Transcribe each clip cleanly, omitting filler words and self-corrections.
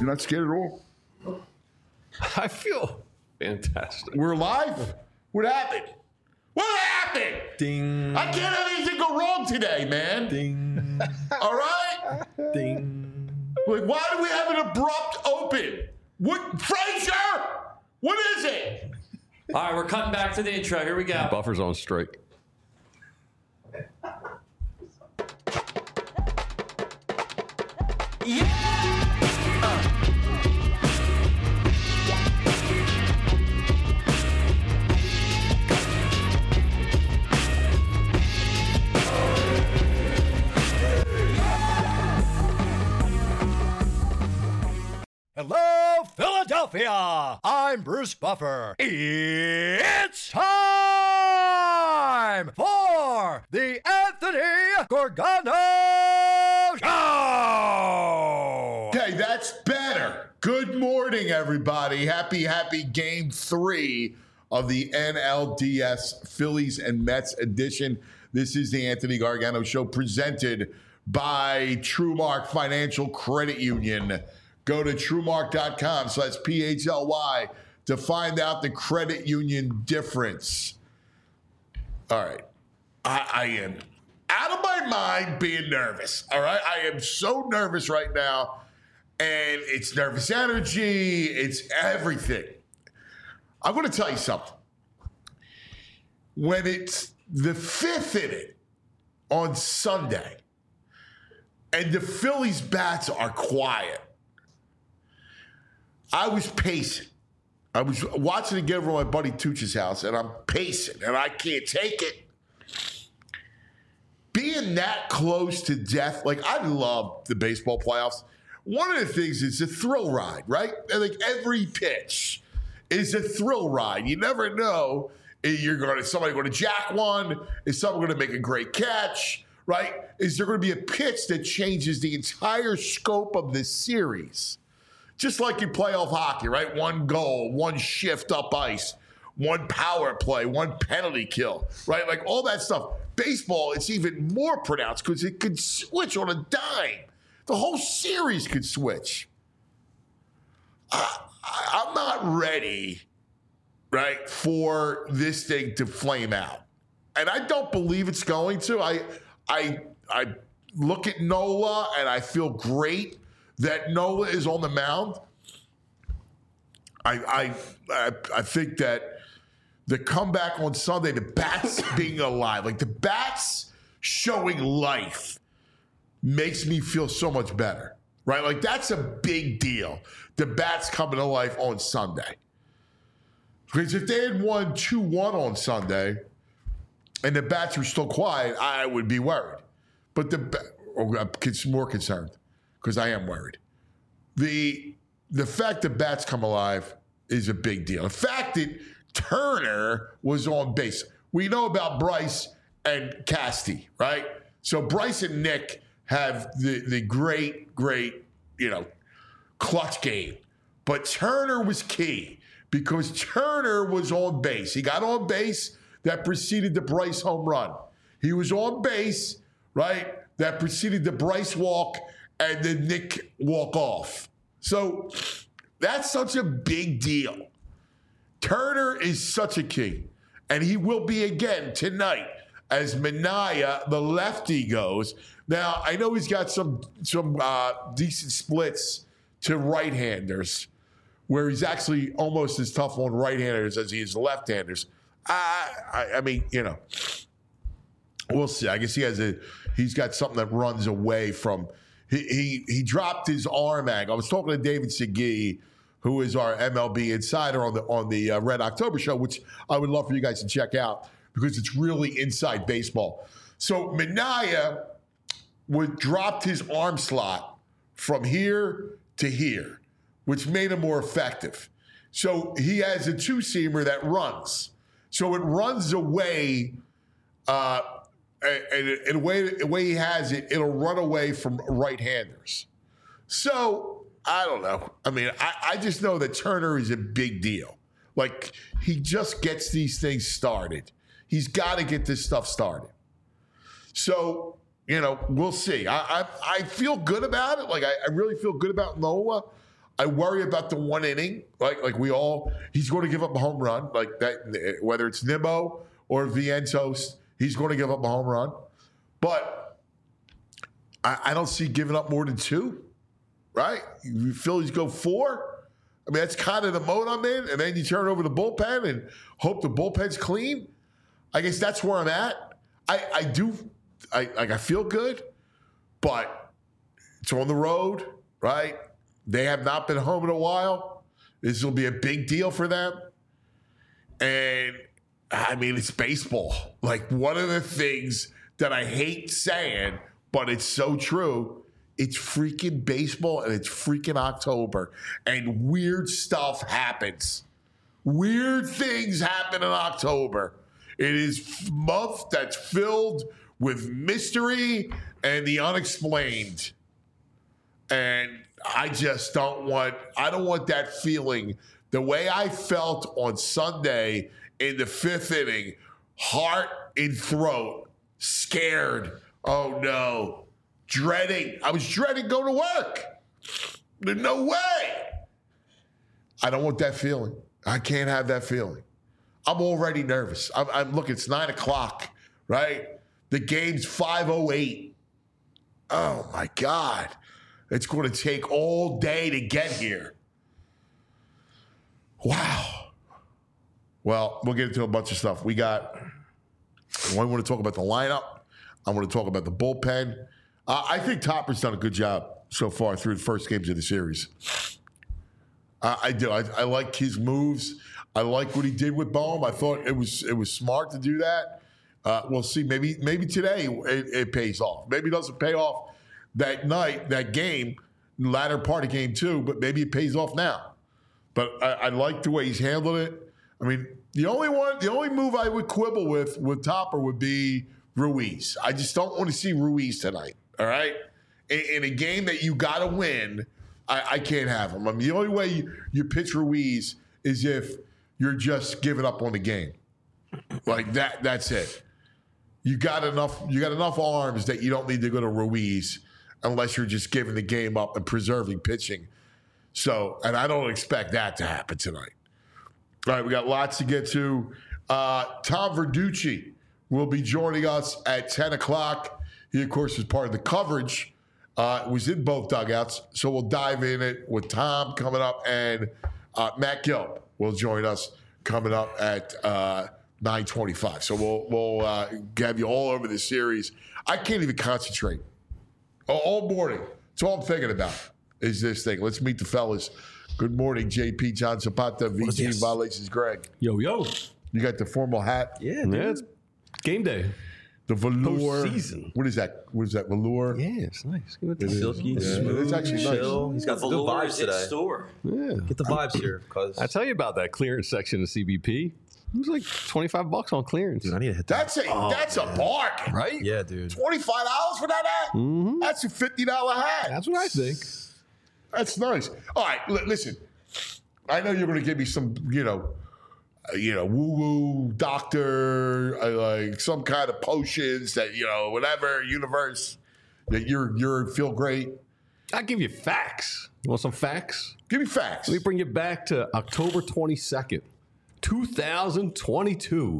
You're not scared at all? I feel fantastic. We're live? What happened? What happened? Ding. I can't have anything go wrong today, man. Ding. All right? Ding. Like, why do we have an abrupt open? What, Frazier? What is it? All right, we're cutting back to the intro. Here we go. Buffer's on strike. Hello, Philadelphia! I'm Bruce Buffer. It's time for the Anthony Gorgano Show! Okay, that's better. Good morning, everybody. Happy Game 3 of the NLDS Phillies and Mets edition. This is the Anthony Gargano Show presented by TrueMark Financial Credit Union. Go to TrueMark.com, so that's PHLY, to find out the credit union difference. All right. I am out of my mind being nervous. All right. I am so nervous right now. And it's nervous energy. It's everything. I'm going to tell you something. When it's the fifth inning on Sunday and the Phillies bats are quiet, I was pacing. I was watching it get over my buddy Tooch's house, and I'm pacing, and I can't take it. Being that close to death, like, I love the baseball playoffs. One of the things is a thrill ride, right? And like every pitch is a thrill ride. You never know if somebody going to jack one, is someone going to make a great catch, right? Is there going to be a pitch that changes the entire scope of this series? Just like in playoff hockey, right? One goal, one shift up ice, one power play, one penalty kill, right? Like all that stuff. Baseball, it's even more pronounced because it could switch on a dime. The whole series could switch. I'm not ready, right, for this thing to flame out. And I don't believe it's going to. I look at Nola and I feel great that Nola is on the mound. I think that the comeback on Sunday, the bats being alive, like the bats showing life, makes me feel so much better, right? Like that's a big deal. The bats coming to life on Sunday. Because if they had won 2-1 on Sunday and the bats were still quiet, I would be worried. But I'm more concerned because I am worried. The fact that bats come alive is a big deal. The fact that Turner was on base. We know about Bryce and Casty, right? So Bryce and Nick have the great, clutch game. But Turner was key because Turner was on base. He got on base. That preceded the Bryce home run. He was on base, right? That preceded the Bryce walk and the Nick walk off. So that's such a big deal. Turner is such a key. And he will be again tonight as Minaya, the lefty, goes. Now, I know he's got some decent splits to right-handers, where he's actually almost as tough on right-handers as he is left-handers. I mean, we'll see. I guess he's got something that runs away from. He dropped his arm angle. I was talking to David Segui, who is our MLB insider on the Red October show, which I would love for you guys to check out because it's really inside baseball. So Minaya dropped his arm slot from here to here, which made him more effective. So he has a two-seamer that runs. So it runs away, and the way he has it, it'll run away from right-handers. So I don't know. I mean, I just know that Turner is a big deal. Like, he just gets these things started. He's got to get this stuff started. So, we'll see. I feel good about it. Like, I really feel good about Nola. I worry about the one inning, like we all. He's going to give up a home run, like that. Whether it's Nimmo or Vientos, he's going to give up a home run. But I don't see giving up more than 2. Right? You Phillies go 4. I mean, that's kind of the mode I'm in. And then you turn over the bullpen and hope the bullpen's clean. I guess that's where I'm at. I feel good, but it's on the road, right? They have not been home in a while. This will be a big deal for them. And, I mean, it's baseball. Like, one of the things that I hate saying, but it's so true, it's freaking baseball and it's freaking October. And weird stuff happens. Weird things happen in October. It is a month that's filled with mystery and the unexplained. And I just don't want that feeling. The way I felt on Sunday in the 5th inning, heart in throat, scared. Oh no. Dreading. I was dreading going to work. There's no way. I don't want that feeling. I can't have that feeling. I'm already nervous. I'm look, it's 9 o'clock, right? The game's 5:08. Oh my God. It's going to take all day to get here. Wow. Well, we'll get into a bunch of stuff. I want to talk about the lineup. I want to talk about the bullpen. I think Topper's done a good job so far through the first games of the series. I do. I like his moves. I like what he did with Bohm. I thought it was smart to do that. We'll see. Maybe today it pays off. Maybe it doesn't pay off that night, that game, latter part of game 2, but maybe it pays off now. But I like the way he's handled it. I mean, the only move I would quibble with Topper would be Ruiz. I just don't want to see Ruiz tonight. All right? In a game that you got to win, I can't have him. I mean, the only way you pitch Ruiz is if you're just giving up on the game. Like that. That's it. You got enough arms that you don't need to go to Ruiz unless you're just giving the game up and preserving pitching. So, and I don't expect that to happen tonight. All right, we got lots to get to. Tom Verducci will be joining us at 10 o'clock. He, of course, is part of the coverage. Was in both dugouts. So we'll dive in it with Tom coming up, and Matt Gilb will join us coming up at 9:25. So we'll have you all over the series. I can't even concentrate all morning. That's all I'm thinking about is this thing. Let's meet the fellas. Good morning, JP, John Zapata, VG Violations, Greg. Yo. You got the formal hat. Yeah, it's game day. The velour. Postseason. What is that? Velour? Yeah, it's nice. Silky, smooth, it's actually chill. nice. He's got the good vibes today. Store. Yeah. Get the vibes here, cause I tell you about that clearance section of CBP. It was like $25 on clearance. dude, I need to hit that. That's a bargain. Right? Yeah, dude. $25 for that hat? Mm-hmm. That's a $50 hat. That's what I think. That's nice. All right, listen. I know you're going to give me some, woo-woo doctor, like some kind of potions that, whatever, universe, that you're feel great. I'll give you facts. You want some facts? Give me facts. Let me bring you back to October 22nd, 2022.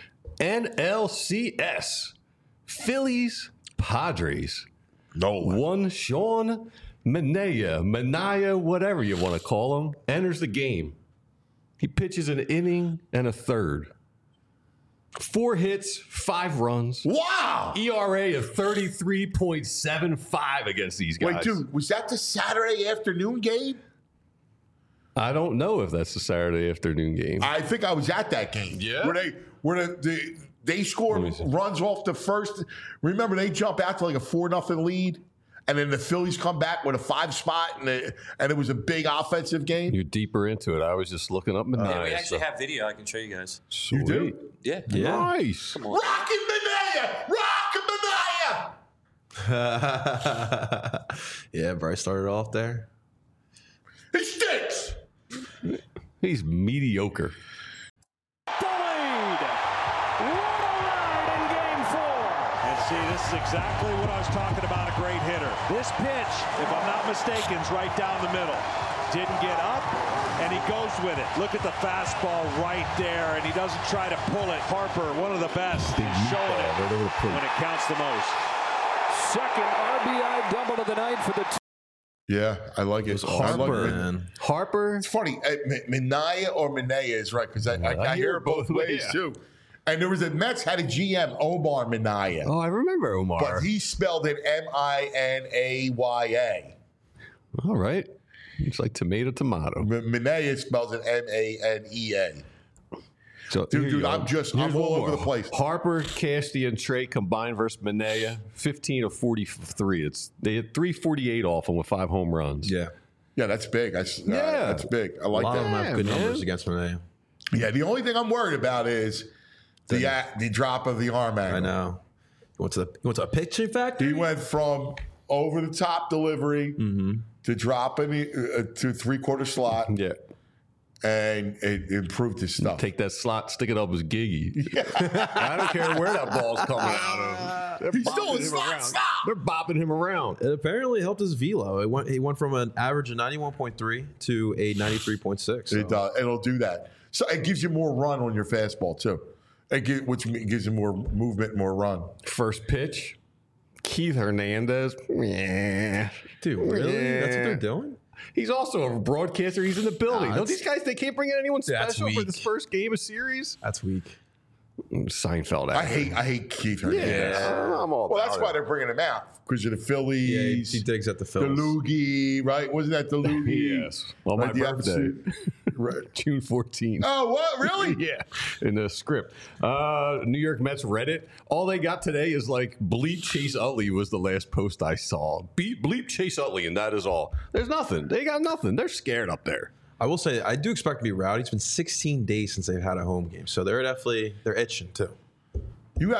NLCS. Phillies, Padres. Nolan. One Sean Manaea, whatever you want to call him, enters the game. He pitches an inning and a third. 4 hits, 5 runs. Wow. ERA of 33.75 against these guys. Wait, dude, was that the Saturday afternoon game? I don't know if that's the Saturday afternoon game. I think I was at that game. Yeah? Where they score runs off the first. Remember, they jump out to like a 4-0 lead. And then the Phillies come back with a 5 spot, and it was a big offensive game. You're deeper into it. I was just looking up Manaea. Yeah, we actually have video. I can show you guys. Sweet. You do? Yeah. Nice. Come on. Rockin' Manaea! Yeah, Bryce started off there. He stinks! He's mediocre. Delayed. What a ride in game 4. As See, this is exactly what I was talking about, a great hitter. This pitch, if I'm not mistaken, is right down the middle. Didn't get up, and he goes with it. Look at the fastball right there, and he doesn't try to pull it. Harper, one of the best, showing it when it counts the most. Second RBI double of the night for the Yeah, I like it. Harper. It's funny. Minaya or Minaya is right because I hear it both ways too. And there was a Mets had a GM, Omar Minaya. Oh, I remember Omar. But he spelled it Minaya. All right. It's like tomato. Minaya spells it Manea. So, dude, I'm all over the place. Harper, Casty, and Trey combined versus Minaya, 15 of 43. They had 348 off him with 5 home runs. Yeah. Yeah, that's big. That's big. I like A lot that. of them have good numbers against Renee. Yeah, the only thing I'm worried about is the drop of the arm angle. I know. You went to a pitching factory? He went from over the top delivery to dropping to 3/4 slot. Yeah. And it improved his stuff. Take that slot, stick it up as Giggy. I don't care where that ball's coming out of. He's still in slot. Stop! They're bopping him around. It apparently helped his velo. He went from an average of 91.3 to a 93.6. So. It'll do that. So it gives you more run on your fastball too. Which gives you more movement, more run. First pitch, Keith Hernandez. Yeah. Dude, really? Yeah. That's what they're doing? He's also a broadcaster. He's in the building. Don't these guys, they can't bring in anyone special for this first game of series? That's weak. Seinfeld. I hate Keith Hernandez. Yeah, I'm all that's why they're bringing him out. Because of the Phillies. Yeah, he digs at the Phillies. The Loogie, right? Wasn't that the Loogie? Yes. Well, my birthday. Right. June 14th. Oh, what? Really? Yeah. In the script. New York Mets Reddit. All they got today is like bleep Chase Utley was the last post I saw. Bleep Chase Utley, and that is all. There's nothing. They got nothing. They're scared up there. I will say, I do expect to be rowdy. It's been 16 days since they've had a home game. So they're itching too. You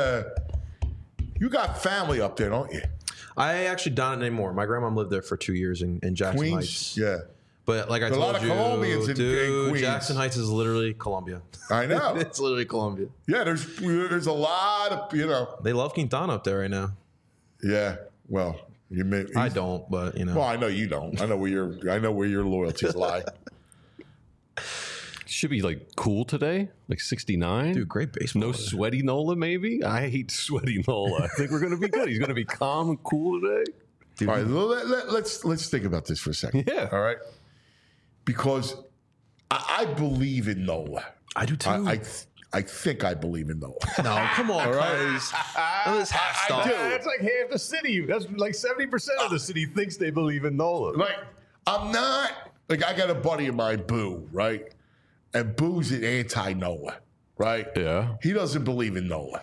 got family up there, don't you? I actually don't anymore. My grandma lived there for 2 years in Jackson Queens? Heights. Yeah. But like I told you, a lot of Colombians in Queens. Jackson Heights is literally Colombia. I know. It's literally Colombia. Yeah, there's a lot of, They love Quintana up there right now. Yeah, well, I don't, but Well, I know you don't. I know where your loyalties lie. Should be like cool today, like 69. Dude, great baseball. No sweaty Nola, maybe. I hate sweaty Nola. I think we're gonna be good. He's gonna be calm and cool today. All right, let's think about this for a second. Yeah. All right. Because I believe in Nola. I do too. I think I believe in Nola. No, come on, guys. That's half stuff. That's like half the city. That's like 70% of the city thinks they believe in Nola. Like, I'm not, like, I got a buddy of mine, Boo, right? And Boo's an anti-Nola, right? Yeah. He doesn't believe in Nola.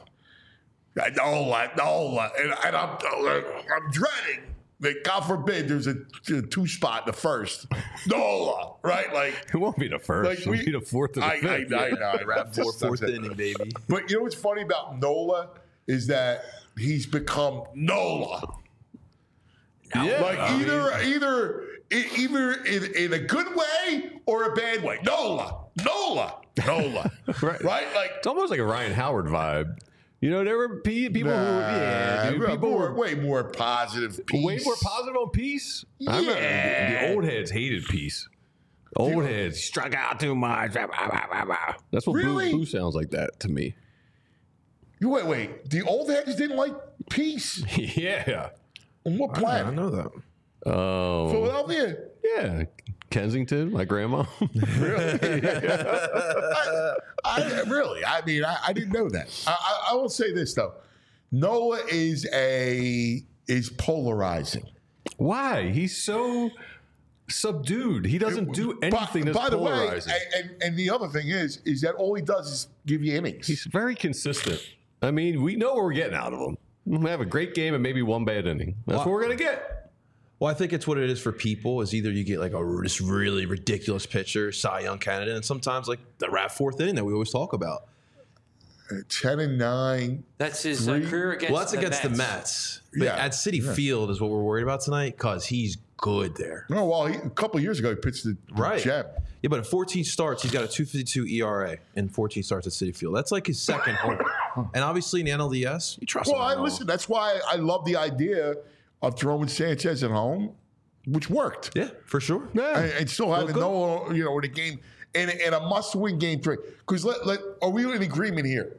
Nola. And I'm dreading that, God forbid, there's a 2-spot in the first. Nola, right? Like, It won't be the first. Like It'll be the fourth or the fifth. I know. Wrap fourth inning, baby. But you know what's funny about Nola is that he's become Nola. Yeah. Like either in a good way or a bad way. Nola. Right. Right? Like, It's almost like a Ryan Howard vibe. You know, there were people people were way more positive. Peace. way more positive on Peace. I remember the old heads hated Peace. Old heads struck out too much. That's what Really? Boo sounds like that to me. Wait. The old heads didn't like Peace. Yeah. On what I planet? know that. Oh. Philadelphia. Yeah. Kensington, my grandma. Really? I mean, I didn't know that. I will say this though. Nola is polarizing. Why? He's so subdued. He doesn't do anything that's by the polarizing. way, and the other thing is that all he does is give you innings. He's very consistent. I mean, we know what we're getting out of him. We have a great game and maybe one bad inning. That's what we're going to get. Well, I think it's what it is for people is either you get like this really ridiculous pitcher, Cy Young candidate, and sometimes like the fourth inning that we always talk about. 10-9. That's his career against. Well, that's against the Mets. But Yeah. at Citi Field is what we're worried about tonight because he's good there. No, well, a couple of years ago he pitched the Gem. Yeah, but in 14 starts, he's got a 2.52 ERA in 14 starts at Citi Field. That's like his second home. And obviously in the NLDS, you trust him. Listen, that's why I love the idea of throwing Sanchez at home, which worked. Yeah, for sure. And still having no, in a game, in a must-win game 3. Because are we in agreement here?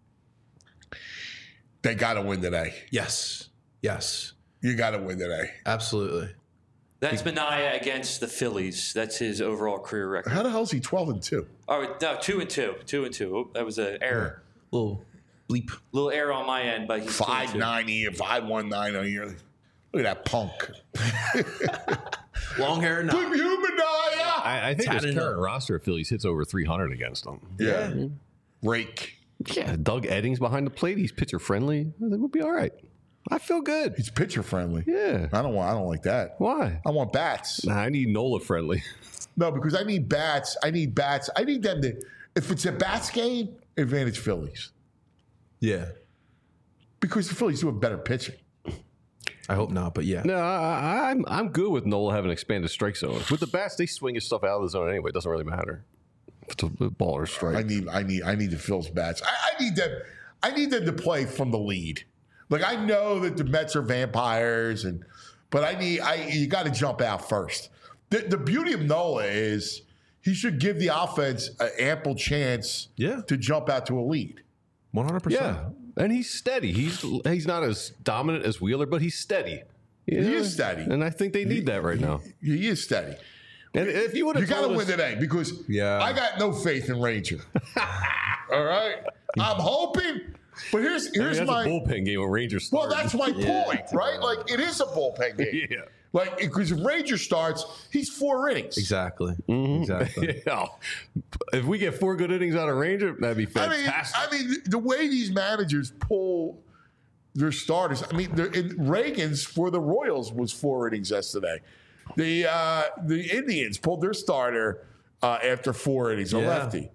They got to win today. Yes. You got to win today. Absolutely. That's Manaea against the Phillies. That's his overall career record. How the hell is he 12-2? Oh, no, 2-2. 2-2. Oh, that was an error. Little bleep. Little error on my end, but he's 5-9 a year, 5-1-9 a year. Look at that punk. Long hair now. Good human, yeah. I think his current roster of Phillies hits over 300 against them. Yeah. Rake. Yeah, Doug Eddings behind the plate. He's pitcher friendly. I think we'll be all right. I feel good. He's pitcher friendly. Yeah. I don't like that. Why? I want bats. Nah, I need Nola friendly. No, because I need bats. I need them to. If it's a bats game, advantage Phillies. Yeah. Because the Phillies do have better pitching. I hope not, but yeah. No, I'm good with Nola having expanded strike zone. With the bats, they swing his stuff out of the zone anyway. It doesn't really matter. If it's a ball or strike. I need the Phillies bats. I need them. I need them to play from the lead. Like, I know that the Mets are vampires, but you got to jump out first. The beauty of Nola is he should give the offense an ample chance to jump out to a lead. 100%. Yeah, and he's steady. He's not as dominant as Wheeler, but he's steady. He is steady, and I think they need that right now. He is steady. And if you would have, you got to win today because I got no faith in Ranger. All right, I'm hoping. But here's that's my a bullpen game when Rangers start. Well, that's my point, right? Like, it is a bullpen game. Yeah. Like, because if Ranger starts, he's 4 innings. Exactly. Mm-hmm. Exactly. Yeah. If we get 4 good innings out of Ranger, that'd be fantastic. I mean, the way these managers pull their starters. I mean, Reagan's for the Royals was 4 innings yesterday. The Indians pulled their starter after 4 innings, a lefty.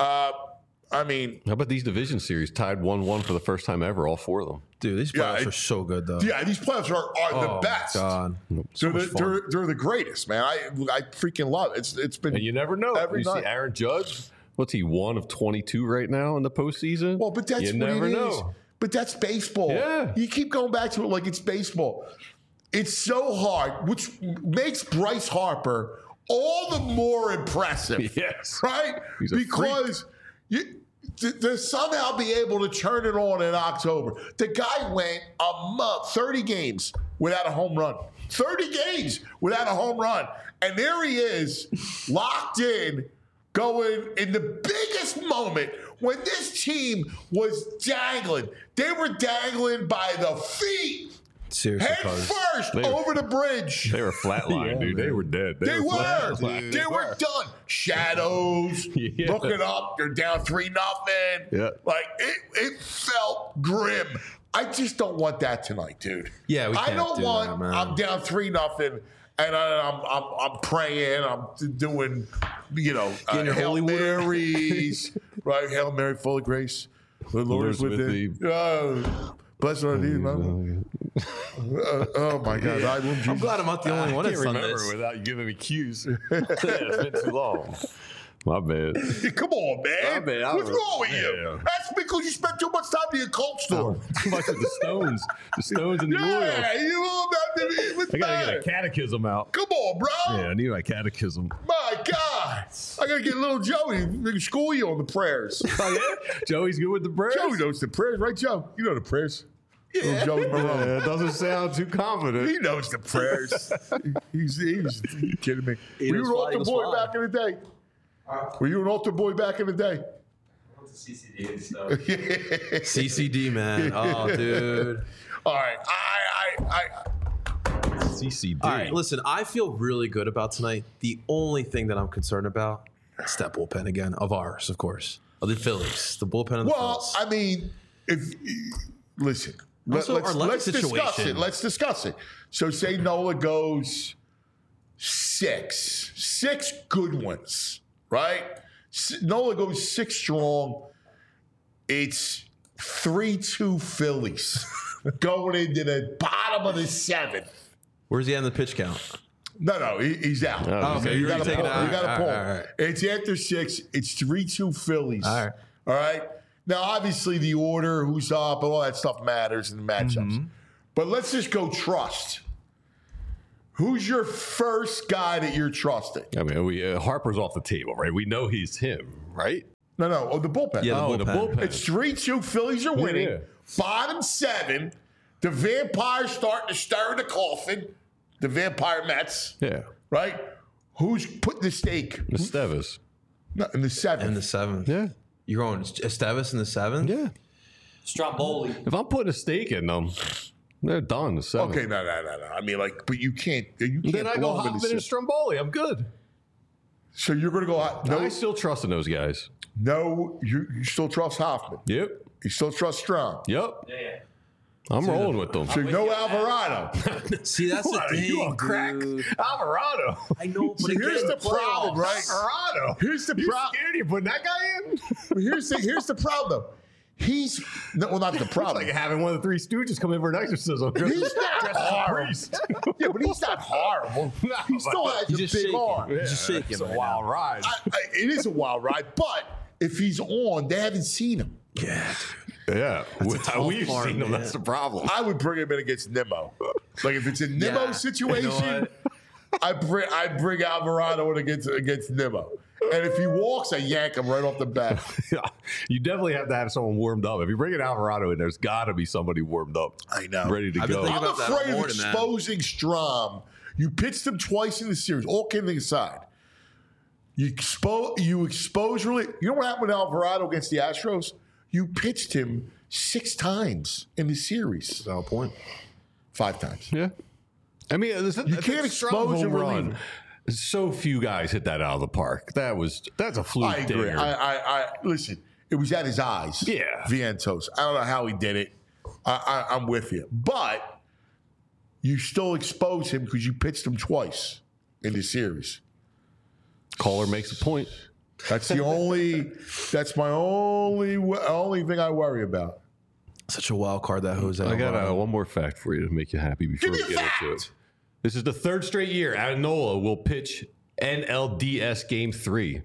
I mean, how about these division series tied 1-1 for the first time ever? All 4 of them. Dude, these playoffs are so good, though. Yeah, these playoffs are the best. God. So they're the greatest, man. I freaking love it. It's been. And you never know. Every you night. see Aaron Judge. What's he, 1 of 22 right now in the postseason? Well, but that's you what never it know. is. But that's baseball. Yeah. You keep going back to it like it's baseball. It's so hard, which makes Bryce Harper all the more impressive. Yes. Right? He's a Because to somehow be able to turn it on in October. The guy went a month, 30 games without a home run. 30 games without a home run. And there he is, locked in, going in the biggest moment when this team was dangling. They were dangling by the feet. Seriously, Head first over the bridge. They were flatlined, dude. They were dead. They were. flatlined. They were done. Shadows. Looking up. They're down 3-0. Yeah. Like, it felt grim. I just don't want that tonight, dude. Yeah, we can't I don't do want. that, man. I'm down 3-0, and I'm praying. I'm doing, Getting your Hail holy water. Marys, right? Hail Mary, full of grace. The Lord is with thee. Blessed are thee, man. Oh my God! I'm glad I'm not the only one I that's can't done remember this. without you giving me cues. It's been too long. My bad. Come on, man. My bad. What's wrong with you? Yeah. That's because you spent too much time in the occult store. Too much of the Stones. The Stones and the Orioles. Yeah, you all about to what's I gotta matter? get a catechism out. Come on, bro. Yeah, I need my catechism. My God. I got to get little Joey to school you on the prayers. Oh, yeah? Joey's good with the prayers? Joey knows the prayers, right, Joe? You know the prayers. Yeah. Joey Marone. Yeah, it doesn't sound too confident. He knows the prayers. He's you kidding me? Were you an fly, altar Eagles boy fly. back in the day? Were you an altar boy back in the day? CCD and stuff. CCD, man. Oh, dude. All right. CCD. All right, listen, I feel really good about tonight. The only thing that I'm concerned about is that bullpen again, of ours, of course. Of the Phillies. The bullpen of the Phillies. I mean, listen. Also, our left Let's discuss situation. it. Let's discuss it. So say Nola goes 6 good ones, right? Nola goes 6 strong. It's 3-2 Phillies going into the bottom of the 7th. Where's he at in the pitch count? No, he's out. Oh, okay, You you're got already to taking pull. it out. You got to All pull. right, all right. It's after 6. It's 3-2 Phillies. All right. All right. Now, obviously, the order, who's up, all that stuff matters in the matchups. But let's just go trust. Who's your first guy that you're trusting? I mean, Harper's off the table, right? We know he's him, right? No, the bullpen. Yeah, The bullpen. It's 3-2. Phillies are winning. Yeah. Bottom 7. The Vampires starting to stir the coffin. The Vampire Mets. Yeah. Right? Who's putting the stake? Estevez. No, in the 7th. In the 7th. Yeah. You're going Estevez in the 7th? Yeah. Stromboli. If I'm putting a stake in them, they're done. The 7th. Okay, no. I mean, like, but you can't. Then I go blow them in the Hoffman and 6th. Stromboli. I'm good. So you're going to go out. I still trust in those guys. No, you still trust Hoffman. Yep. You still trust Strong. Yep. Yeah. I'm rolling with them. So no Alvarado. See, that's the What, thing, you on crack? dude. Alvarado. I know, but See, here's the problem, right? Alvarado. Here's the problem. Scared you putting that guy in? Here's the problem. He's not the problem. Like having one of the Three Stooges come in for an exorcism. He's not horrible. Yeah, but he's not horrible. He still has a just big shaking. arm. He's just shaking. It's a right wild now. ride. It is a wild ride, but if he's on, they haven't seen him. Yeah, Yeah. tough We've part, seen them. man. That's the problem. I would bring him in against Nimmo. Like if it's a Nimmo Yeah. situation, You know I bring Alvarado in against Nimmo. And if he walks, I yank him right off the bat. You definitely have to have someone warmed up. If you bring an Alvarado in, there's got to be somebody warmed up. I know. Ready to I've been go. thinking I'm about that all afraid of morning, man. exposing Strom. You pitched him twice in the series, all kidding aside. You expose really. You know what happened with Alvarado against the Astros? You pitched him 6 times in the series. Valid point. 5 times. Yeah. I mean, You can't expose and relieve. So few guys hit that out of the park. That's a fluke. I agree. dinger. I listen. It was at his eyes. Yeah. Vientos. I don't know how he did it. I'm with you, but you still expose him because you pitched him twice in the series. Caller makes a point. That's the only. That's my only thing I worry about. Such a wild card that Jose. I got Alvarado. one more fact for you to make you happy before Give we me a get into fact! it. This is the 3rd straight year Adenola will pitch NLDS Game 3.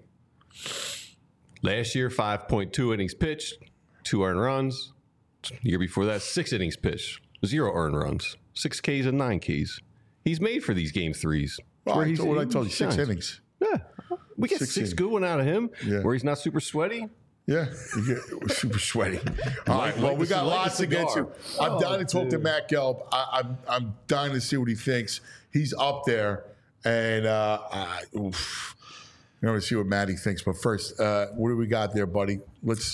Last year, 5.2 innings pitched, 2 earned runs. The year before that, 6 innings pitched, 0 earned runs, 6 Ks and 9 Ks. He's made for these Game 3s. Well, I told you, he 6 shines. innings. Yeah. We get 6 6 innings. good one out of him Yeah. where he's not super sweaty. Yeah, it was super sweaty. All right, well, we got lots to get to. I'm dying to talk to Matt Gelb. I'm dying to see what he thinks. He's up there, and I'm going to see what Matty thinks. But first, what do we got there, buddy? Let's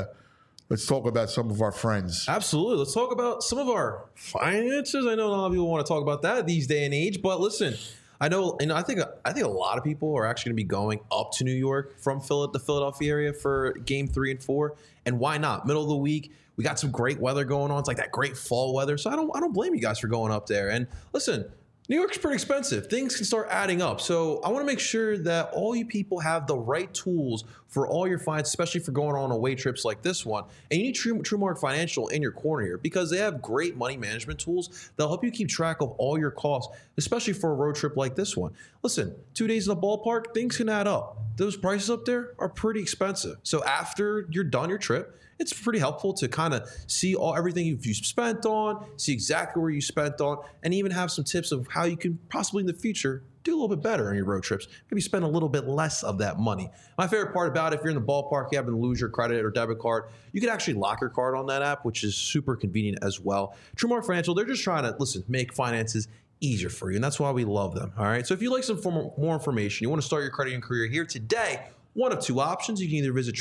talk about some of our friends. Absolutely. Let's talk about some of our finances. I know a lot of people want to talk about that these day and age, but listen, I know, and I think a lot of people are actually going to be going up to New York from the Philadelphia area for Game 3 and 4, and why not? Middle of the week, we got some great weather going on. It's like that great fall weather, so I don't blame you guys for going up there. And listen, New York's pretty expensive. Things can start adding up. So I want to make sure that all you people have the right tools for all your finance, especially for going on away trips like this one. And you need TrueMark Financial in your corner here because they have great money management tools that'll help you keep track of all your costs, especially for a road trip like this one. Listen, 2 days in the ballpark, things can add up. Those prices up there are pretty expensive. So after you're done your trip, it's pretty helpful to kind of see everything you've spent on, see exactly where you spent on, and even have some tips of how you can possibly in the future do a little bit better on your road trips. Maybe spend a little bit less of that money. My favorite part about it, if you're in the ballpark, you happen to lose your credit or debit card, you can actually lock your card on that app, which is super convenient as well. TrueMark Financial, they're just trying to, make finances easier for you, and that's why we love them, all right? So if you'd like some more information, you want to start your credit and career here today, one of 2 options. You can either visit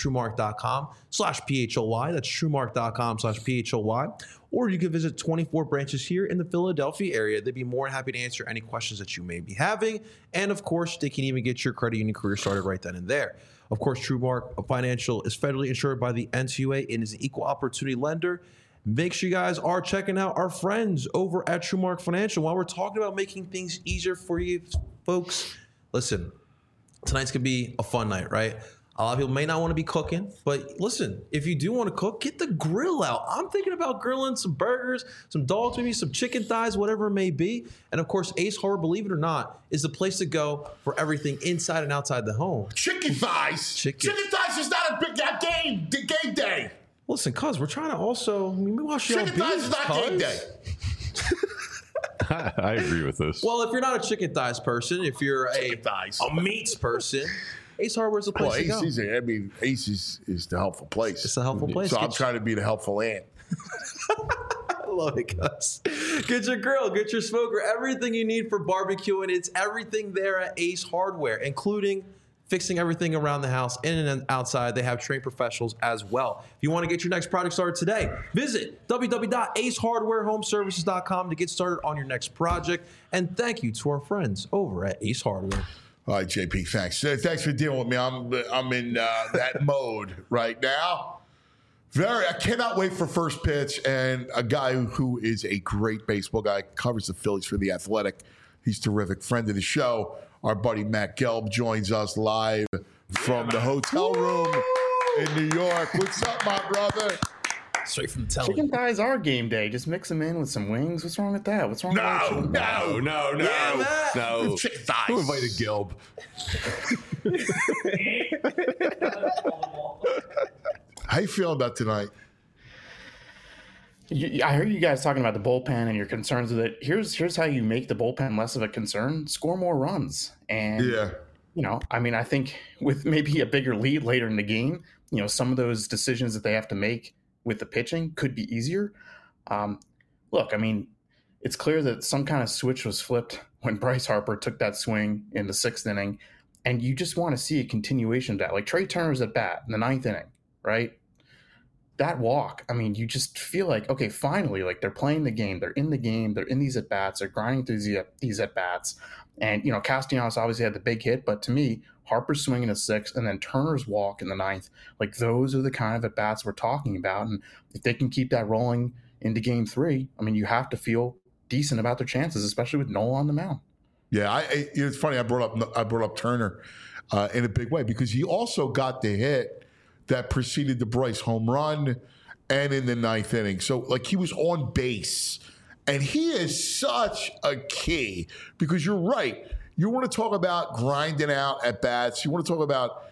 TrueMark.com/PHLY. That's TrueMark.com/PHLY. Or you can visit 24 branches here in the Philadelphia area. They'd be more than happy to answer any questions that you may be having. And of course, they can even get your credit union career started right then and there. Of course, TrueMark Financial is federally insured by the NCUA and is an equal opportunity lender. Make sure you guys are checking out our friends over at TrueMark Financial. While we're talking about making things easier for you folks, listen, tonight's going to be a fun night, right? A lot of people may not want to be cooking, but listen, if you do want to cook, get the grill out. I'm thinking about grilling some burgers, some dogs, maybe some chicken thighs, whatever it may be. And of course, Ace Hardware, believe it or not, is the place to go for everything inside and outside the home. Chicken thighs. Chicken Thighs is not a big game day. Listen, cuz we're trying to also watch your Chicken thighs is not game day. I agree with this. Well, if you're not a chicken thighs person, if you're Chicken thighs. a meats person, Ace Hardware's the place Well, to go. Ace is the helpful place. It's a helpful place. So I'm trying to be the helpful aunt. I love it, Gus. Get your grill, get your smoker, everything you need for barbecue, and it's everything there at Ace Hardware, including fixing everything around the house, in and outside. They have trained professionals as well. If you want to get your next project started today, visit www.acehardwarehomeservices.com to get started on your next project. And thank you to our friends over at Ace Hardware. All right, JP, thanks. Thanks for dealing with me. I'm in that mode right now. I cannot wait for first pitch. And a guy who is a great baseball guy, covers the Phillies for The Athletic. He's a terrific friend of the show. Our buddy Matt Gelb joins us live from the hotel room in New York. What's up, my brother? Straight from the telly. Chicken thighs are game day. Just mix them in with some wings. What's wrong with that? What's wrong with chicken thighs? No. Chicken thighs. Who invited Gelb? How you feeling about tonight? I heard you guys talking about the bullpen and your concerns with it. Here's how you make the bullpen less of a concern: score more runs. And I think with maybe a bigger lead later in the game, some of those decisions that they have to make with the pitching could be easier. It's clear that some kind of switch was flipped when Bryce Harper took that swing in the 6th inning, and you just want to see a continuation of that. Like Trey Turner's at bat in the 9th inning, right? That walk, you just feel like, okay, finally, like they're playing the game. They're in the game. They're in these at-bats. They're grinding through these at-bats. And, Castellanos obviously had the big hit, but to me, Harper's swing in the 6th and then Turner's walk in the 9th, like those are the kind of at-bats we're talking about. And if they can keep that rolling into game 3, you have to feel decent about their chances, especially with Nola on the mound. Yeah, it's funny. I brought up Turner in a big way because he also got the hit that preceded the Bryce home run and in the 9th inning. So, like, he was on base. And he is such a key because you're right. You want to talk about grinding out at bats. You want to talk about,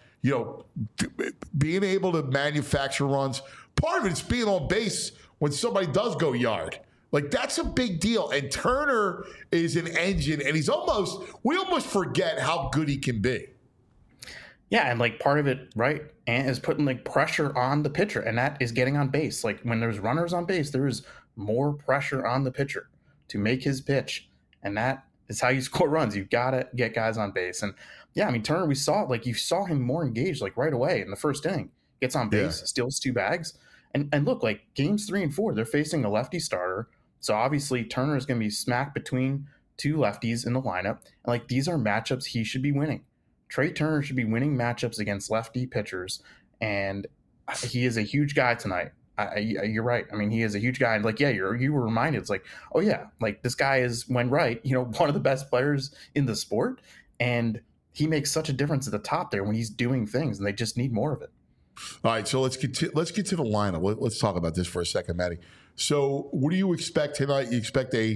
being able to manufacture runs. Part of it's being on base when somebody does go yard. Like, that's a big deal. And Turner is an engine, and we almost forget how good he can be. Yeah, and like part of it, right, and is putting like pressure on the pitcher, and that is getting on base. Like when there's runners on base, there is more pressure on the pitcher to make his pitch, and that is how you score runs. You've got to get guys on base, and Turner, we saw you saw him more engaged like right away in the 1st inning. Gets on base, steals 2 bags, and look, like games 3 and 4, they're facing a lefty starter, so obviously Turner is going to be smack between 2 lefties in the lineup, and like these are matchups he should be winning. Trey Turner should be winning matchups against lefty pitchers, and he is a huge guy tonight. You're right. He is a huge guy. And you were reminded. It's like, oh yeah, like this guy is, when right, one of the best players in the sport, and he makes such a difference at the top there when he's doing things, and they just need more of it. All right, so let's get to the lineup. Let's talk about this for a second, Matty. So, what do you expect tonight? Do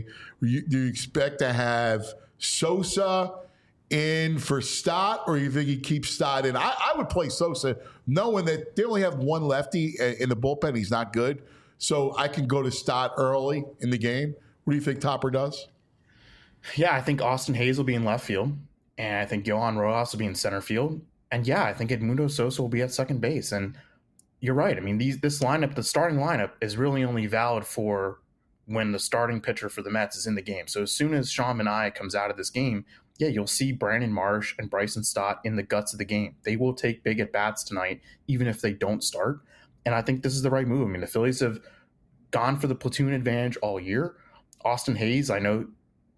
you expect to have Sosa in for Stott, or you think he keeps Stott in? I would play Sosa knowing that they only have one lefty in the bullpen. He's not good. So I can go to Stott early in the game. What do you think Topper does? Yeah, I think Austin Hayes will be in left field, and I think Johan Rojas will be in center field. And I think Edmundo Sosa will be at second base. And you're right. This lineup, the starting lineup, is really only valid for when the starting pitcher for the Mets is in the game. So as soon as Sean Manaea comes out of this game, you'll see Brandon Marsh and Bryson Stott in the guts of the game. They will take big at-bats tonight, even if they don't start. And I think this is the right move. The Phillies have gone for the platoon advantage all year. Austin Hayes, I know,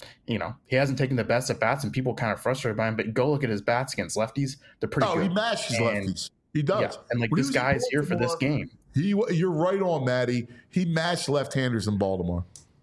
he hasn't taken the best at-bats, and people are kind of frustrated by him, but go look at his bats against lefties. They're pretty good. He mashes lefties. He does. Yeah, and this guy is here for this game. You're right on, Matty. He mashed left-handers in Baltimore.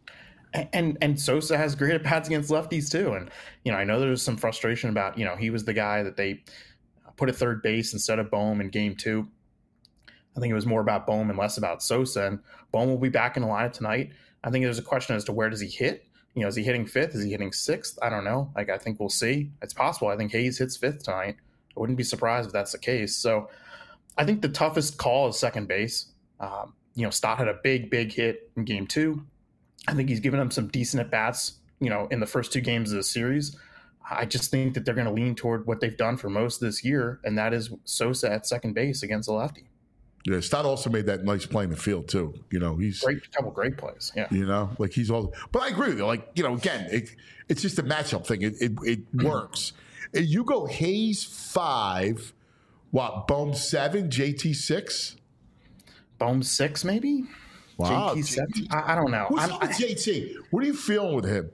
And Sosa has great at-bats against lefties too. And, I know there's some frustration about, he was the guy that they put at third base instead of Bohm in game 2. I think it was more about Bohm and less about Sosa. And Bohm will be back in the lineup tonight. I think there's a question as to where does he hit? Is he hitting 5th? Is he hitting 6th? I don't know. I think we'll see. It's possible. I think Hayes hits 5th tonight. I wouldn't be surprised if that's the case. So I think the toughest call is second base. Stott had a big hit in game 2. I think he's given him some decent at bats, in the first 2 games of the series. I just think that they're going to lean toward what they've done for most of this year, and that is Sosa at second base against a lefty. Yeah, Stott also made that nice play in the field too. He's couple great plays. Yeah, he's all. But I agree with you. Again, it's just a matchup thing. It works. You go Hayes 5, Bohm 7, JT 6. Bohm 6 maybe. Wow, JT 7. I don't know. Who's up with JT? What are you feeling with him?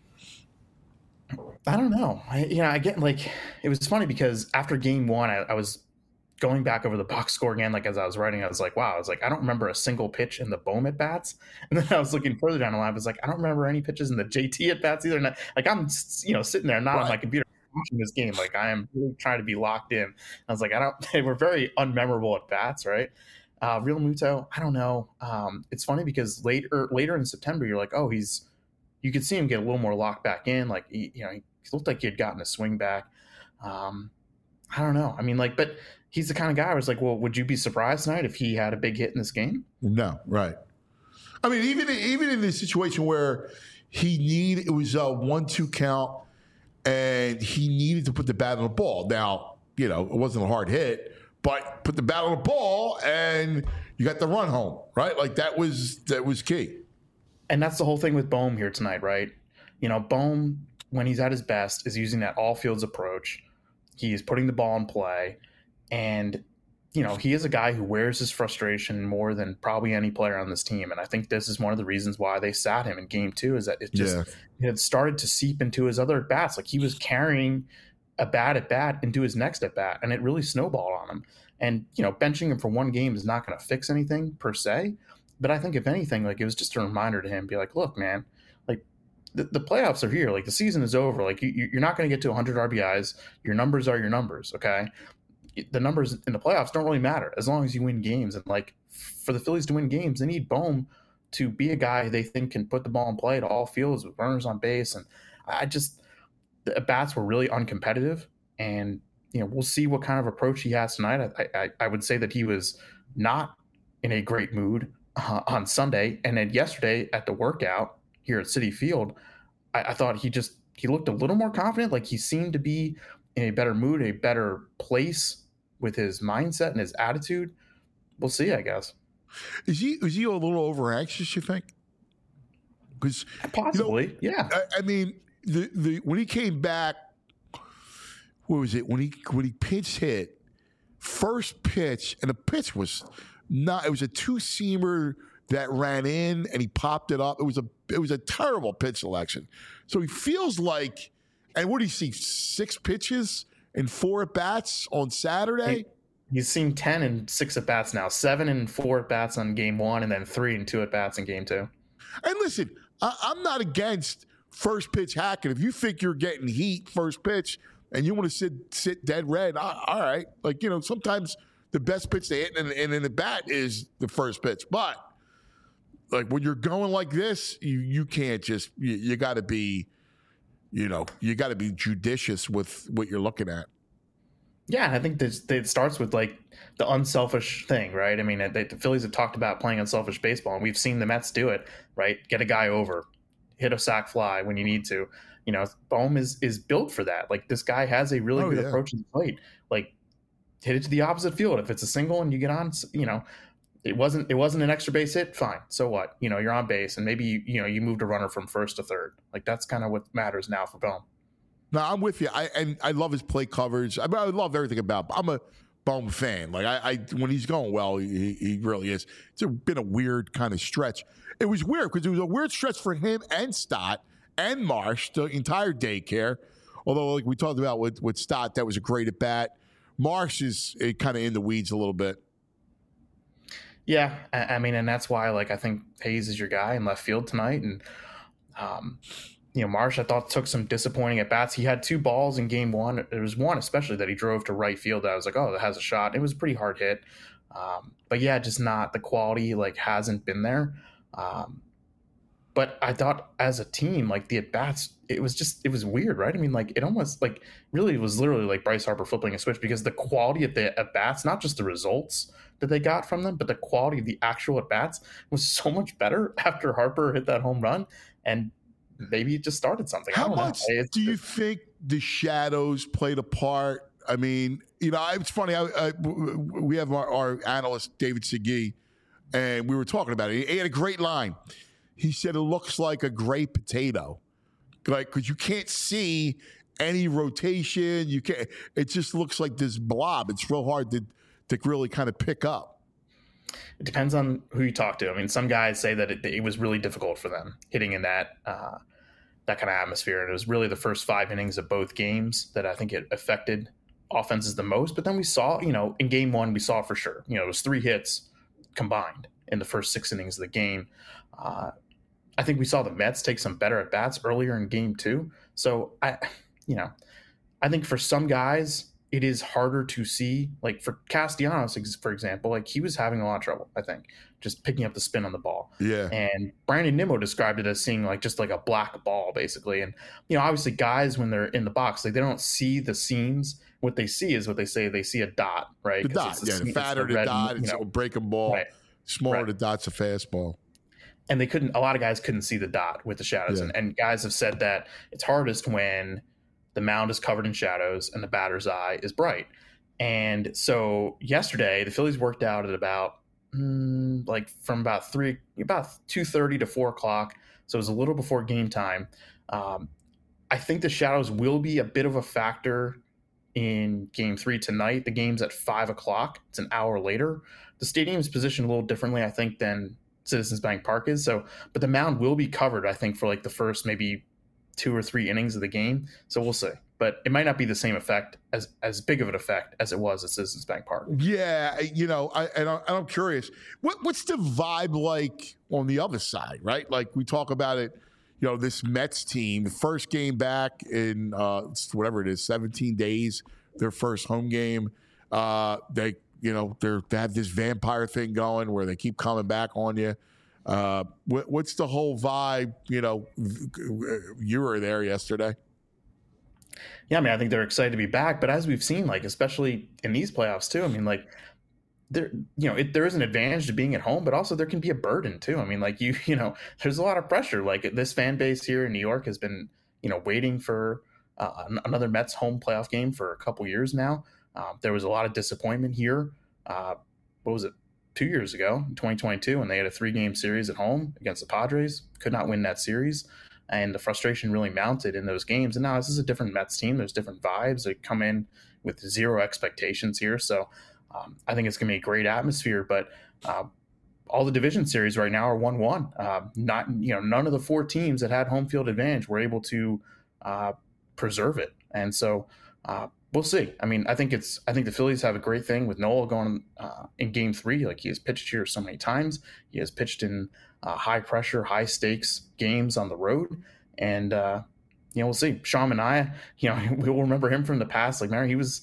I don't know. I get it was funny because after game 1, I was going back over the box score again. As I was writing, I was like, wow. I was like, I don't remember a single pitch in the Bohm at bats. And then I was looking further down the line. I was like, I don't remember any pitches in the JT at bats either. And I'm sitting there not on my computer watching this game. I am really trying to be locked in. I was like, they were very unmemorable at bats, right? Real Muto, I don't know. It's funny because later in September, you're like, oh, you could see him get a little more locked back in. He looked like he had gotten a swing back. I don't know. But he's the kind of guy I was like, well, would you be surprised tonight if he had a big hit in this game? No, right. Even in the situation where it was a 1-2 count and he needed to put the bat on the ball. Now, it wasn't a hard hit, but put the bat on the ball and you got the run home, right? That was key. And that's the whole thing with Bohm here tonight, right? Bohm, when he's at his best, is using that all fields approach. He's putting the ball in play. And, he is a guy who wears his frustration more than probably any player on this team. And I think this is one of the reasons why they sat him in game 2 is that it had started to seep into his other at bats. He was carrying a bad at bat into his next at bat, and it really snowballed on him. And, benching him for 1 game is not going to fix anything per se. But I think if anything, it was just a reminder to him, be like, look, man, the playoffs are here. The season is over. You're not going to get to 100 RBIs. Your numbers are your numbers. Okay. The numbers in the playoffs don't really matter as long as you win games. And for the Phillies to win games, they need Bohm to be a guy they think can put the ball in play to all fields with runners on base. And the at-bats were really uncompetitive. And, we'll see what kind of approach he has tonight. I would say that he was not in a great mood on Sunday. And then yesterday at the workout here at Citi Field, I thought he looked a little more confident. He seemed to be in a better mood, a better place with his mindset and his attitude. We'll see, I guess. Is he a little over anxious, you think? Because possibly, yeah. When he came back, what was it? When he pinch hit, first pitch, and the pitch was not. It was a 2-seamer that ran in, and he popped it up. It was a terrible pitch selection. So he feels like. And what do you see? 6 pitches and 4 at bats on Saturday. He's seen 10 and 6 at bats now. 7 and 4 at bats on game 1, and then 3 and 2 at bats in game 2. And listen, I'm not against first pitch hacking. If you think you're getting heat first pitch and you want to sit dead red, all right. Sometimes the best pitch they hit in the bat is the first pitch. But when you're going like this, you can't just. You got to be. You got to be judicious with what you're looking at. Yeah, I think it starts with the unselfish thing, right? The Phillies have talked about playing unselfish baseball, and we've seen the Mets do it, right? Get a guy over, hit a sac fly when you need to. Bohm is built for that. This guy has a really good approach to the plate. Hit it to the opposite field. If it's a single and you get on, it wasn't an extra base hit. Fine. So what? You're on base, and maybe you moved a runner from first to third. That's kind of what matters now for Bohm. No, I'm with you. I love his play coverage. I love everything about. I'm a Bohm fan. When he's going well, he really is. It's been a weird kind of stretch. It was weird because it was a weird stretch for him and Stott and Marsh, the entire daycare. Although, we talked about with Stott, that was a great at bat. Marsh is kind of in the weeds a little bit. Yeah, and that's why, I think Hayes is your guy in left field tonight. And, Marsh, I thought, took some disappointing at-bats. He had 2 balls in game 1. There was one especially that he drove to right field that I was like, oh, that has a shot. It was a pretty hard hit. But, yeah, just not the quality, hasn't been there. But I thought as a team, the at-bats, it was weird, right? It almost, really was literally like Bryce Harper flipping a switch because the quality of the at-bats, not just the results, that they got from them, but the quality of the actual at bats was so much better after Harper hit that home run, and maybe it just started something. How much do you think the shadows played a part? I mean, it's funny. We have our analyst David Segui, and we were talking about it. He had a great line. He said it looks like a gray potato, like because you can't see any rotation. You can't. It just looks like this blob. It's real hard to really kind of pick up. It depends on who you talk to. I mean, some guys say that it was really difficult for them hitting in that kind of atmosphere, and it was really the first 5 innings of both games that I think it affected offenses the most. But then we saw, in game 1, we saw it for sure. It was 3 hits combined in the first 6 innings of the game. I think we saw the Mets take some better at bats earlier in game 2. So I think for some guys, it is harder to see. Like for Castellanos, for example, like he was having a lot of trouble, I think, just picking up the spin on the ball. Yeah. And Brandon Nimmo described it as seeing like just like a black ball, basically. And, obviously guys, when they're in the box, like they don't see the seams. What they see is what they say. They see a dot, right? The dot, the fatter the dot, it's a breaking ball. Right. Smaller the dot's a fastball. And a lot of guys couldn't see the dot with the shadows. Yeah. And guys have said that it's hardest when the mound is covered in shadows and the batter's eye is bright. And so yesterday, the Phillies worked out at about from about 2:30 to 4 o'clock. So it was a little before game time. I think the shadows will be a bit of a factor in game 3 tonight. The game's at 5 o'clock. It's an hour later. The stadium is positioned a little differently, I think, than Citizens Bank Park is. But the mound will be covered, I think, for like the first maybe 2 or 3 innings of the game. So we'll see. But it might not be the same effect, as big of an effect as it was at Citizens Bank Park. Yeah, I'm curious. What's the vibe like on the other side, right? Like we talk about it, this Mets team, the first game back in whatever it is, 17 days, their first home game. They have this vampire thing going where they keep coming back on you. What's the whole vibe? You were there yesterday. Yeah, I mean, I think they're excited to be back. But as we've seen, like especially in these playoffs too, I mean, like there is an advantage to being at home, but also there can be a burden too. I mean, like there's a lot of pressure. Like this fan base here in New York has been waiting for another Mets home playoff game for a couple years now. There was a lot of disappointment here. What was it? 2 years ago, in 2022, when they had a 3-game series at home against the Padres, could not win that series. And the frustration really mounted in those games. And now this is a different Mets team. There's different vibes. They come in with 0 expectations here. So I think it's going to be a great atmosphere. But all the division series right now are 1-1. None of the 4 teams that had home field advantage were able to preserve it. And so we'll see. I mean, I think the Phillies have a great thing with Nola going in game 3. Like he has pitched here so many times. He has pitched in high pressure, high stakes games on the road. And, we'll see. Sean Manaea, we'll remember him from the past. Like, remember, he was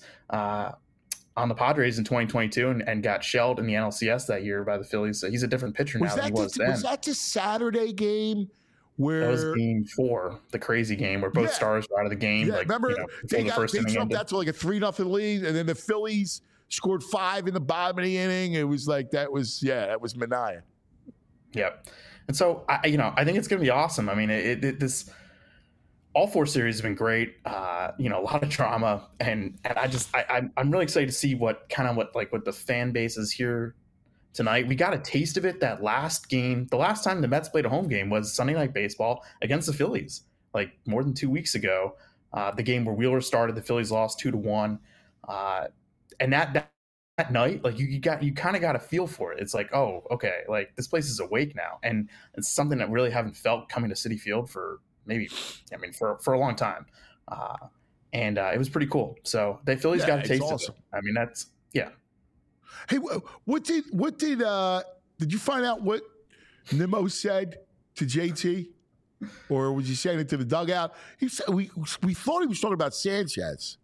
on the Padres in 2022 and got shelled in the NLCS that year by the Phillies. So he's a different pitcher now than he was then. Was that the Saturday game? That was game 4, the crazy game where both stars were out of the game. Yeah, remember they jumped out to like a 3-0 lead, and then the Phillies scored 5 in the bottom of the inning. It was like that was Manaea. Yep. And so I think it's going to be awesome. I mean, this all 4 series have been great. A lot of drama, and I'm really excited to see what the fan base is here tonight. We got a taste of it that last game. The last time the Mets played a home game was Sunday Night Baseball against the Phillies, like more than 2 weeks ago. The game where Wheeler started, the Phillies lost 2-1. And that night, like you kind of got a feel for it. It's like, oh, okay, like this place is awake now, and it's something that really haven't felt coming to Citi Field for for a long time. And it was pretty cool. So the Phillies got a taste of it. I mean, that's Hey, what did you find out what Nimmo said to JT, or was he saying it to the dugout? He said we thought he was talking about Sanchez.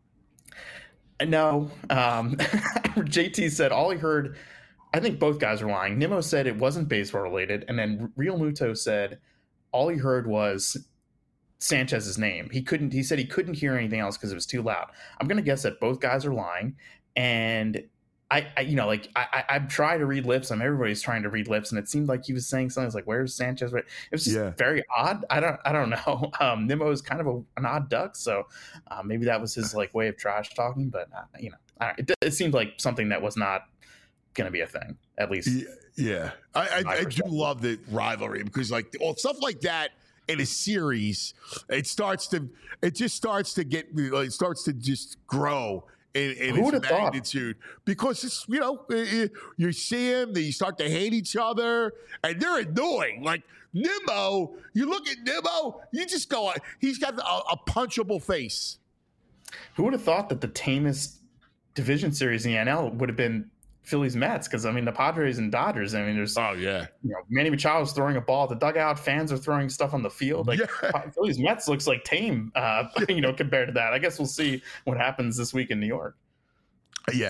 No, JT said all he heard. I think both guys are lying. Nimmo said it wasn't baseball related, and then Real Muto said all he heard was Sanchez's name. He said he couldn't hear anything else because it was too loud. I'm going to guess that both guys are lying, and I'm trying to read lips. Everybody's trying to read lips, and it seemed like he was saying something. It's like, "Where's Sanchez?" It was just very odd. I don't know. Nimmo is kind of an odd duck, so maybe that was his way of trash talking. But it seemed like something that was not going to be a thing, at least. Yeah, I do love the rivalry because stuff like that in a series, it starts to just grow in its magnitude because it's you see them, they start to hate each other and they're annoying. Like Nimmo, you look at Nimmo, you just go, he's got a punchable face. Who would have thought that the tamest division series in the NL would have been Phillies Mets? Because the Padres and Dodgers, there's Manny Machado's throwing a ball at the dugout, fans are throwing stuff on the field. Phillies Mets looks like tame, compared to that. I guess we'll see what happens this week in New York. Yeah,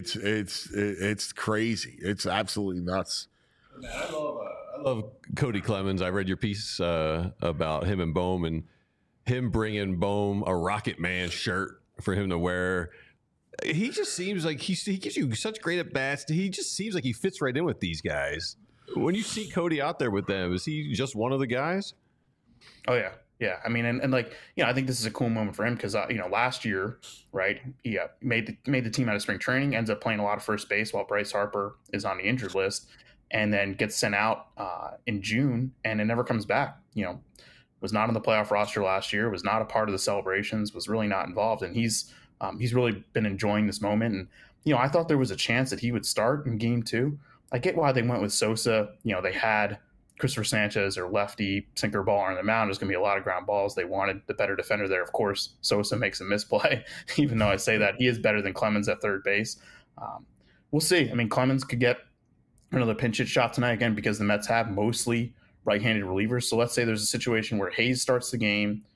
it's crazy. It's absolutely nuts. Man, I love Cody Clemens. I read your piece about him and Bohm, and him bringing Bohm a Rocket Man shirt for him to wear. He just seems like he gives you such great at bats. He just seems like he fits right in with these guys. When you see Cody out there with them, is he just one of the guys? Oh yeah. Yeah. I think this is a cool moment for him because last year, right, he made the team out of spring training, ends up playing a lot of first base while Bryce Harper is on the injured list, and then gets sent out in June and it never comes back. Was not on the playoff roster last year, was not a part of the celebrations, was really not involved, and he's really been enjoying this moment. And, I thought there was a chance that he would start in game 2. I get why they went with Sosa. They had Christopher Sanchez or lefty sinker ball on the mound. There's going to be a lot of ground balls. They wanted the better defender there. Of course, Sosa makes a misplay, even though I say that he is better than Clemens at third base. We'll see. Clemens could get another pinch hit shot tonight again because the Mets have mostly right-handed relievers. So let's say there's a situation where Hayes starts the game.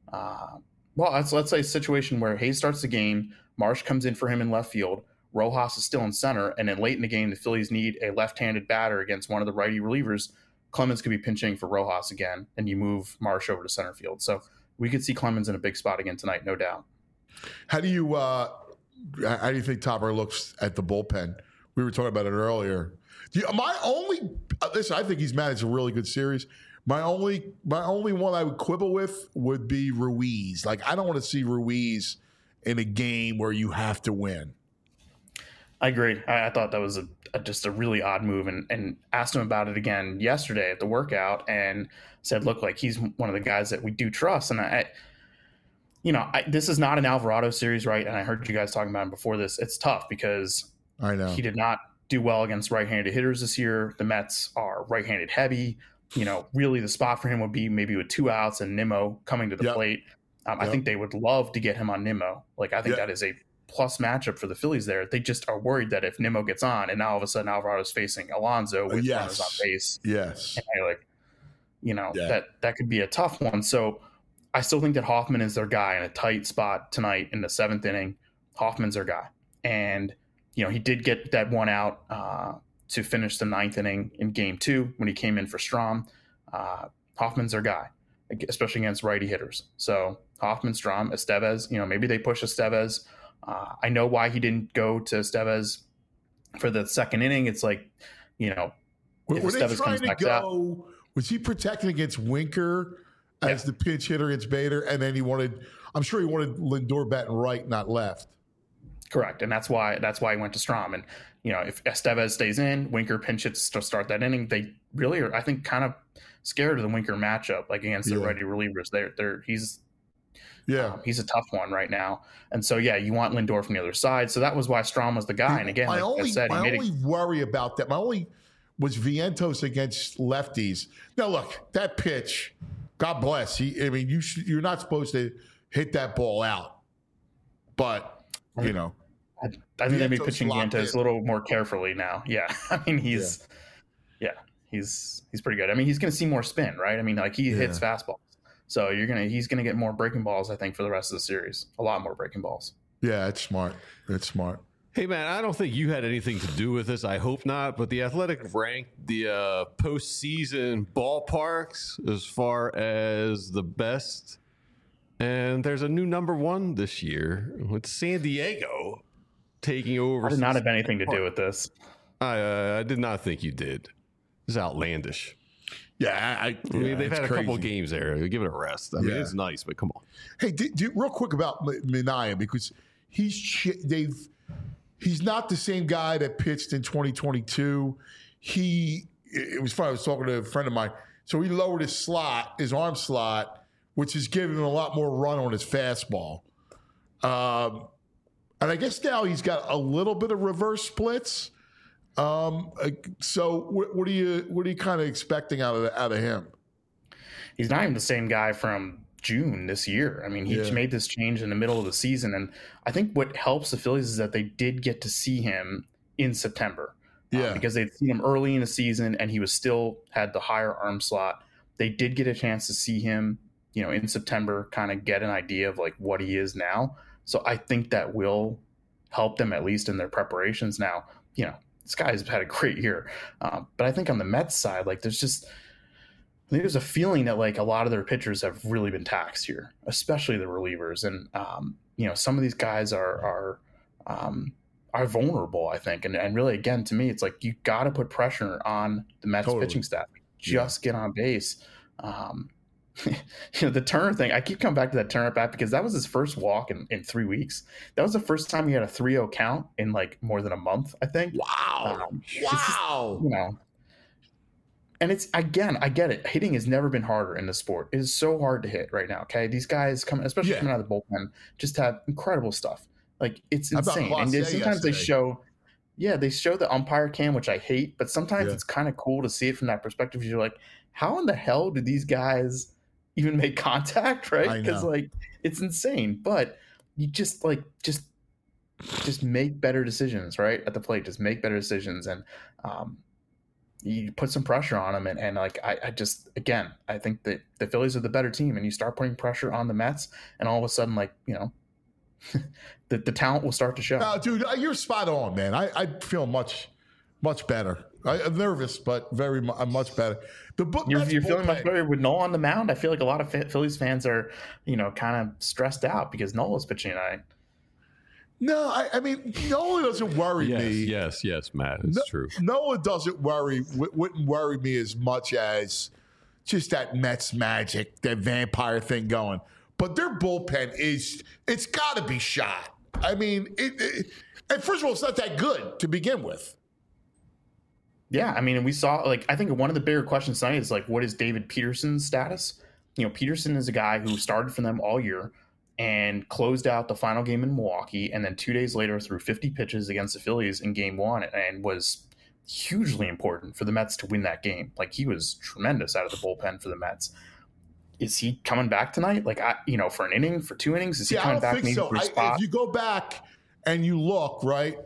Let's say a situation where Hayes starts the game, Marsh comes in for him in left field, Rojas is still in center, and then late in the game, the Phillies need a left-handed batter against one of the righty relievers. Clemens could be pinching for Rojas again, and you move Marsh over to center field. So we could see Clemens in a big spot again tonight, no doubt. How do you think Topper looks at the bullpen? We were talking about it earlier. I think he's managed a really good series. My only one I would quibble with would be Ruiz. I don't want to see Ruiz in a game where you have to win. I agree. I thought that was just a really odd move, and asked him about it again yesterday at the workout, and said, "Look, he's one of the guys that we do trust." And this is not an Alvarado series, right? And I heard you guys talking about him before this. It's tough because I know he did not do well against right-handed hitters this year. The Mets are right-handed heavy. Really the spot for him would be maybe with 2 outs and Nimmo coming to the plate. I think they would love to get him on Nimmo. I think that is a plus matchup for the Phillies there. They just are worried that if Nimmo gets on and now all of a sudden Alvarado's facing Alonso with runners on base. Yes. And that could be a tough one. So I still think that Hoffman is their guy in a tight spot tonight in the 7th inning. Hoffman's their guy. And, he did get that 1 out to finish the 9th inning in game 2 when he came in for Strahm. Hoffman's their guy, especially against righty hitters. So Hoffman, Strahm, Estevez, maybe they push Estevez. I know why he didn't go to Estevez for the 2nd inning. It's if Estevez comes back out. Was he protecting against Winker as the pinch hitter against Bader? And then I'm sure he wanted Lindor batting right, not left. Correct. And that's why he went to Strahm. And, if Estevez stays in, Winker pinch hits to start that inning. They really are, I think, kind of scared of the Winker matchup, against the righty relievers. He's a tough one right now. And so, you want Lindor from the other side. So that was why Strahm was the guy. And again, my only worry about that, was Vientos against lefties. Now, look, that pitch, God bless. You're not supposed to hit that ball out. But, I think they'd be pitching Vientos a little more carefully now. Yeah. He's pretty good. He's going to see more spin, right? He hits fastballs. So he's going to get more breaking balls, I think, for the rest of the series. A lot more breaking balls. Yeah, it's smart. It's smart. Hey, man, I don't think you had anything to do with this. I hope not. But the Athletic ranked the postseason ballparks as far as the best. And there's a new number 1 this year with San Diego taking over. I did not have anything to do with this. I did not think you did. This is outlandish. Yeah, I mean, they've had a couple games there. Give it a rest. I mean, it's nice, but come on. Hey, real quick about Minaya, because he's not the same guy that pitched in 2022. It was funny. I was talking to a friend of mine. So he lowered his arm slot, which is giving him a lot more run on his fastball. And I guess now he's got a little bit of reverse splits. So what are you kind of expecting out of him? He's not even the same guy from June this year. I mean, he made this change in the middle of the season, and I think what helps the Phillies is that they did get to see him in September. Because they'd seen him early in the season, and he was still had the higher arm slot. They did get a chance to see him, in September, kind of get an idea of like what he is now. So I think that will help them at least in their preparations. Now, this guy's had a great year, but I think on the Mets side, like there's a feeling that like a lot of their pitchers have really been taxed here, especially the relievers, and some of these guys are vulnerable, I think, and really again to me, it's like you got to put pressure on the Mets pitching staff. Just get on base. The Turner thing, I keep coming back to that Turner bat because that was his first walk in 3 weeks. That was the first time he had a 3-0 count in like more than a month, I think. Wow. Just, and it's, again, I get it. Hitting has never been harder in the sport. It is so hard to hit right now. Okay. These guys especially coming out of the bullpen, just have incredible stuff. Like it's insane. And sometimes they show the umpire cam, which I hate, but sometimes it's kind of cool to see it from that perspective. You're like, how in the hell did these guys even make contact, right? Because like it's insane. But you just make better decisions, right? At the plate, just make better decisions, and you put some pressure on them. And like I think that the Phillies are the better team, and you start putting pressure on the Mets, and all of a sudden, like the talent will start to show. No, dude, you're spot on, man. I feel much better. I'm nervous, but I'm much better. You're feeling much better with Nola on the mound. I feel like a lot of Phillies fans are, kind of stressed out because Nola's pitching tonight. No, I mean, Nola doesn't worry me. Yes, Matt. It's true. Nola wouldn't worry me as much as just that Mets magic, that vampire thing going. But their bullpen it's got to be shot. I mean, and first of all, it's not that good to begin with. Yeah, I mean, and we saw, like, I think one of the bigger questions tonight is, like, what is David Peterson's status? Peterson is a guy who started for them all year and closed out the final game in Milwaukee, and then 2 days later threw 50 pitches against the Phillies in Game 1 and was hugely important for the Mets to win that game. Like, he was tremendous out of the bullpen for the Mets. Is he coming back tonight? Like, for an inning, for 2 innings? Is he coming back maybe for a spot? If you go back and you look, right,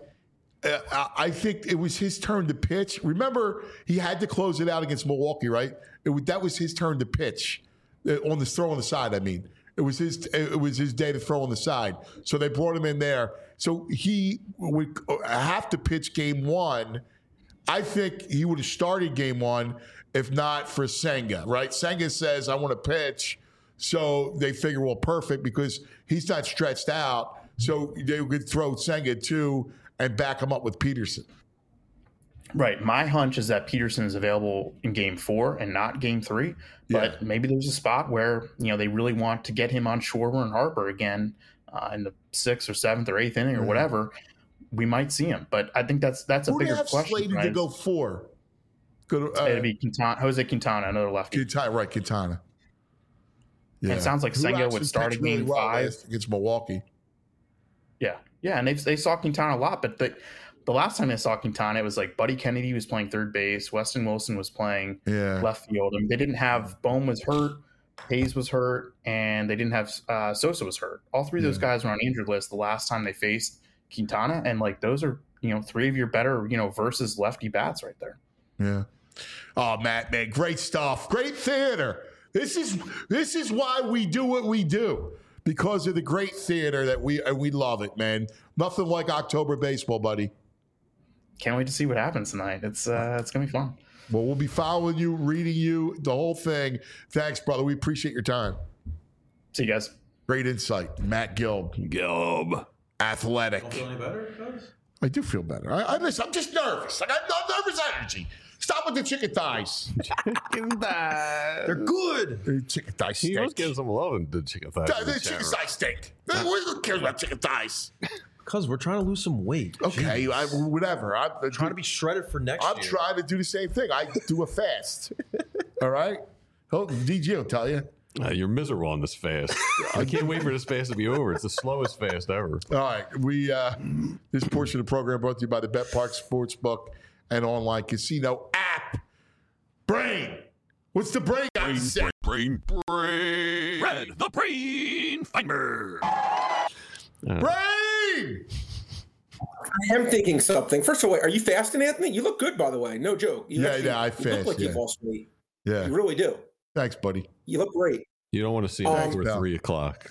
I think it was his turn to pitch. Remember, he had to close it out against Milwaukee, right? That was his turn to pitch on the throw on the side. I mean, it was his day to throw on the side. So they brought him in there. So he would have to pitch Game 1. I think he would have started Game 1 if not for Senga, right? Senga says, I want to pitch. So they figure, well, perfect, because he's not stretched out. So they could throw Senga too and back him up with Peterson. Right. My hunch is that Peterson is available in Game 4 and not Game 3. But maybe there's a spot where, they really want to get him on Schwarber and Harper again in the 6th or 7th or 8th inning or whatever. We might see him. But I think that's a bigger question. Who slated to go 4? It'd be Jose Quintana, another lefty. Quintana. Yeah. And it sounds like Senga would start in Game 5 against Milwaukee. Yeah, and they saw Quintana a lot, but the last time they saw Quintana, it was like Buddy Kennedy was playing third base, Weston Wilson was playing left field. I mean, they didn't have Bohm was hurt, Hayes was hurt, and they didn't have Sosa was hurt. All three of those guys were on injured list the last time they faced Quintana, and like those are three of your better versus lefty bats right there. Yeah. Oh, Matt, man, great stuff, great theater. This is why we do what we do. Because of the great theater that we love it, man. Nothing like October baseball, buddy. Can't wait to see what happens tonight. It's gonna be fun. Well, we'll be following you, reading you, the whole thing. Thanks, brother. We appreciate your time. See you guys. Great insight, Matt Gilb. athletic. Don't feel any better, guys? I do feel better. Listen, I'm just nervous. I got nervous energy. Stop with the chicken thighs. They're good. Chicken thighs He stink. was getting some love in the chicken thighs. The chicken thighs stink. Who cares about chicken thighs? Because we're trying to lose some weight. Okay, whatever. I'm Trying to be shredded for next I'm year. trying to do the same thing. I do a fast. All right? DG will tell you. You're miserable on this fast. I can't wait for this fast to be over. It's the slowest fast ever. All right. This portion of the program brought to you by the Bet Park Sportsbook and online casino app. Brain. What's the brain got to say? Red, the brain finder. Brain! I am thinking something. First of all, are you fasting, Anthony? You look good, by the way. No joke. You I You fast. look like Yeah. you've lost weight. Yeah. You really do. Thanks, buddy. You look great. You don't want to see that before no. 3 o'clock.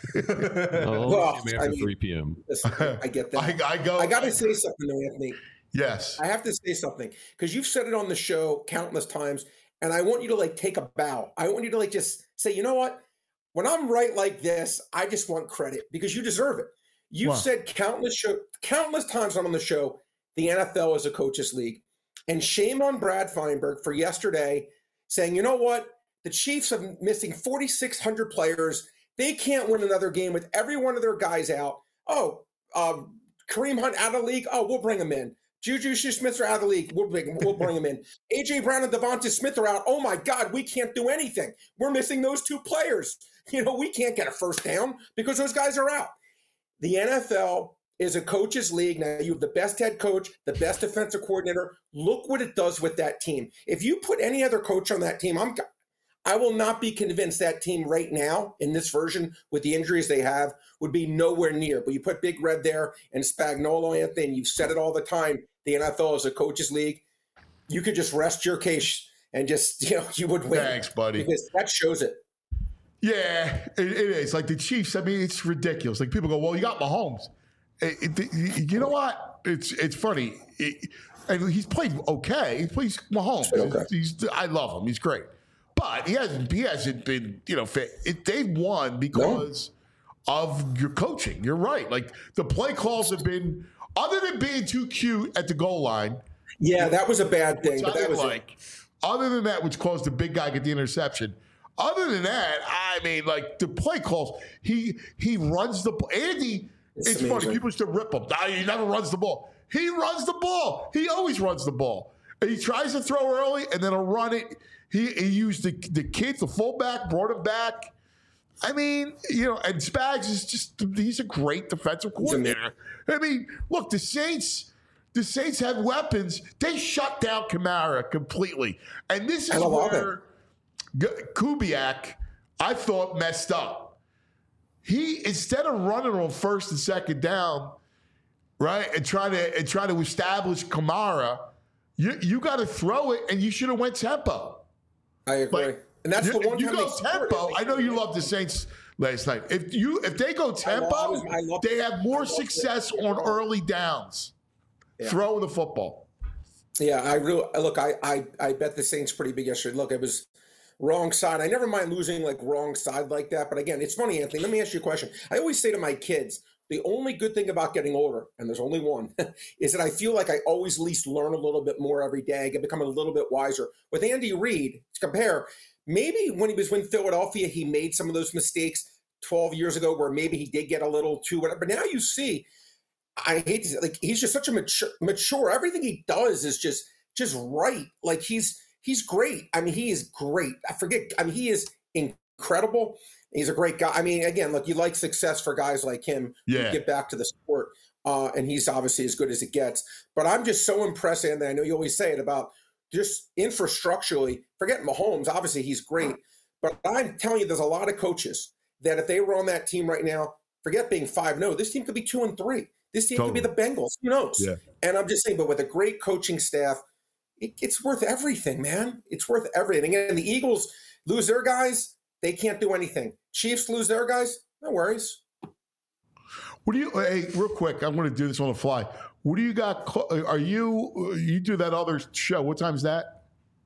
Well, After 3 p.m. Listen, I get that. I got to say something, though, Anthony. Yes. I have to say something because you've said it on the show countless times, and I want you to take a bow. I want you to just say, you know what? When I'm right like this, I just want credit because you deserve it. You've said countless times on the show, the NFL is a coaches league, and shame on Brad Feinberg for yesterday saying, you know what? The Chiefs are missing 4,600 players. They can't win another game with every one of their guys out. Oh, Kareem Hunt out of the league. Oh, we'll bring him in. Juju Smith are out of the league. We'll bring him in. A.J. Brown and Devonta Smith are out. Oh, my God, we can't do anything. We're missing those two players. We can't get a first down because those guys are out. The NFL is a coaches league. Now, you have the best head coach, the best defensive coordinator. Look what it does with that team. If you put any other coach on that team, I will not be convinced that team right now in this version with the injuries they have would be nowhere near. But you put Big Red there and Spagnuolo, Anthony, and you've said it all the time, the NFL is a coaches league. You could just rest your case and just, you would win. Thanks, buddy. Because that shows it. Yeah, it is. Like the Chiefs, I mean, it's ridiculous. Like people go, well, you got Mahomes. You know what? It's funny. And he's played okay. He plays Mahomes. Okay. I love him. He's great. But he hasn't been, they've won because of your coaching. You're right. Like the play calls have been, other than being too cute at the goal line. Yeah, that was a bad thing. But that was other than that, which caused the big guy get the interception. Other than that, I mean, the play calls, he runs the ball. Andy, it's funny. People used to rip him. He never runs the ball. He runs the ball. He always runs the ball. And he tries to throw early, and then he'll run it. He used the kid, the fullback, brought him back. I mean, and Spags is he's a great defensive coordinator. I mean, look, the Saints have weapons. They shut down Kamara completely. And this is where Kubiak, I thought, messed up. He, instead of running on first and second down, right, and trying to establish Kamara, you got to throw it, and you should have went tempo. I agree. And that's the one you time go tempo. I know you loved the Saints last night. If they go tempo, they have more success on early downs. Throwing the football. Yeah, I bet the Saints pretty big yesterday. Look, it was wrong side. I never mind losing wrong side like that. But again, it's funny, Anthony. Let me ask you a question. I always say to my kids, the only good thing about getting older, and there's only one, is that I feel like I always at least learn a little bit more every day. I get become a little bit wiser. With Andy Reid, to compare, maybe when he was with Philadelphia, he made some of those mistakes 12 years ago where maybe he did get a little too whatever. But now you see, I hate to say, he's just such a mature. Everything he does is just right. He's great. I mean, he is great. He is incredible. He's a great guy. I mean, again, look, you like success for guys like him. Yeah. You get back to the sport, and he's obviously as good as it gets. But I'm just so impressed, and I know you always say it about just infrastructurally. Forget Mahomes. Obviously, he's great. But I'm telling you, there's a lot of coaches that if they were on that team right now, forget being 5-0. This team could be 2-3. This team could be the Bengals. Who knows? Yeah. And I'm just saying, but with a great coaching staff, it's worth everything, man. It's worth everything. And the Eagles lose their guys, they can't do anything. Chiefs lose their guys, no worries. Hey, real quick, I'm going to do this on the fly. What do you got? Are you do that other show? What time is that?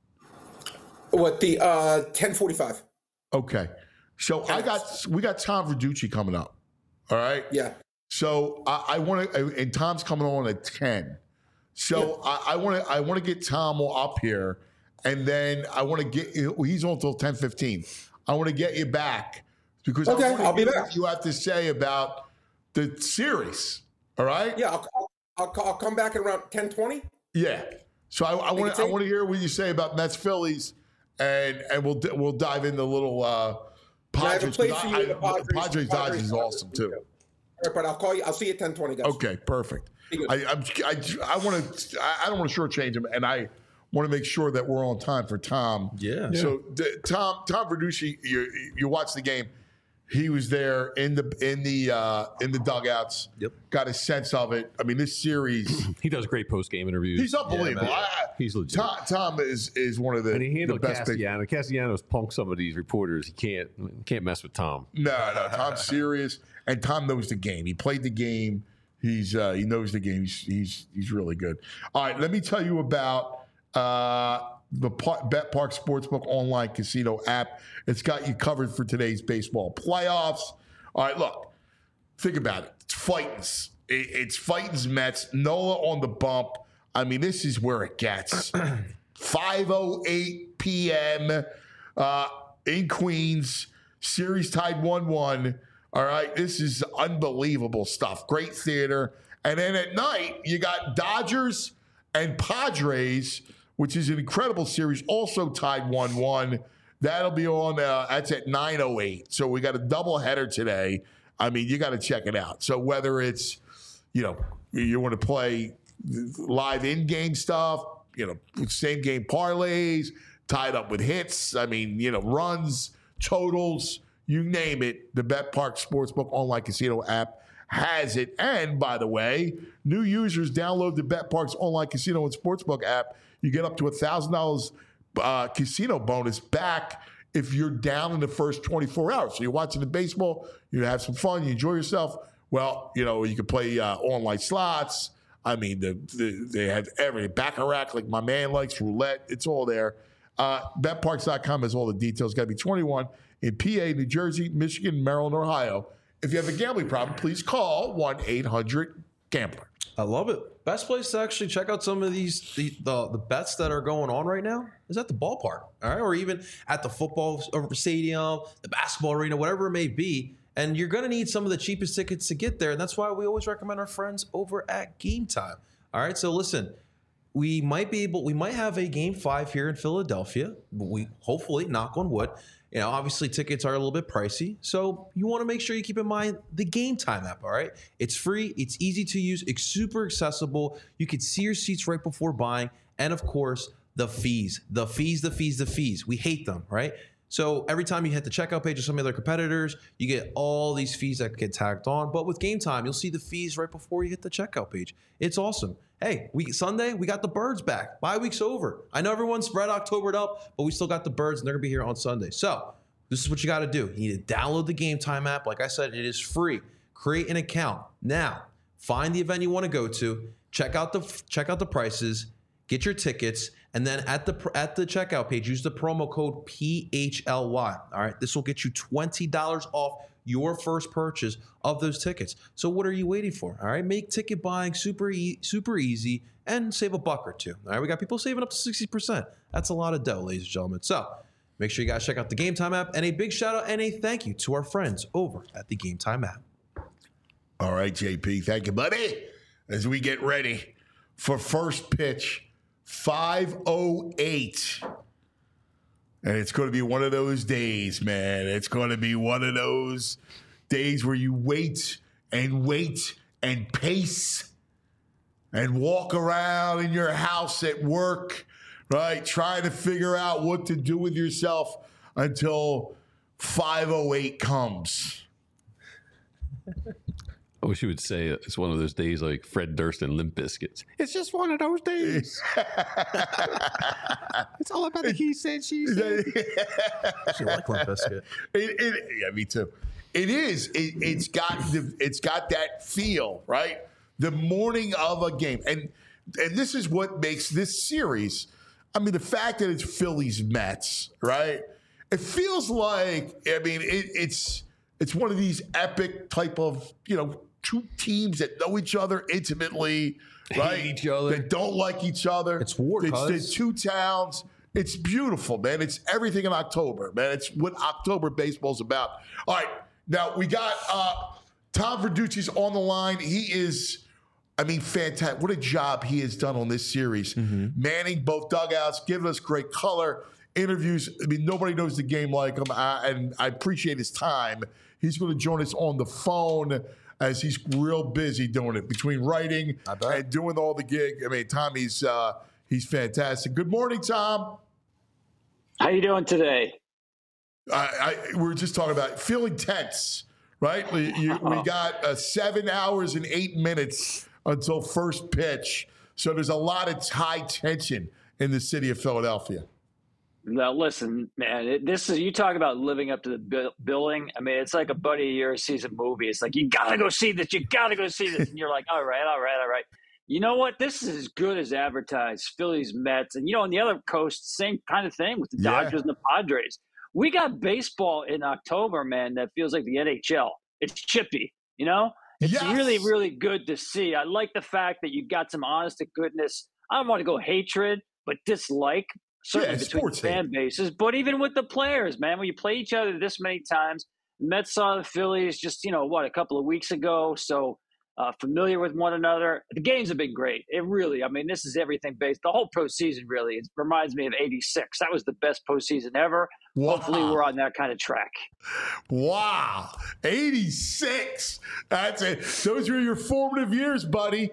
What, the 10:45. Okay. So we got Tom Verducci coming up. All right. Yeah. So I want to, and Tom's coming on at 10. So I want to get Tom up here, and then I want to get he's on until 10:15. I want to get you back because I'll be back. What you have to say about the series. All right? Yeah, I'll come back at around 10:20. Yeah. So I want to hear what you say about Mets Phillies, and we'll dive into a little Padres. Padres Dodgers is awesome too. All right, but I'll call you. I'll see you at 10:20, guys. Okay, perfect. I want to. I don't want to shortchange him, and I want to make sure that we're on time for Tom. Yeah. So Tom Verducci, you watched the game. He was there in the dugouts. Yep. Got a sense of it. I mean, this series. He does great post game interviews. He's unbelievable. He's legit. Tom is one of the, and he handled the best. Castellano. Castellanos punked some of these reporters. He can't mess with Tom. No. Tom's serious, and Tom knows the game. He played the game. He knows the game. He's really good. All right, let me tell you about the BetParx Sportsbook online casino app. It's got you covered for today's baseball playoffs. All right, look, think about it. It's Fightins. It's Fightins Mets. Nola on the bump. I mean, this is where it gets. 5:08 p.m. In Queens. Series tied 1-1. All right, this is unbelievable stuff. Great theater. And then at night, you got Dodgers and Padres, which is an incredible series, also tied 1-1. That'll be on, that's at 9:08. So we got a doubleheader today. I mean, you got to check it out. So whether it's, you want to play live in-game stuff, same game parlays, tied up with hits, I mean, runs, totals, you name it, the BetParx Sportsbook online casino app has it. And by the way, new users download the BetParx online casino and sportsbook app. You get up to $1,000 casino bonus back if you're down in the first 24 hours. So you're watching the baseball, you have some fun, you enjoy yourself. Well, you can play online slots. I mean, they have everything. Baccarat, like my man likes, roulette, it's all there. BetParx.com has all the details. Got to be 21 in PA, New Jersey, Michigan, Maryland, Ohio. If you have a gambling problem, please call 1-800-GAMBLER. I love it. Best place to actually check out some of the bets that are going on right now is at the ballpark, all right, or even at the football stadium, the basketball arena, whatever it may be. And you're going to need some of the cheapest tickets to get there, and that's why we always recommend our friends over at Game Time. All right, so listen, we might have a Game 5 here in Philadelphia. We hopefully, knock on wood. Obviously tickets are a little bit pricey, so you want to make sure you keep in mind the Game Time app, all right? It's free, it's easy to use, it's super accessible. You can see your seats right before buying, and of course, the fees. We hate them, right? So every time you hit the checkout page of some of their competitors, you get all these fees that get tagged on. But with Game Time, you'll see the fees right before you hit the checkout page. It's awesome. Hey, Sunday, we got the Birds back. Bye week's over. I know everyone's Red Octobered up, but we still got the Birds, and they're going to be here on Sunday. So this is what you got to do. You need to download the Game Time app. Like I said, it is free. Create an account. Now, find the event you want to go to. Check out the prices. Get your tickets, and then at the checkout page, use the promo code PHLY. All right, this will get you $20 off your first purchase of those tickets. So what are you waiting for? All right, make ticket buying super easy and save $1 or $2. All right, we got people saving up to 60%. That's a lot of dough, ladies and gentlemen. So make sure you guys check out the Game Time app, and a big shout out and a thank you to our friends over at the Game Time app. All right, JP, thank you, buddy. As we get ready for first pitch. 5:08. And it's going to be one of those days, man. It's going to be one of those days where you wait and pace and walk around in your house at work, right? Trying to figure out what to do with yourself until 5:08 comes. I wish you would say it's one of those days like Fred Durst and Limp Bizkit. It's just one of those days. It's all about the he said, she said. I like Limp Bizkit. Yeah, me too. It is. It's got that feel, right? The morning of a game, and this is what makes this series. I mean, the fact that it's Phillies Mets, right? It feels like. I mean, it's one of these epic type of two teams that know each other intimately, right? Hate each other. That don't like each other. It's war, It's cuz. two towns. It's beautiful, man. It's everything in October, man. It's what October baseball's about. All right, now we got Tom Verducci's on the line. He is, fantastic. What a job he has done on this series. Manning both dugouts, giving us great color, interviews. Nobody knows the game like him, and I appreciate his time. He's going to join us on the phone as he's real busy doing it, between writing and doing all the gig. Tom, he's fantastic. Good morning, Tom. How you doing today? We were just talking about feeling tense, right? We got 7 hours and 8 minutes until first pitch. So there's a lot of high tension in the city of Philadelphia. Now, listen, man, you talk about living up to the billing. It's like a buddy of yours sees a movie. It's like, you got to go see this. You got to go see this. And you're like, all right. You know what? This is as good as advertised. Phillies, Mets. And, on the other coast, same kind of thing with the Dodgers and the Padres. We got baseball in October, man, that feels like the NHL. It's chippy, It's really, really good to see. I like the fact that you got some honest to goodness. I don't want to go hatred, but dislike, certainly between fan bases. But even with the players, man, when you play each other this many times, the Mets saw the Phillies just, a couple of weeks ago. So, familiar with one another. The games have been great. It really, this is everything based. The whole postseason really, it reminds me of '86. That was the best postseason ever. Wow. Hopefully we're on that kind of track. Wow. '86. That's it. Those were your formative years, buddy.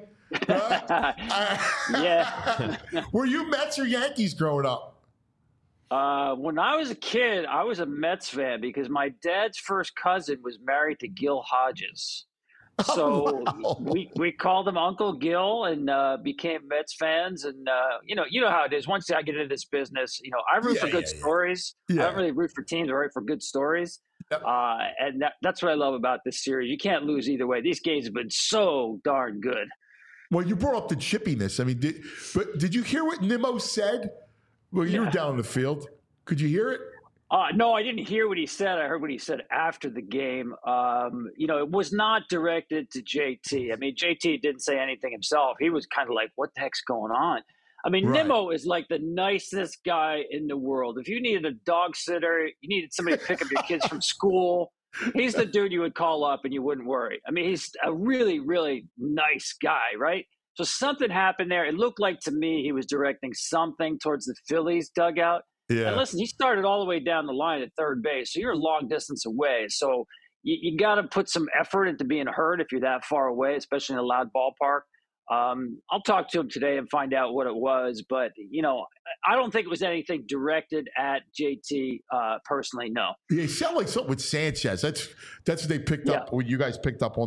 Yeah. Were you Mets or Yankees growing up? When I was a kid, I was a Mets fan because my dad's first cousin was married to Gil Hodges. So we called him Uncle Gil and became Mets fans. And, you know how it is. Once I get into this business, I root for good stories. Yeah. I don't really root for teams. I root for good stories. Yep. And that's what I love about this series. You can't lose either way. These games have been so darn good. Well, you brought up the chippiness. Did you hear what Nimmo said? Well, you were down in the field. Could you hear it? No, I didn't hear what he said. I heard what he said after the game. It was not directed to JT. JT didn't say anything himself. He was kind of like, what the heck's going on? Right. Nimmo is like the nicest guy in the world. If you needed a dog sitter, you needed somebody to pick up your kids from school, he's the dude you would call up and you wouldn't worry. He's a really, really nice guy, right? So something happened there. It looked like to me he was directing something towards the Phillies dugout. Yeah. And listen, he started all the way down the line at third base, so you're a long distance away. So you got to put some effort into being heard if you're that far away, especially in a loud ballpark. I'll talk to him today and find out what it was. But, I don't think it was anything directed at JT personally, no. Yeah, it sounded like something with Sanchez. That's what they picked up, what you guys picked up on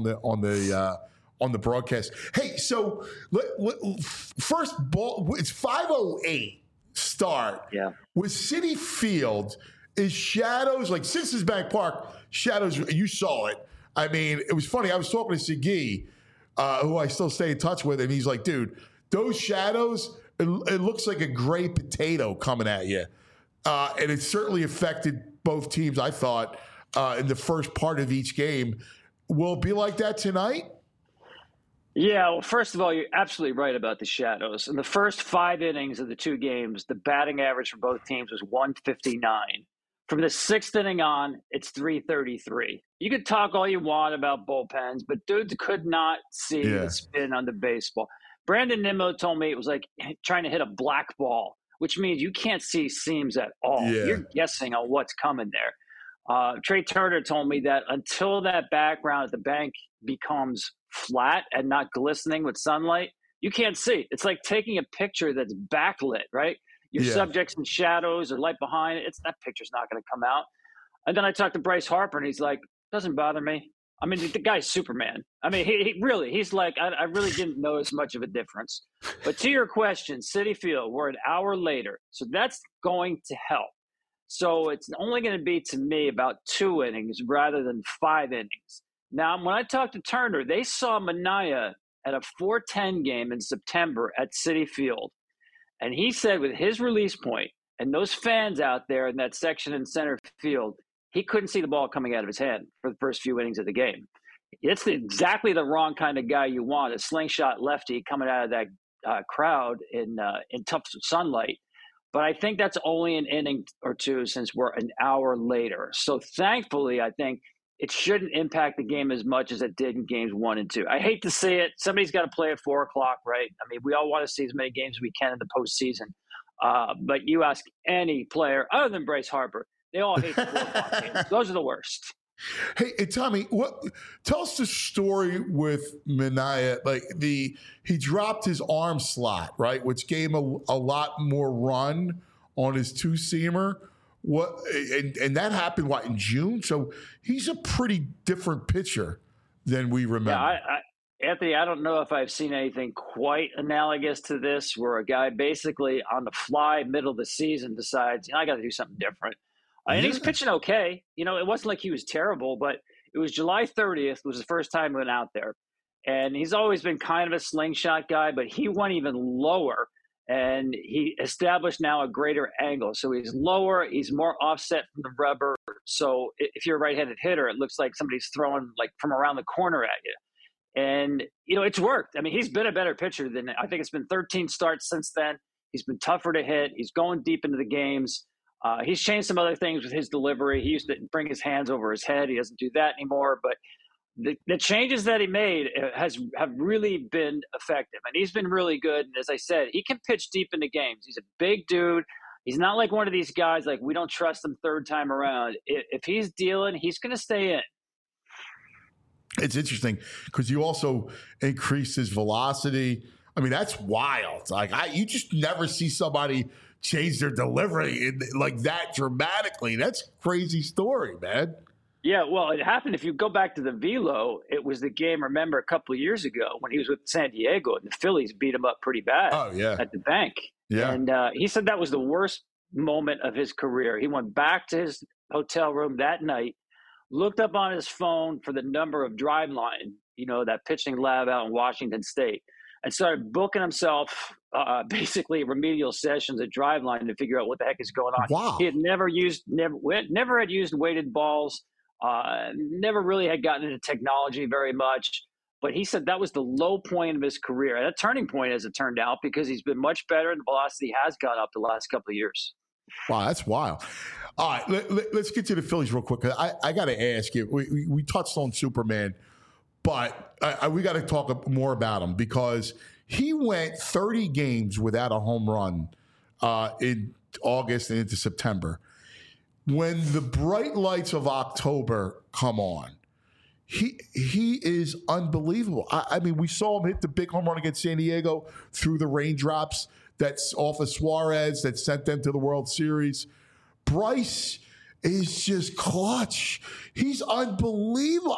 the broadcast. Hey, so first ball, it's 5:08. Start. Yeah. With Citi Field, is Shadows, like Citizens Bank Park, Shadows, you saw it. It was funny. I was talking to Segui, who I still stay in touch with, and he's like, dude, those shadows, it looks like a gray potato coming at you. And it certainly affected both teams, I thought, in the first part of each game. Will it be like that tonight? Yeah, well, first of all, you're absolutely right about the shadows. In the first 5 innings of the 2 games, the batting average for both teams was 159. From the 6th inning on, it's 333. You could talk all you want about bullpens, but dudes could not see the spin on the baseball. Brandon Nimmo told me it was like trying to hit a black ball, which means you can't see seams at all. Yeah. You're guessing on what's coming there. Trey Turner told me that until that background at the bank becomes flat and not glistening with sunlight, you can't see. It's like taking a picture that's backlit, right? Your subjects in shadows or light behind it. That picture's not going to come out. And then I talked to Bryce Harper, and he's like, doesn't bother me. The guy's Superman. He's like, I really didn't notice much of a difference. But to your question, Citi Field, we're an hour later. So that's going to help. So it's only going to be, to me, about 2 innings rather than 5 innings. Now, when I talked to Turner, they saw Manaea at a 4:10 game in September at Citi Field. And he said with his release point and those fans out there in that section in center field, he couldn't see the ball coming out of his hand for the first few innings of the game. It's exactly the wrong kind of guy you want, a slingshot lefty coming out of that crowd in tough sunlight. But I think that's only an inning or two since we're an hour later. So thankfully, I think it shouldn't impact the game as much as it did in games 1 and 2. I hate to say it. Somebody's got to play at 4 o'clock, right? I mean, we all want to see as many games as we can in the postseason. But you ask any player other than Bryce Harper, they all hate the 4 o'clock games. Those are the worst. Hey, Tommy, tell us the story with Minaya. Like he dropped his arm slot, right, which gave him a lot more run on his two-seamer. And that happened in June? So he's a pretty different pitcher than we remember. Yeah, Anthony, I don't know if I've seen anything quite analogous to this, where a guy basically on the fly, middle of the season, decides, I got to do something different. And he's pitching okay. It wasn't like he was terrible, but it was July 30th was the first time he went out there. And he's always been kind of a slingshot guy, but he went even lower, and he established now a greater angle. So he's lower, he's more offset from the rubber. So if you're a right-handed hitter, it looks like somebody's throwing from around the corner at you. And, it's worked. I mean, he's been a better pitcher than – I think it's been 13 starts since then. He's been tougher to hit. He's going deep into the games. He's changed some other things with his delivery. He used to bring his hands over his head. He doesn't do that anymore. But the changes that he made have really been effective. And he's been really good. And as I said, he can pitch deep into games. He's a big dude. He's not like one of these guys we don't trust him third time around. If he's dealing, he's going to stay in. It's interesting because you also increase his velocity. I mean, that's wild. You just never see somebody change their delivery like that dramatically. That's a crazy story, man. Yeah, well, it happened. If you go back to the velo, it was the game, remember, a couple of years ago when he was with San Diego and the Phillies beat him up pretty bad at the bank. Yeah. And he said that was the worst moment of his career. He went back to his hotel room that night, looked up on his phone for the number of Driveline, that pitching lab out in Washington State, and started booking himself basically remedial sessions at Driveline to figure out what the heck is going on. Wow. He had never had used weighted balls, never really had gotten into technology very much. But he said that was the low point of his career, and a turning point as it turned out, because he's been much better and the velocity has gone up the last couple of years. Wow, that's wild. All right, let's get to the Phillies real quick. I got to ask you, we touched on Superman, but we got to talk more about him because he went 30 games without a home run in August and into September. When the bright lights of October come on, he is unbelievable. I mean, we saw him hit the big home run against San Diego through the raindrops that's off of Suarez that sent them to the World Series. Bryce is just clutch. He's unbelievable.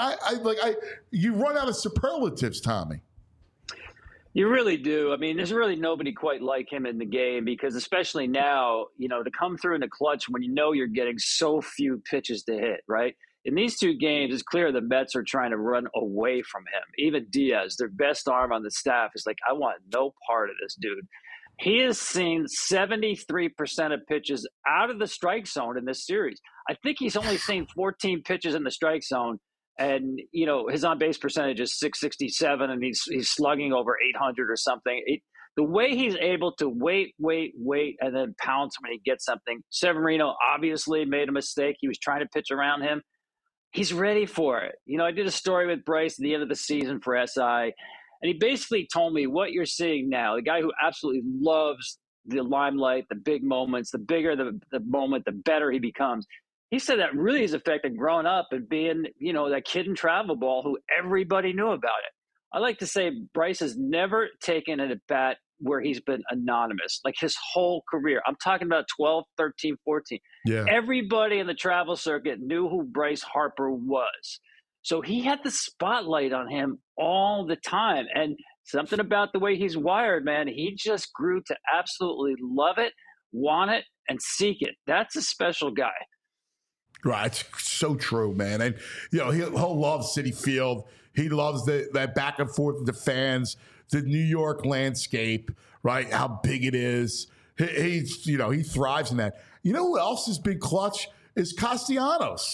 You run out of superlatives, Tommy. You really do. I mean, there's really nobody quite like him in the game because especially now, to come through in the clutch when you're getting so few pitches to hit, right? In these two games, it's clear the Mets are trying to run away from him. Even Diaz, their best arm on the staff, is like, I want no part of this dude. He has seen 73% of pitches out of the strike zone in this series. I think he's only seen 14 pitches in the strike zone. And, his on-base percentage is .667, and he's slugging over 800 or something. The way he's able to wait, and then pounce when he gets something. Severino obviously made a mistake. He was trying to pitch around him. He's ready for it. I did a story with Bryce at the end of the season for SI, and he basically told me what you're seeing now, the guy who absolutely loves the limelight, the big moments, the bigger the moment, the better he becomes. He said that really has affected growing up and being, that kid in travel ball who everybody knew about it. I like to say Bryce has never taken an at-bat where he's been anonymous, like his whole career. I'm talking about 12, 13, 14. Yeah. Everybody in the travel circuit knew who Bryce Harper was. So he had the spotlight on him all the time. And something about the way he's wired, man, he just grew to absolutely love it, want it, and seek it. That's a special guy. Right. It's so true, man. And, he'll love Citi Field. He loves that back and forth with the fans, the New York landscape, right? How big it is. He thrives in that. You know who else has been clutch is Castellanos.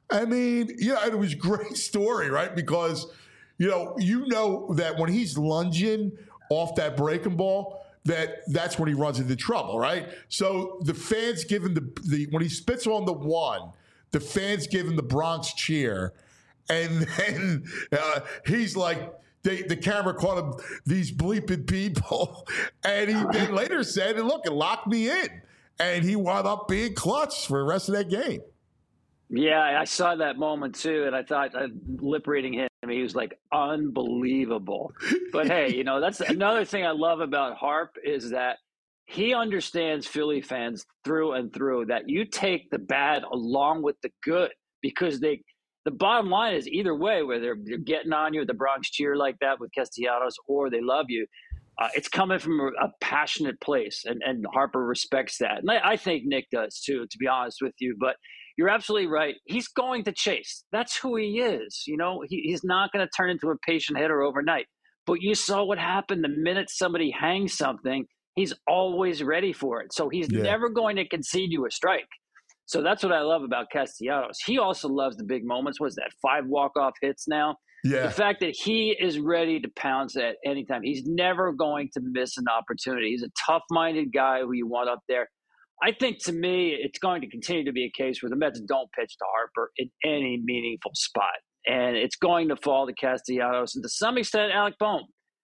I mean, it was a great story, right? Because, you know that when he's lunging off that breaking ball, that's when he runs into trouble, right? So the fans give him the when he spits on the one, the fans give him the Bronx cheer, and then he's like, the camera caught him, these bleeping people, and he then later said, "Look, it locked me in," and he wound up being clutch for the rest of that game. Yeah, I saw that moment too, and I thought lip reading him, he was like unbelievable. But hey, that's another thing I love about Harp is that he understands Philly fans through and through. That you take the bad along with the good, because the bottom line is either way, whether they're getting on you with the Bronx cheer like that with Castellanos or they love you, it's coming from a passionate place, and Harper respects that, and I think Nick does too, to be honest with you, but. You're absolutely right. He's going to chase. That's who he is. He's not going to turn into a patient hitter overnight. But you saw what happened the minute somebody hangs something. He's always ready for it. So he's never going to concede you a strike. So that's what I love about Castellanos. He also loves the big moments. What's that, 5 walk-off hits now? Yeah. The fact that he is ready to pounce at any time. He's never going to miss an opportunity. He's a tough-minded guy who you want up there. I think, to me, it's going to continue to be a case where the Mets don't pitch to Harper in any meaningful spot. And it's going to fall to Castellanos and, to some extent, Alec Bohm.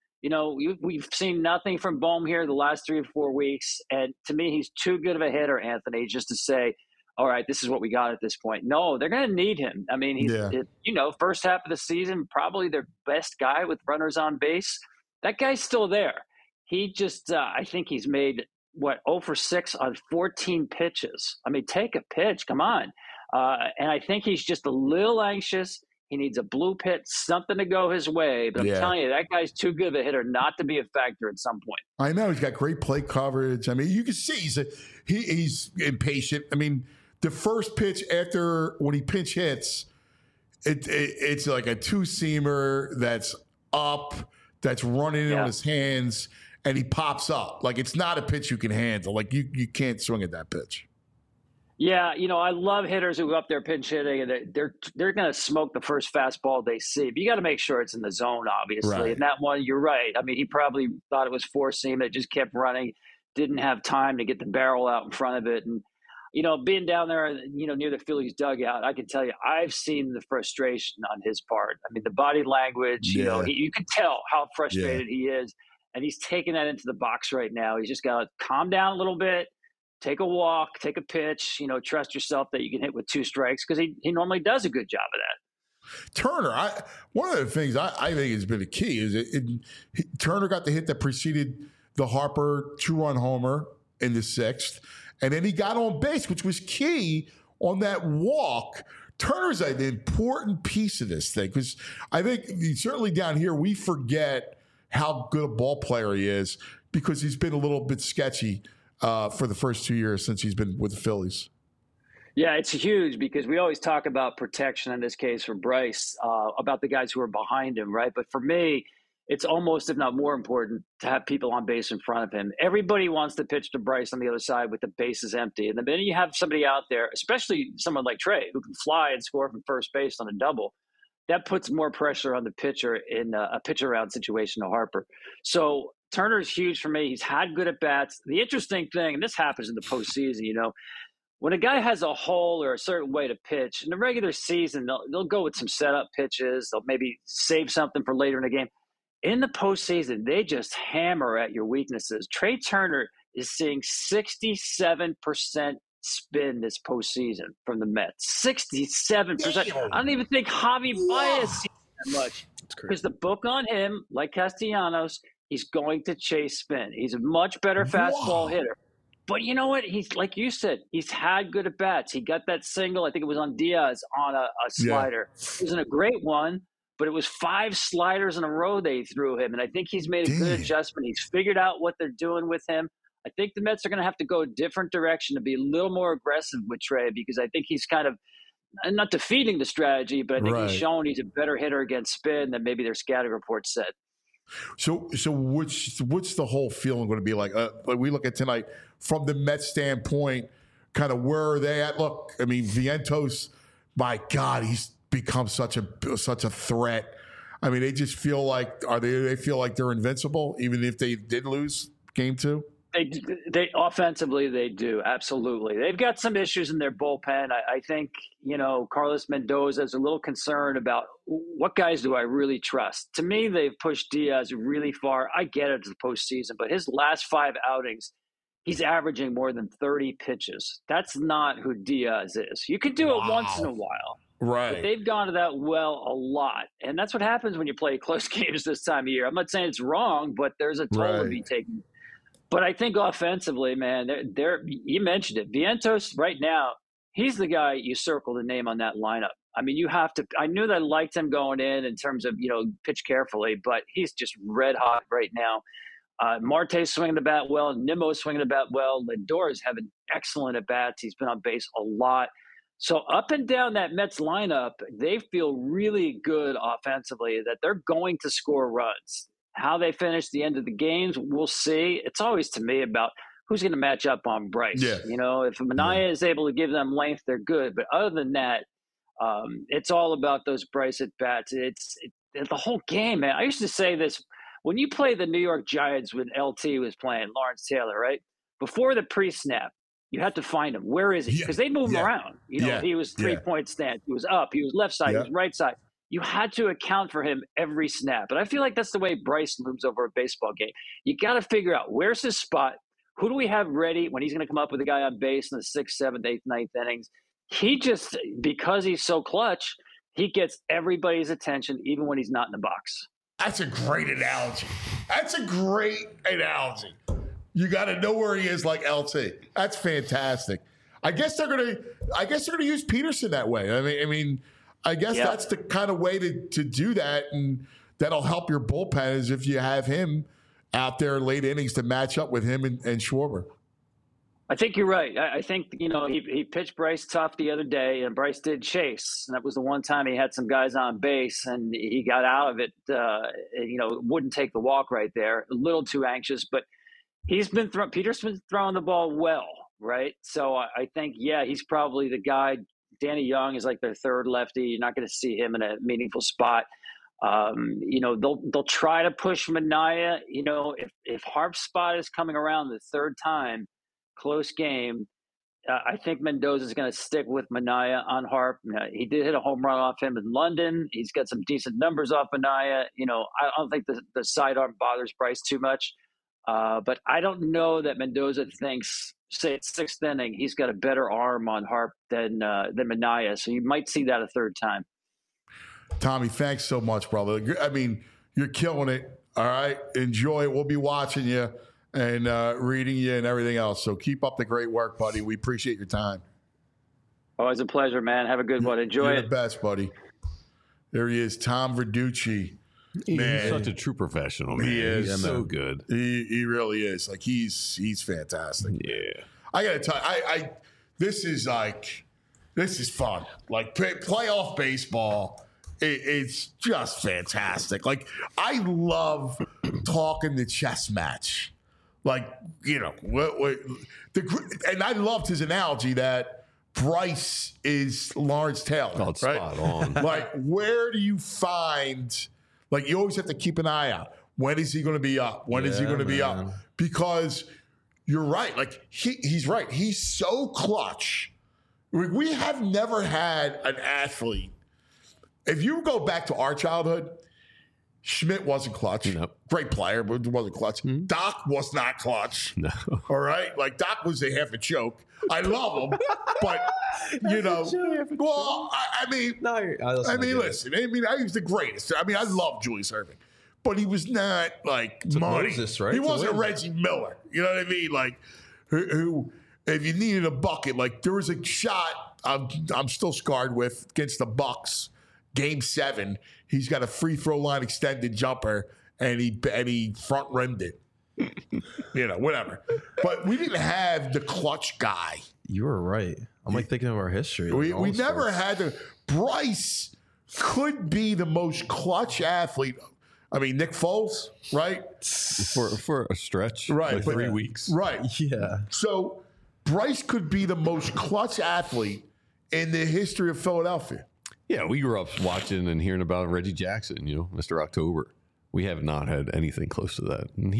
We've seen nothing from Bohm here the last 3 or 4 weeks. And to me, he's too good of a hitter, Anthony, just to say, all right, this is what we got at this point. No, they're going to need him. I mean, he's, first half of the season, probably their best guy with runners on base. That guy's still there. He just, I think he's made – 0 for 6 on 14 pitches. I mean, take a pitch. Come on. And I think he's just a little anxious. He needs a blue pit, something to go his way. But I'm telling you, that guy's too good of a hitter not to be a factor at some point. I know. He's got great plate coverage. I mean, you can see he's impatient. I mean, the first pitch when he pinch hits, it's like a two-seamer that's up, that's running in on his hands, and he pops up. Like, it's not a pitch you can handle. Like, you can't swing at that pitch. Yeah, I love hitters who go up there pinch hitting, and they're going to smoke the first fastball they see. But you got to make sure it's in the zone, obviously. Right. And that one, you're right. I mean, he probably thought it was four-seam. It just kept running, didn't have time to get the barrel out in front of it. And, being down there, near the Phillies dugout, I can tell you, I've seen the frustration on his part. I mean, the body language, you can tell how frustrated he is. And he's taking that into the box right now. He's just got to calm down a little bit, take a walk, take a pitch, trust yourself that you can hit with 2 strikes, because he normally does a good job of that. Turner, one of the things I think has been a key is Turner got the hit that preceded the Harper 2-run homer in the 6th, and then he got on base, which was key on that walk. Turner's an important piece of this thing, because I think certainly down here we forget how good a ball player he is because he's been a little bit sketchy for the first 2 years since he's been with the Phillies. Yeah, it's huge because we always talk about protection in this case for Bryce, about the guys who are behind him, right? But for me, it's almost, if not more important, to have people on base in front of him. Everybody wants to pitch to Bryce on the other side with the bases empty. And the minute you have somebody out there, especially someone like Trey, who can fly and score from first base on a double, that puts more pressure on the pitcher in a pitch-around situation to Harper. So Turner's huge for me. He's had good at-bats. The interesting thing, and this happens in the postseason, when a guy has a hole or a certain way to pitch, in the regular season, they'll go with some setup pitches. They'll maybe save something for later in the game. In the postseason, they just hammer at your weaknesses. Trey Turner is seeing 67% spin this postseason from the Mets. 67%. I don't even think Javi Baez sees that much. Because the book on him, like Castellanos, he's going to chase spin. He's a much better fastball hitter. But you know what? He's, like you said, he's had good at-bats. He got that single, I think it was on Diaz, on a slider. It wasn't a great one, but it was 5 sliders in a row they threw him. And I think he's made a good adjustment. He's figured out what they're doing with him. I think the Mets are going to have to go a different direction to be a little more aggressive with Trey, because I think he's kind of not defeating the strategy, but I think he's shown he's a better hitter against spin than maybe their scouting report said. So what's the whole feeling going to be like? We look at tonight from the Mets standpoint, kind of where are they at? Look, I mean, Vientos my God, he's become such a threat. I mean, they just feel like they feel like they're invincible, even if they did lose game 2? They offensively, they do. Absolutely. They've got some issues in their bullpen. I think, Carlos Mendoza is a little concerned about what guys do I really trust. To me, they've pushed Diaz really far. I get it to the postseason, but his last 5 outings, he's averaging more than 30 pitches. That's not who Diaz is. You could do it once in a while. Right. But they've gone to that well a lot. And that's what happens when you play close games this time of year. I'm not saying it's wrong, but there's a toll to be taken. But I think offensively, man, you mentioned it. Vientos right now, he's the guy you circle the name on that lineup. I mean, you have to – I knew that I liked him going in terms of, pitch carefully, but he's just red hot right now. Marte's swinging the bat well. Nimmo's swinging the bat well. Lindor's having excellent at-bats. He's been on base a lot. So up and down that Mets lineup, they feel really good offensively that they're going to score runs. How they finish the end of the games, we'll see. It's always, to me, about who's going to match up on Bryce. Yeah. If Manaea is able to give them length, they're good. But other than that, it's all about those Bryce at-bats. It's the whole game, man. I used to say this. When you play the New York Giants when LT was playing, Lawrence Taylor, right? Before the pre-snap, you had to find him. Where is he? Because they move him around. He was 3-point stance. He was up. He was left side. He was right side. You had to account for him every snap. And I feel like that's the way Bryce moves over a baseball game. You got to figure out where's his spot. Who do we have ready when he's going to come up with a guy on base in the 6th, 7th, 8th, 9th innings? He just, because he's so clutch, he gets everybody's attention even when he's not in the box. That's a great analogy. You got to know where he is, like LT. That's fantastic. I guess they're gonna use Peterson that way. I guess that's the kind of way to do that, and that'll help your bullpen is if you have him out there late innings to match up with him and Schwarber. I think you're right. I think, he pitched Bryce tough the other day, and Bryce did chase. And that was the one time he had some guys on base, and he got out of it, wouldn't take the walk right there. A little too anxious, but Peterson's throwing the ball well, right? So I think, he's probably the guy. Danny Young is like their third lefty. You're not going to see him in a meaningful spot. They'll try to push Manaea. If Harp's spot is coming around the third time, close game, I think Mendoza is going to stick with Manaea on Harp. He did hit a home run off him in London. He's got some decent numbers off Manaea. I don't think the sidearm bothers Bryce too much. But I don't know that Mendoza thinks, say it's 6th inning, he's got a better arm on Harp than Manaea. So you might see that a third time. Tommy, thanks so much, brother. I mean, you're killing it. All right. Enjoy it. We'll be watching you and reading you and everything else. So keep up the great work, buddy. We appreciate your time. Always a pleasure, man. Have a good one. Enjoy You're it. the best, buddy. There he is, Tom Verducci. He's such a true professional, man. He is. He's so good. He really is. Like, he's fantastic. Yeah. I got to tell you, this is fun. Like, playoff baseball, it's just fantastic. Like, I love talking the chess match. Like, and I loved his analogy that Bryce is Lawrence Taylor. Oh, it's spot on. Like, where do you find, like, you always have to keep an eye out. When is he going to be up? When is he going to be up? Because you're right. Like, he's right. He's so clutch. We have never had an athlete. If you go back to our childhood, Schmidt wasn't clutch. Nope. Great player, but wasn't clutch. Mm-hmm. Doc was not clutch. No. All right? Like, Doc was a half a choke. I love him, but, well, I mean, listen. I mean, he was the greatest. I mean, I love Julius Erving, but he was not, like, money. Moses, right? He wasn't Reggie Miller. You know what I mean? Like, who if you needed a bucket, like, there was a shot I'm still scarred with against the Bucks. Game 7, he's got a free throw line extended jumper, and he front rimmed it. Whatever. But we didn't have the clutch guy. You were right. I'm like thinking of our history. We never had the. Bryce could be the most clutch athlete. I mean, Nick Foles, right? For a stretch, right? Like 3 weeks, right? Yeah. So Bryce could be the most clutch athlete in the history of Philadelphia. Yeah, we grew up watching and hearing about Reggie Jackson, Mr. October. We have not had anything close to that. And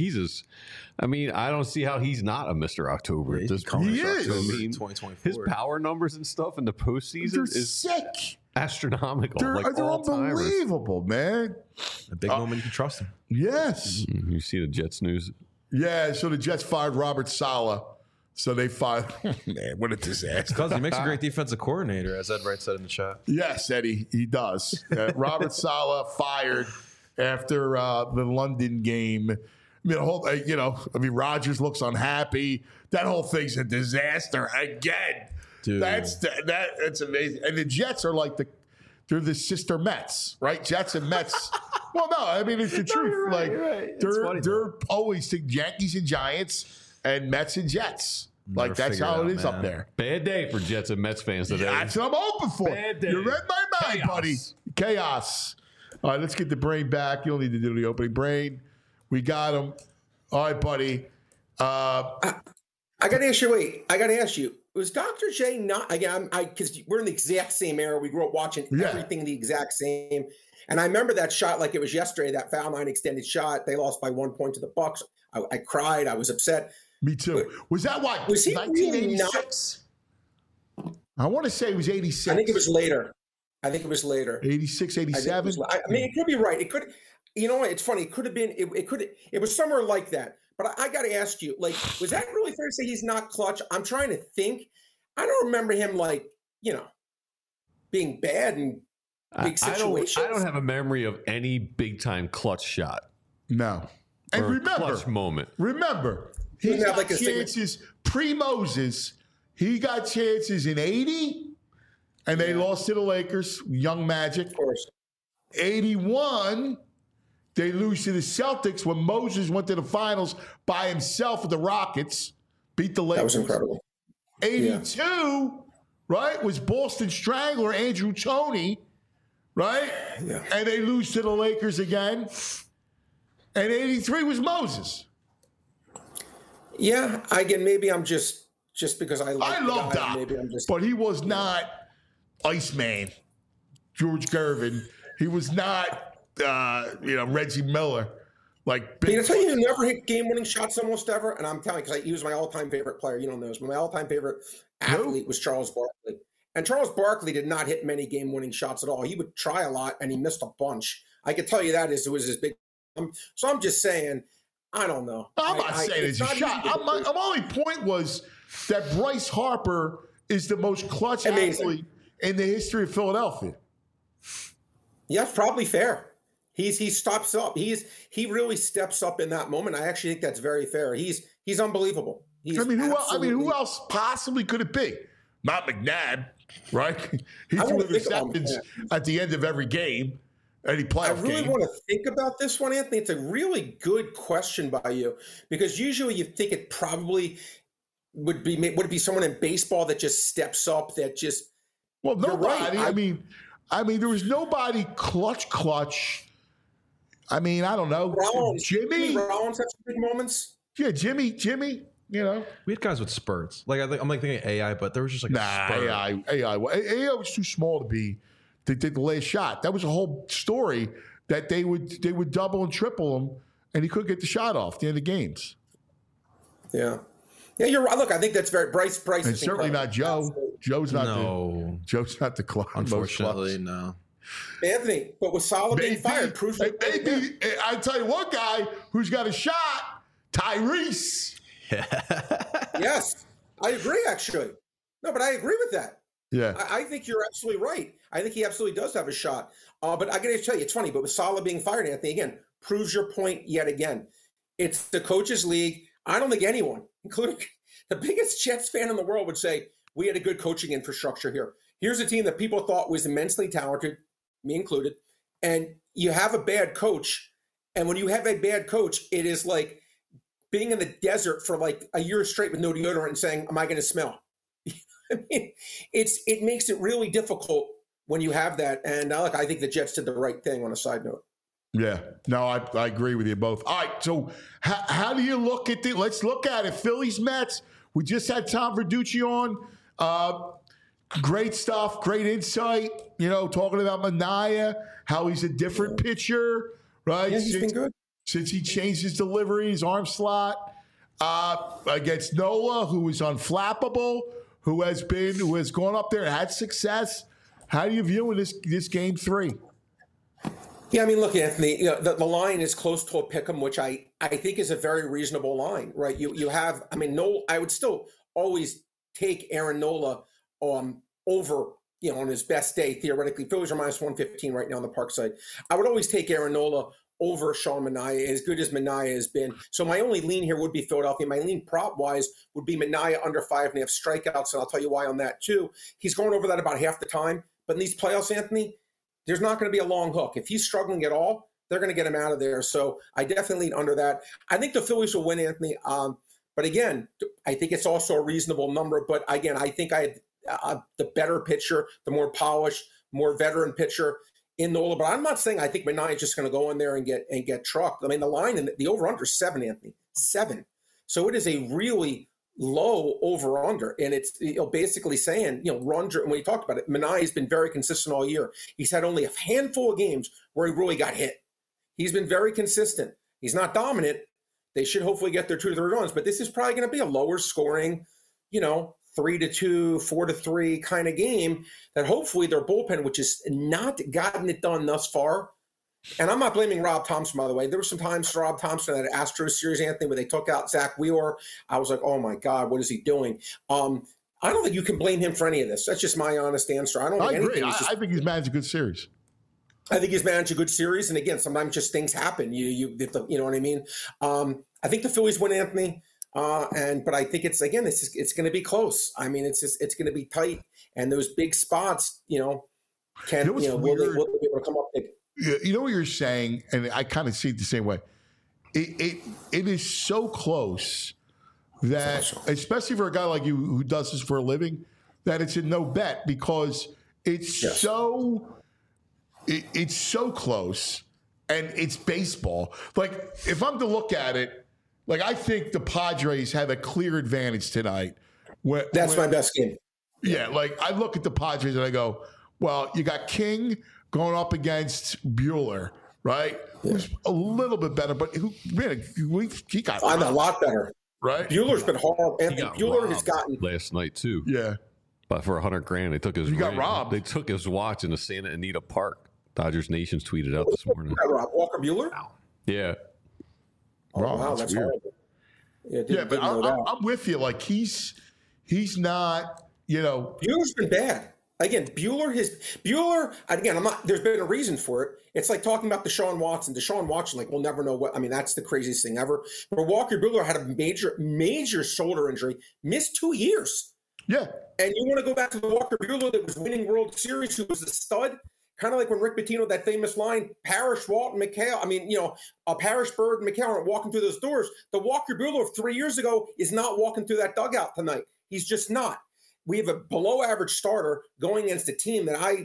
I don't see how he's not a Mr. October at this point. He is. 2024. His power numbers and stuff in the postseason is sick. Astronomical. They're all-timers. unbelievable, man. A big moment, you can trust him. Yes. You see the Jets news? Yeah, so the Jets fired Robert Saleh. So they fired. Man, what a disaster. Because he makes a great defensive coordinator, as Ed Wright said in the chat. Yes, Eddie, he does. Robert Saleh fired after the London game. Rodgers looks unhappy. That whole thing's a disaster again. Dude. That's amazing. And the Jets are they're the sister Mets, right? Jets and Mets. Well, no, I mean it's the truth. Right. They're always the Yankees and Giants and Mets and Jets. Never That's figure how it it out, is man. up there. Bad day for Jets and Mets fans today. That's what I'm hoping for. Bad day. You read my mind, Chaos. buddy. Chaos. All right, let's get the brain back. You don't need to do the opening brain. We got him. All right, buddy. I got to ask you. Wait, I got to ask you. Was Dr. J not again? Because we're in the exact same era. We grew up watching everything the exact same. And I remember that shot like it was yesterday. That foul line extended shot. They lost by 1 point to the Bucks. I cried. I was upset. Me too. Was that what? Was he 1986? I want to say it was 86. I think it was later. 86, 87. It could be right. It could. You know what? It's funny. It could have been. It was somewhere like that. But I got to ask you, was that really fair to say he's not clutch? I'm trying to think. I don't remember him being bad in big situations. I don't have a memory of any big time clutch shot. No. And clutch moment. Remember, he got chances pre-Moses. He got chances in 80, and they lost to the Lakers, Young Magic. Of course. 81, they lose to the Celtics when Moses went to the finals by himself with the Rockets, beat the Lakers. That was incredible. 82, right, was Boston Strangler, Andrew Toney, right? Yeah. And they lose to the Lakers again. And 83 was Moses. Yeah, again, maybe I'm just because I love Doc, maybe I'm just. but he was not Iceman, George Gervin. He was not, Reggie Miller. Can I tell you who never hit game-winning shots almost ever? And I'm telling you, because he was my all-time favorite player. You don't know this, but my all-time favorite athlete was Charles Barkley. And Charles Barkley did not hit many game-winning shots at all. He would try a lot, and he missed a bunch. I can tell you that it was his big. So I'm just saying, I don't know. I'm not saying it's a shot. My only point was that Bryce Harper is the most clutch athlete in the history of Philadelphia. Yeah, probably fair. He stops up. He really steps up in that moment. I actually think that's very fair. He's unbelievable. Who else possibly could it be? Not McNabb, right? He threw interceptions at the end of every game. Any playoff I really game. want to think about this one, Anthony. It's a really good question by you, because usually you think it probably would it be someone in baseball that just steps up, that just. Well, nobody. Right. I mean, there was nobody clutch. I mean, I don't know. Jimmy Rollins had some big moments. Yeah, Jimmy. We had guys with spurts. I'm thinking AI, but there was just a spurt. AI was too small to be. They did the last shot. That was a whole story that they would double and triple him, and he couldn't get the shot off at the end of games. Yeah, you're right. Look, I think that's very Bryce. And certainly not Joe. Absolutely. Joe's not the club. Unfortunately, no. Anthony, but with Saleh being fired, proves that. Maybe I tell you one guy who's got a shot, Tyrese. Yes, I agree. Actually, no, but I agree with that. Yeah, I think you're absolutely right. I think he absolutely does have a shot. But I got to tell you, it's funny. But with Saleh being fired, Anthony, again, proves your point yet again. It's the coaches' league. I don't think anyone, including the biggest Jets fan in the world, would say we had a good coaching infrastructure here. Here's a team that people thought was immensely talented, me included, and you have a bad coach. And when you have a bad coach, it is like being in the desert for like a year straight with no deodorant and saying, "Am I going to smell?" I mean, it makes it really difficult when you have that. And look, I think the Jets did the right thing on a side note. Yeah, no, I agree with you both. All right, so how do you look at let's look at it. Phillies, Mets. We just had Tom Verducci on. great stuff, great insight. Talking about Manaea, how he's a different pitcher, right? Yeah, he's been good. Since he changed his delivery, his arm slot. Against Nola, who is unflappable, who has gone up there and had success. How do you view this game 3? Yeah, I mean, look, Anthony, the line is close to a pick'em, which I think is a very reasonable line, right? You have, I mean, Nola, I would still always take Aaron Nola over, on his best day, theoretically. Phillies are minus 115 right now on the park side. I would always take Aaron Nola over Sean Manaea, as good as Manaea has been. So my only lean here would be Philadelphia. My lean prop-wise would be Manaea under 5.5 strikeouts, and I'll tell you why on that, too. He's going over that about half the time. But in these playoffs, Anthony, there's not going to be a long hook. If he's struggling at all, they're going to get him out of there. So I definitely lean under that. I think the Phillies will win, Anthony. But again, I think it's also a reasonable number. But again, I think I had the better pitcher, the more polished, more veteran pitcher in Nola. But I'm not saying I think Manaea is just going to go in there and get trucked. I mean, the line and the over-under is 7, Anthony. 7. So it is a really low over-under. And it's basically saying, when you talked about it, Manaea has been very consistent all year. He's had only a handful of games where he really got hit. He's been very consistent. He's not dominant. They should hopefully get their 2 to 3 runs. But this is probably going to be a lower scoring, 3-2, 4-3 kind of game that hopefully their bullpen, which has not gotten it done thus far. And I'm not blaming Rob Thompson, by the way. There were some times for Rob Thompson in that Astros series, Anthony, where they took out Zach Wheeler. I was like, oh my God, what is he doing? I don't think you can blame him for any of this. That's just my honest answer. I agree. I think he's managed a good series. I think he's managed a good series. And again, sometimes just things happen. You know what I mean? I think the Phillies win, Anthony. But I think it's going to be close. I mean, it's going to be tight, and those big spots, will they be able to come up big? You know what you're saying, and I kind of see it the same way. It is so close that, especially for a guy like you who does this for a living, that it's a no bet because it's it's so close, and it's baseball. Like if I'm to look at it. Like, I think the Padres have a clear advantage tonight. That's my best game. Yeah, like, I look at the Padres and I go, well, you got King going up against Buehler, right? Yeah. Who's a little bit better, but he got a lot better. Right? Bueller's been horrible. Anthony Buehler has gotten last night, too. Yeah. But for $100,000, they took his got robbed. They took his watch in the Santa Anita Park. Dodgers Nations tweeted out this morning. Walker Buehler? Yeah. Oh, wow, that's weird. Horrible. Yeah, but I'm with you. Like, he's not, Bueller's been bad. Again, Buehler, again, there's been a reason for it. It's like talking about Deshaun Watson. Deshaun Watson, like, we'll never know that's the craziest thing ever. But Walker Buehler had a major shoulder injury, missed 2 years. Yeah. And you want to go back to the Walker Buehler that was winning World Series, who was a stud? Kind of like when Rick Pitino, that famous line, Parrish, Walton, McHale. Parrish, Bird, and McHale aren't walking through those doors. The Walker Buehler of 3 years ago is not walking through that dugout tonight. He's just not. We have a below-average starter going against a team that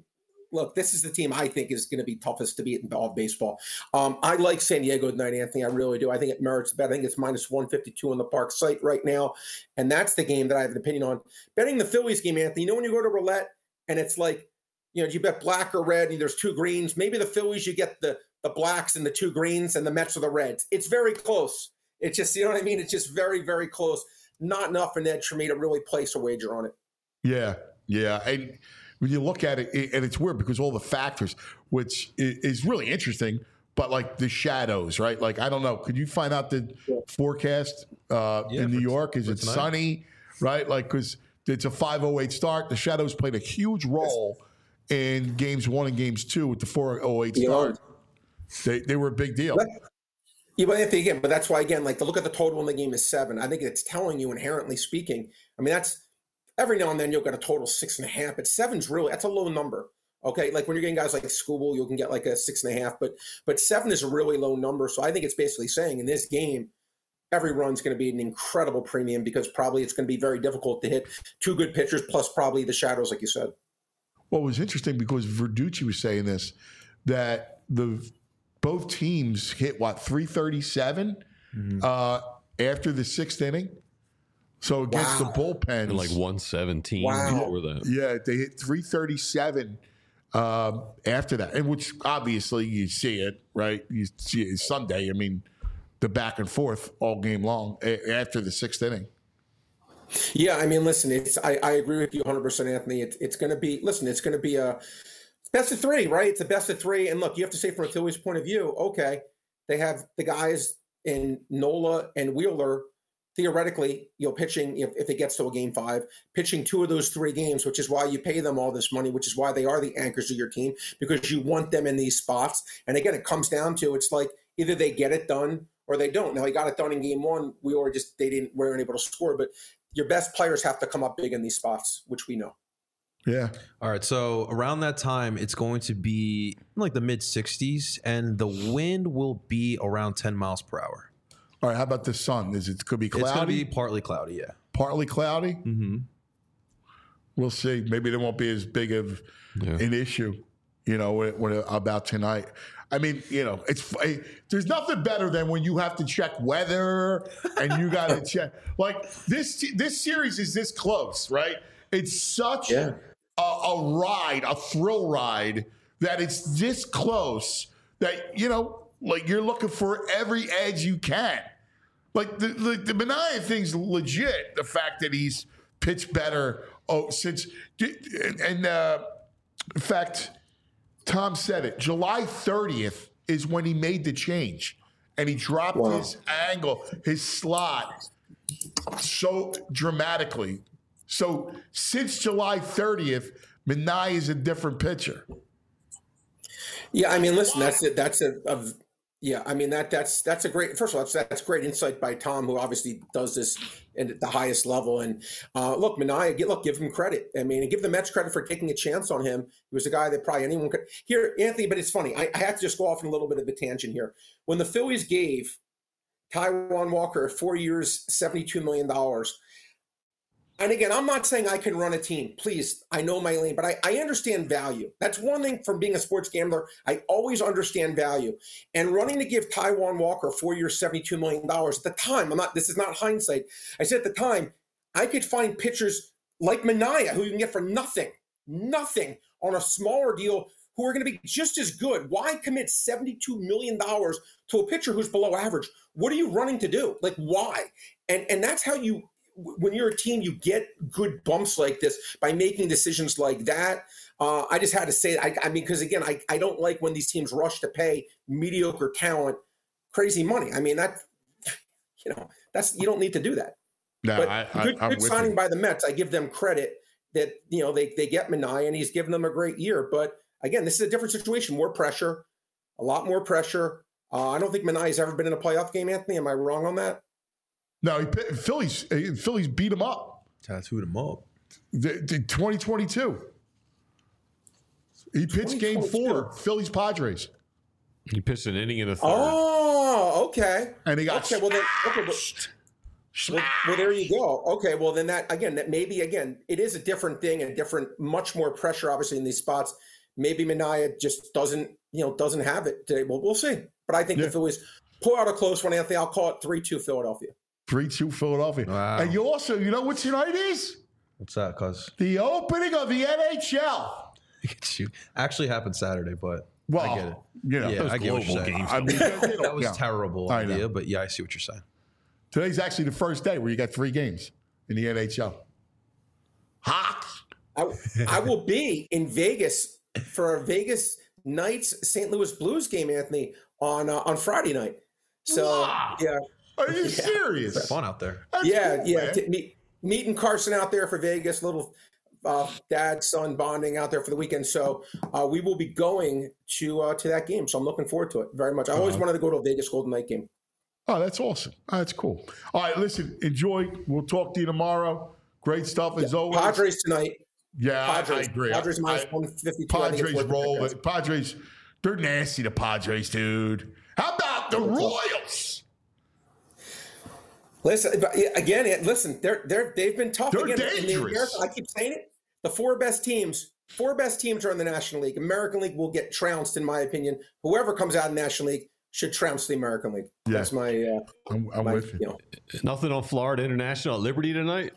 this is the team I think is going to be toughest to beat in all of baseball. I like San Diego tonight, Anthony. I really do. I think it merits bet. I think it's minus 152 on the park site right now. And that's the game that I have an opinion on. Betting the Phillies game, Anthony, when you go to roulette and it's like, you bet black or red, and there's 2 greens. Maybe the Phillies, you get the blacks and the 2 greens, and the Mets are the reds. It's very close. It's just, you know what I mean? It's just very, very close. Not enough an edge for me to really place a wager on it. Yeah. And when you look at it, and it's weird because all the factors, which is really interesting, but like the shadows, right? Like, I don't know. Could you find out the forecast in New York? Is it sunny, right? Like, because it's a 5:08 start. The shadows played a huge role in games 1 and games 2 with the 4:08 start. They were a big deal. But Anthony, again, but that's why, again, like, to look at the total in the game is 7. I think it's telling you, inherently speaking. I mean, that's every now and then you'll get a total 6.5, but 7's that's a low number. Okay, like when you're getting guys like Skubal, you can get like a 6.5, but 7 is a really low number. So I think it's basically saying in this game, every run's going to be an incredible premium because probably it's going to be very difficult to hit 2 good pitchers plus probably the shadows, like you said. Well, it was interesting because Verducci was saying this, that both teams hit 337 after the 6th inning. So against the bullpens, and like 117 before that. Yeah, they hit 337 after that, and which obviously you see it, right? You see it Sunday. I mean, the back and forth all game long after the sixth inning. Yeah, I mean, listen, I agree with you 100%, Anthony. It's going to be, listen, it's going to be a best of three, right? It's a best of three. And look, you have to say from a Phillies point of view, okay, they have the guys in Nola and Wheeler, theoretically, pitching, if it gets to a game 5, pitching 2 of those 3 games, which is why you pay them all this money, which is why they are the anchors of your team, because you want them in these spots. And again, it comes down to, it's like either they get it done or they don't. Now, he got it done in game 1. They weren't able to score, but your best players have to come up big in these spots, which we know. Yeah. All right. So around that time, it's going to be like the mid 60s, and the wind will be around 10 miles per hour. All right. How about the sun? Could be cloudy? It's going to be partly cloudy, yeah. Partly cloudy? Mm-hmm. We'll see. Maybe there won't be as big of an issue, about tonight. I mean, there's nothing better than when you have to check weather and you got to check. Like this series is this close, right? It's such a ride, a thrill ride, that it's this close that, like you're looking for every edge you can. Like the Manaea thing's legit. The fact that he's pitched better in fact, Tom said it. July 30th is when he made the change, and he dropped his angle, his slot, so dramatically. So since July 30th, Manaea is a different pitcher. Yeah, I mean, listen, that's it. That's a great. First of all, that's great insight by Tom, who obviously does this at the highest level. And look, Manaea, give him credit. I mean, and give the Mets credit for taking a chance on him. He was a guy that probably anyone could. Here, Anthony, but it's funny. I have to just go off on a little bit of a tangent here. When the Phillies gave Taijuan Walker 4 years, $72 million. And again, I'm not saying I can run a team. Please, I know my lane, but I understand value. That's one thing from being a sports gambler. I always understand value. And running to give Taijuan Walker 4 years, $72 million at the time, this is not hindsight. I said at the time, I could find pitchers like Manaea, who you can get for nothing on a smaller deal, who are going to be just as good. Why commit $72 million to a pitcher who's below average? What are you running to do? Like, why? And that's how you, when you're a team, you get good bumps like this by making decisions like that. I just had to say, I mean, because again, I don't like when these teams rush to pay mediocre talent crazy money. I mean, you don't need to do that. No, but good signing by the Mets. I give them credit that, they get Manaea and he's given them a great year. But again, this is a different situation, more pressure, a lot more pressure. I don't think Manaea's ever been in a playoff game, Anthony. Am I wrong on that? No, Phillies beat him up. Tattooed him up. The 2022. He pitched game 4, Phillies Padres. He pitched an inning in a third. Oh, okay. And he got well, there you go. Okay, well then that maybe it is a different thing and much more pressure obviously in these spots. Maybe Manaea just doesn't have it today. Well, we'll see. But I think the Phillies pull out a close one, Anthony. I'll call it 3-2 Philadelphia. 3-2 Philadelphia. Wow. And you also, what tonight is? What's that, cuz? The opening of the NHL. Actually happened Saturday, but I get it. I get what you're saying. I mean, that was terrible idea, but I see what you're saying. Today's actually the first day where you got 3 games in the NHL. Hot. I will be in Vegas for a Vegas Knights St. Louis Blues game, Anthony, on Friday night. So yeah. Are you serious? It's fun out there. That's cool, meeting Carson out there for Vegas, little dad son bonding out there for the weekend. So we will be going to that game. So I'm looking forward to it very much. I always wanted to go to a Vegas Golden Knight game. Oh, that's awesome. That's cool. All right, listen, enjoy. We'll talk to you tomorrow. Great stuff as always. Padres tonight. Yeah, I agree. Padres minus 152. Padres roll. Padres, they're nasty, the Padres, dude. How about the Royals? Listen, they've been tough. They're dangerous. I keep saying it. The 4 best teams are in the National League. American League will get trounced, in my opinion. Whoever comes out of the National League, should trounce the American League. Yeah. That's my. I'm with you. Nothing on Florida International at Liberty tonight?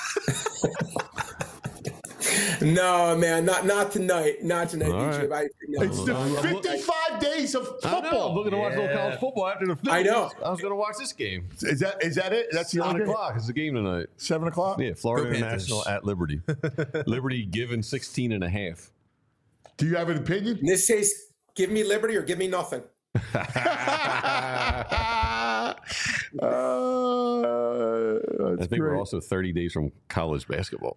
No, man, not tonight. Not tonight, DJ. Right. It's the 55 days of football. I know. I'm looking to watch a little college football after the Phillies. I know. I was going to watch this game. Is that it? That's the 7 other o'clock. It's the game tonight. 7 o'clock? Yeah, Florida Go International Panthers. at Liberty. Liberty given 16.5. Do you have an opinion? In this case, give me liberty or give me nothing. I think we're also 30 days from college basketball.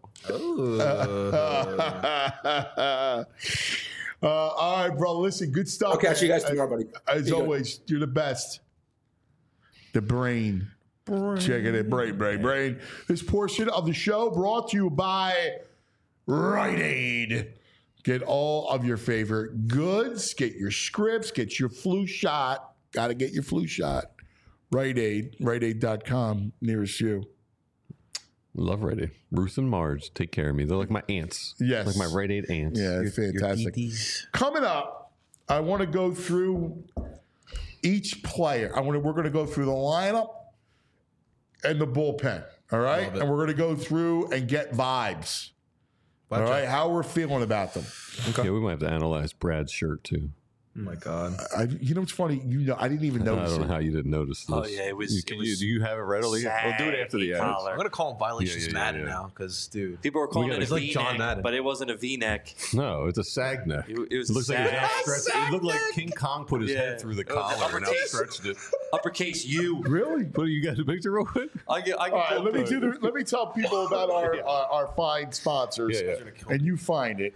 All right, bro. Listen, good stuff. I'll catch you guys tomorrow, buddy. As Be good. always, you're the best. The brain. Checking it, brain. This portion of the show brought to you by Rite Aid. Get all of your favorite goods. Get your scripts. Get your flu shot. Got to get your flu shot. Rite Aid. RiteAid.com. Nearest you. Love Rite Aid. Ruth and Marge take care of me. They're like my aunts. Yes. Like my Rite Aid aunts. Yeah, fantastic. Coming up, I want to go through each player. We're going to go through the lineup and the bullpen. All right? And we're going to go through and get vibes. All right? How we're feeling about them. Okay. Yeah, we might have to analyze Brad's shirt too. Oh my God! You know what's funny? I didn't even notice. I don't know how you didn't notice this. Oh yeah, it was. Do you have it readily? We'll do it after the ads. I'm gonna call him Violations Madden now because, dude, People were calling it a it's like John V-neck, Madden. but it wasn't a V-neck. No, it's a sag neck. It was looks a like sag. it looked like King Kong put his Yeah. head through the It was collar and uppercase. outstretched it. Uppercase U. Really? What, you got a picture real quick? I can All right, let me tell people about our fine sponsors, and you find it.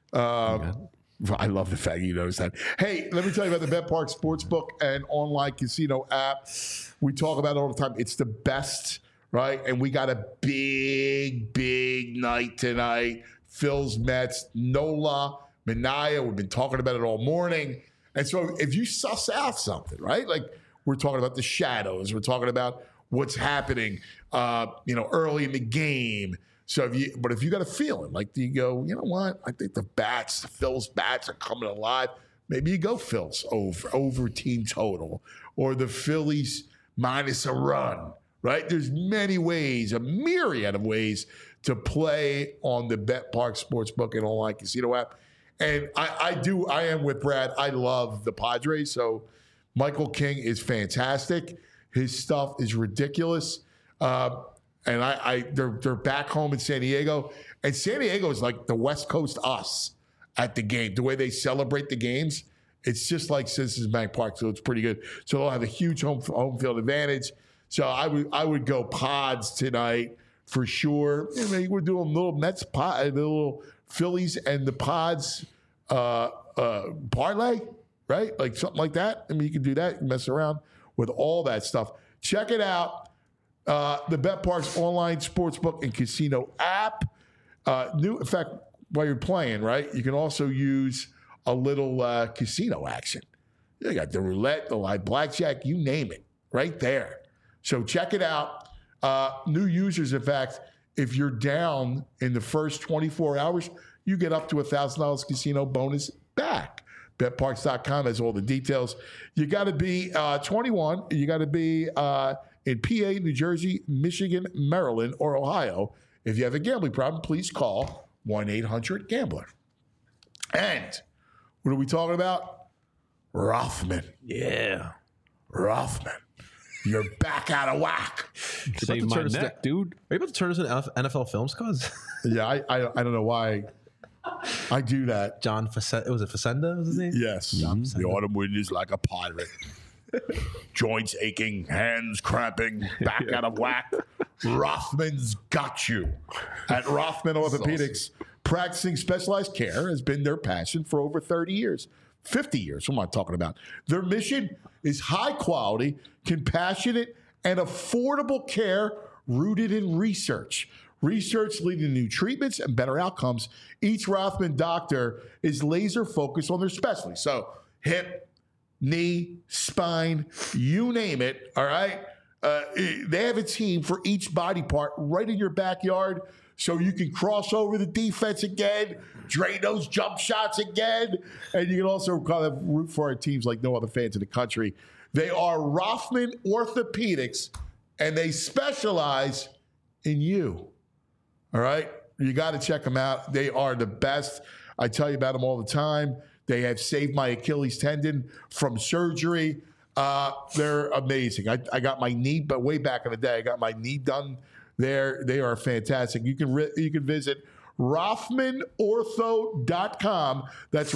I love the fact you noticed that. Hey, let me tell you about the Bet Park Sportsbook and online casino app. We talk about it all the time. It's the best, right? And we got a big night tonight. Phil's Mets, Nola, Minaya. We've been talking about it all morning. And so if you suss out something, right? Like we're talking about the shadows. We're talking about what's happening, early in the game. So if you got a feeling, like you go, you know what? I think the Phil's bats are coming alive. Maybe you go Phil's over team total, or the Phillies minus a run, right? There's many ways, a myriad of ways to play on the Bet Park Sportsbook and online casino app. And I am with Brad. I love the Padres. So Michael King is fantastic. His stuff is ridiculous. And they're back home in San Diego. And San Diego is like the West Coast us at the game. The way they celebrate the games, it's just like Citizens Bank Park. So it's pretty good. So they'll have a huge home field advantage. So I would go Pods tonight for sure. We're doing a little Mets the little Phillies and the Pods parlay, right? Like something like that. You can do that. You can mess around with all that stuff. Check it out. The BetParks online sportsbook and casino app. In fact, while you're playing, right, you can also use a little casino action. You got the roulette, the live blackjack, you name it, right there. So check it out. New users, in fact, if you're down in the first 24 hours, you get up to $1,000 casino bonus back. BetParks.com has all the details. You got to be 21. You got to be in PA, New Jersey, Michigan, Maryland, or Ohio. If you have a gambling problem, please call 1-800-GAMBLER. And what are we talking about? Rothman. Yeah. Rothman. You're back out of whack. Save my neck, dude. Are you about to turn us into NFL Films, cuz? Yeah, I don't know why I do that. John Facenda, was it Facenda? Was his name? Yes. The autumn wind is like a pirate. Joints aching, hands cramping, back out of whack. Rothman's got you. At Rothman Orthopedics, practicing specialized care has been their passion for over 30 years. 50 years, what am I talking about? Their mission is high quality, compassionate, and affordable care rooted in research. Research leading to new treatments and better outcomes. Each Rothman doctor is laser focused on their specialty. So hip, knee, spine, you name it, all right? They have a team for each body part right in your backyard. so you can cross over the defense again, drain those jump shots again, and you can also kind of root for our teams like no other fans in the country. They are Rothman Orthopedics, and they specialize in you. All right? You got to check them out. They are the best. I tell you about them all the time. They have saved my Achilles tendon from surgery. They're amazing. I got my knee, but way back in the day, I got my knee done there. They are fantastic. You can visit RothmanOrtho.com. That's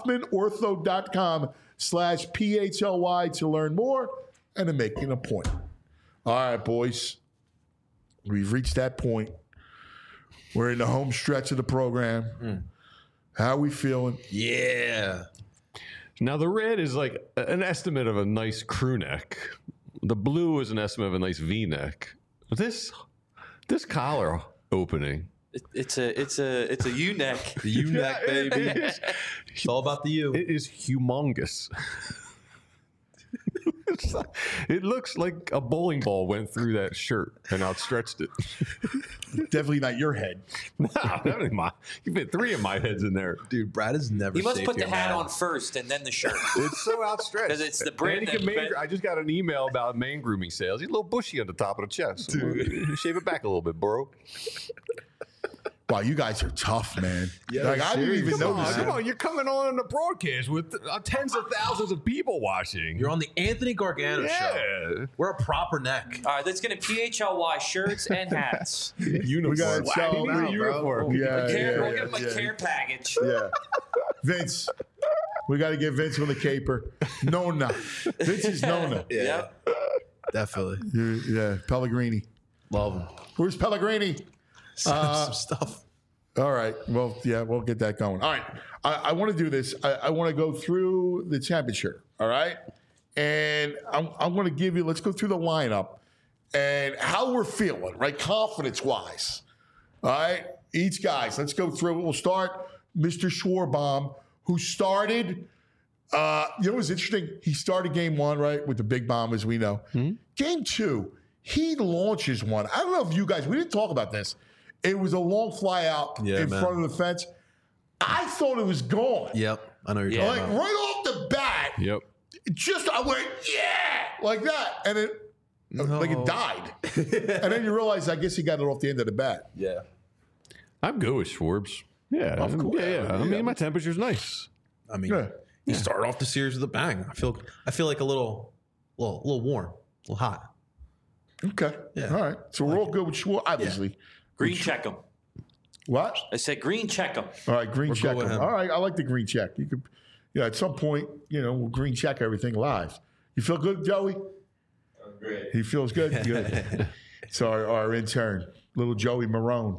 RothmanOrtho.com/PHLY to learn more and to make an appointment. All right, boys. We've reached that point. We're in the home stretch of the program. How are we feeling? Yeah. Now, the red is like an estimate of a nice crew neck. The blue is an estimate of a nice V-neck. This collar opening. It's a U-neck. The U-neck, baby. It's all about the U. It is humongous. It looks like a bowling ball went through that shirt and outstretched it. Definitely not your head. No, definitely you fit 3 of my heads in there. Dude, Brad has never You must shaved put the your hat man. on first and then the shirt. It's so outstretched. Because it's the brand. I just got an email about man grooming sales. He's a little bushy on the top of the chest. Dude. Shave it back a little bit, bro. Wow, you guys are tough, man. Yeah, like I didn't even notice. Come on, you're coming on the broadcast with tens of thousands of people watching. You're on the Anthony Gargano show. We're a proper neck. All right, let's get a PHLY shirts and hats. We got to sell out, uniform. We'll give them a care package. Yeah. Vince, we got to get Vince with a caper. Nona. Vince is Nona. Yeah. Definitely. Yeah, Pellegrini. Love him. Where's Pellegrini? Some stuff. All right. Well, yeah, we'll get that going. All right. I want to do this. I want to go through the championship. All right. And I'm going to give you, let's go through the lineup and how we're feeling, right? Confidence wise. All right. Each guys, let's go through it. We'll start Mr. Schwarbaum, who started, you know what's interesting? He started game 1, right, with the big bomb, as we know. Game 2, he launches one. I don't know if you guys, we didn't talk about this. It was a long fly out in front of the fence. I thought it was gone. Yep. I know you're talking about. Right off the bat. Yep. I went, yeah, like that. And it died. And then you realize, I guess he got it off the end of the bat. Yeah. I'm good with Schwarbs. Yeah. Of course. Yeah. I mean, my temperature's nice. I mean, he started off the series with a bang. I feel like a little warm, a little hot. Okay. Yeah. All right. So we're all good with Schwartz, obviously. Yeah. Green check him. What? I said green check him. All right, green check him. All right, I like the green check. You could, at some point, we'll green check everything live. You feel good, Joey? I'm great. He feels good? Good. So our intern, little Joey Marone.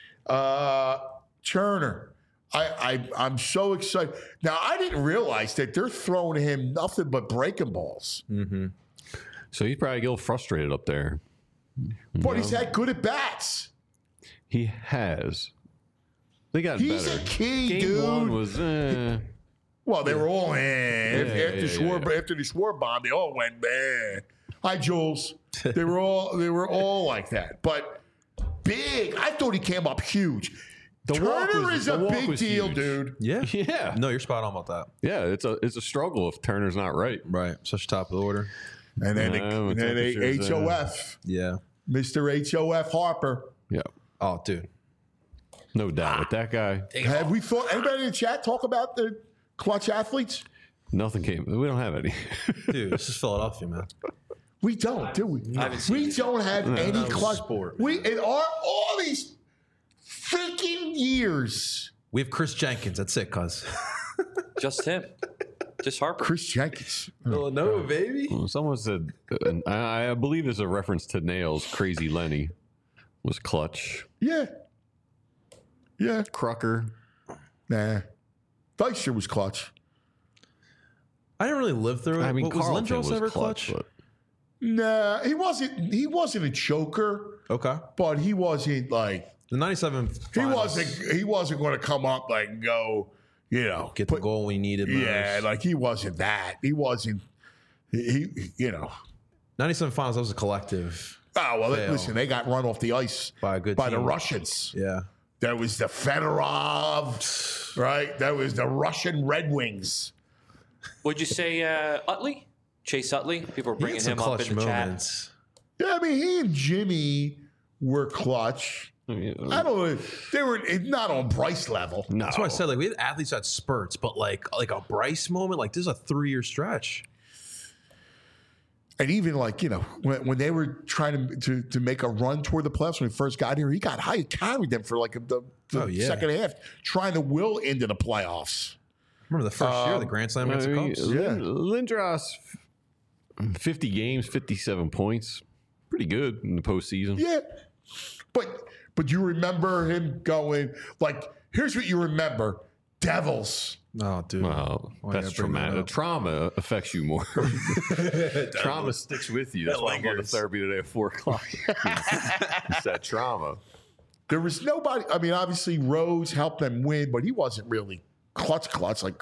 Turner. I'm so excited. Now, I didn't realize that they're throwing him nothing but breaking balls. Mm-hmm. So he's probably a little frustrated up there. But he's had good at bats. He has. They got better. He's a key, Game dude. 1 was. Well, they were all after the Schwarbaum, they all went man. Hi, Jules. They were all like that. But big. I thought he came up huge. Turner is a big deal, dude. Yeah. Yeah. No, you're spot on about that. Yeah, it's a struggle if Turner's not right. Right. Such top of the order. And then HOF. Yeah. Mr. HOF Harper. Yeah. Oh, dude. No doubt with that guy. Have we thought, anybody in the chat talk about the clutch athletes? Nothing came. We don't have any. Dude, this is Philadelphia, man. We don't, do we? We don't have any clutch. Sport. In all these freaking years. We have Chris Jenkins. That's it, cuz. Just him. Just Harper. Chris Jenkins. Villanova, baby. Someone said, and I believe it's a reference to Nails, Crazy Lenny was clutch. Yeah. Yeah. Crucker. Nah. Dykstra was clutch. I didn't really live through it. I mean, was Carlton Lindros was ever clutch? clutch? Nah, he wasn't a choker. Okay. But he wasn't like the 97 finals. He wasn't going to come up like and go, get the goal we needed most. Yeah, like he wasn't that. He wasn't 97 finals, that was a collective Oh, well, fail. listen, they got run off the ice By a good by the team. Russians. Yeah. There was the Fedorov, right? There was the Russian Red Wings. Would you say Utley? Chase Utley? People are He bringing had some him up clutch in the chat. moments. Yeah, I mean, he and Jimmy were clutch. I don't know. They were not on Bryce level. No. That's why I said like we had athletes that spurts, but like a Bryce moment, like this is a 3-year stretch. And even like, when they were trying to make a run toward the playoffs when he first got here, he got high, carried them for like the second half, trying to will into the playoffs. Remember the first year, the Grand Slam against the Cubs? Lindros, 50 games, 57 points. Pretty good in the postseason. Yeah. But you remember him going, like, here's what you remember. Devils. Oh, dude. Wow, Why that's you gotta bring that traumatic. up? Trauma affects you more. Trauma sticks with you. That's why I'm going to therapy today at 4 o'clock. It's that trauma. There was nobody. I mean, obviously, Rose helped them win, but he wasn't really clutch. Like,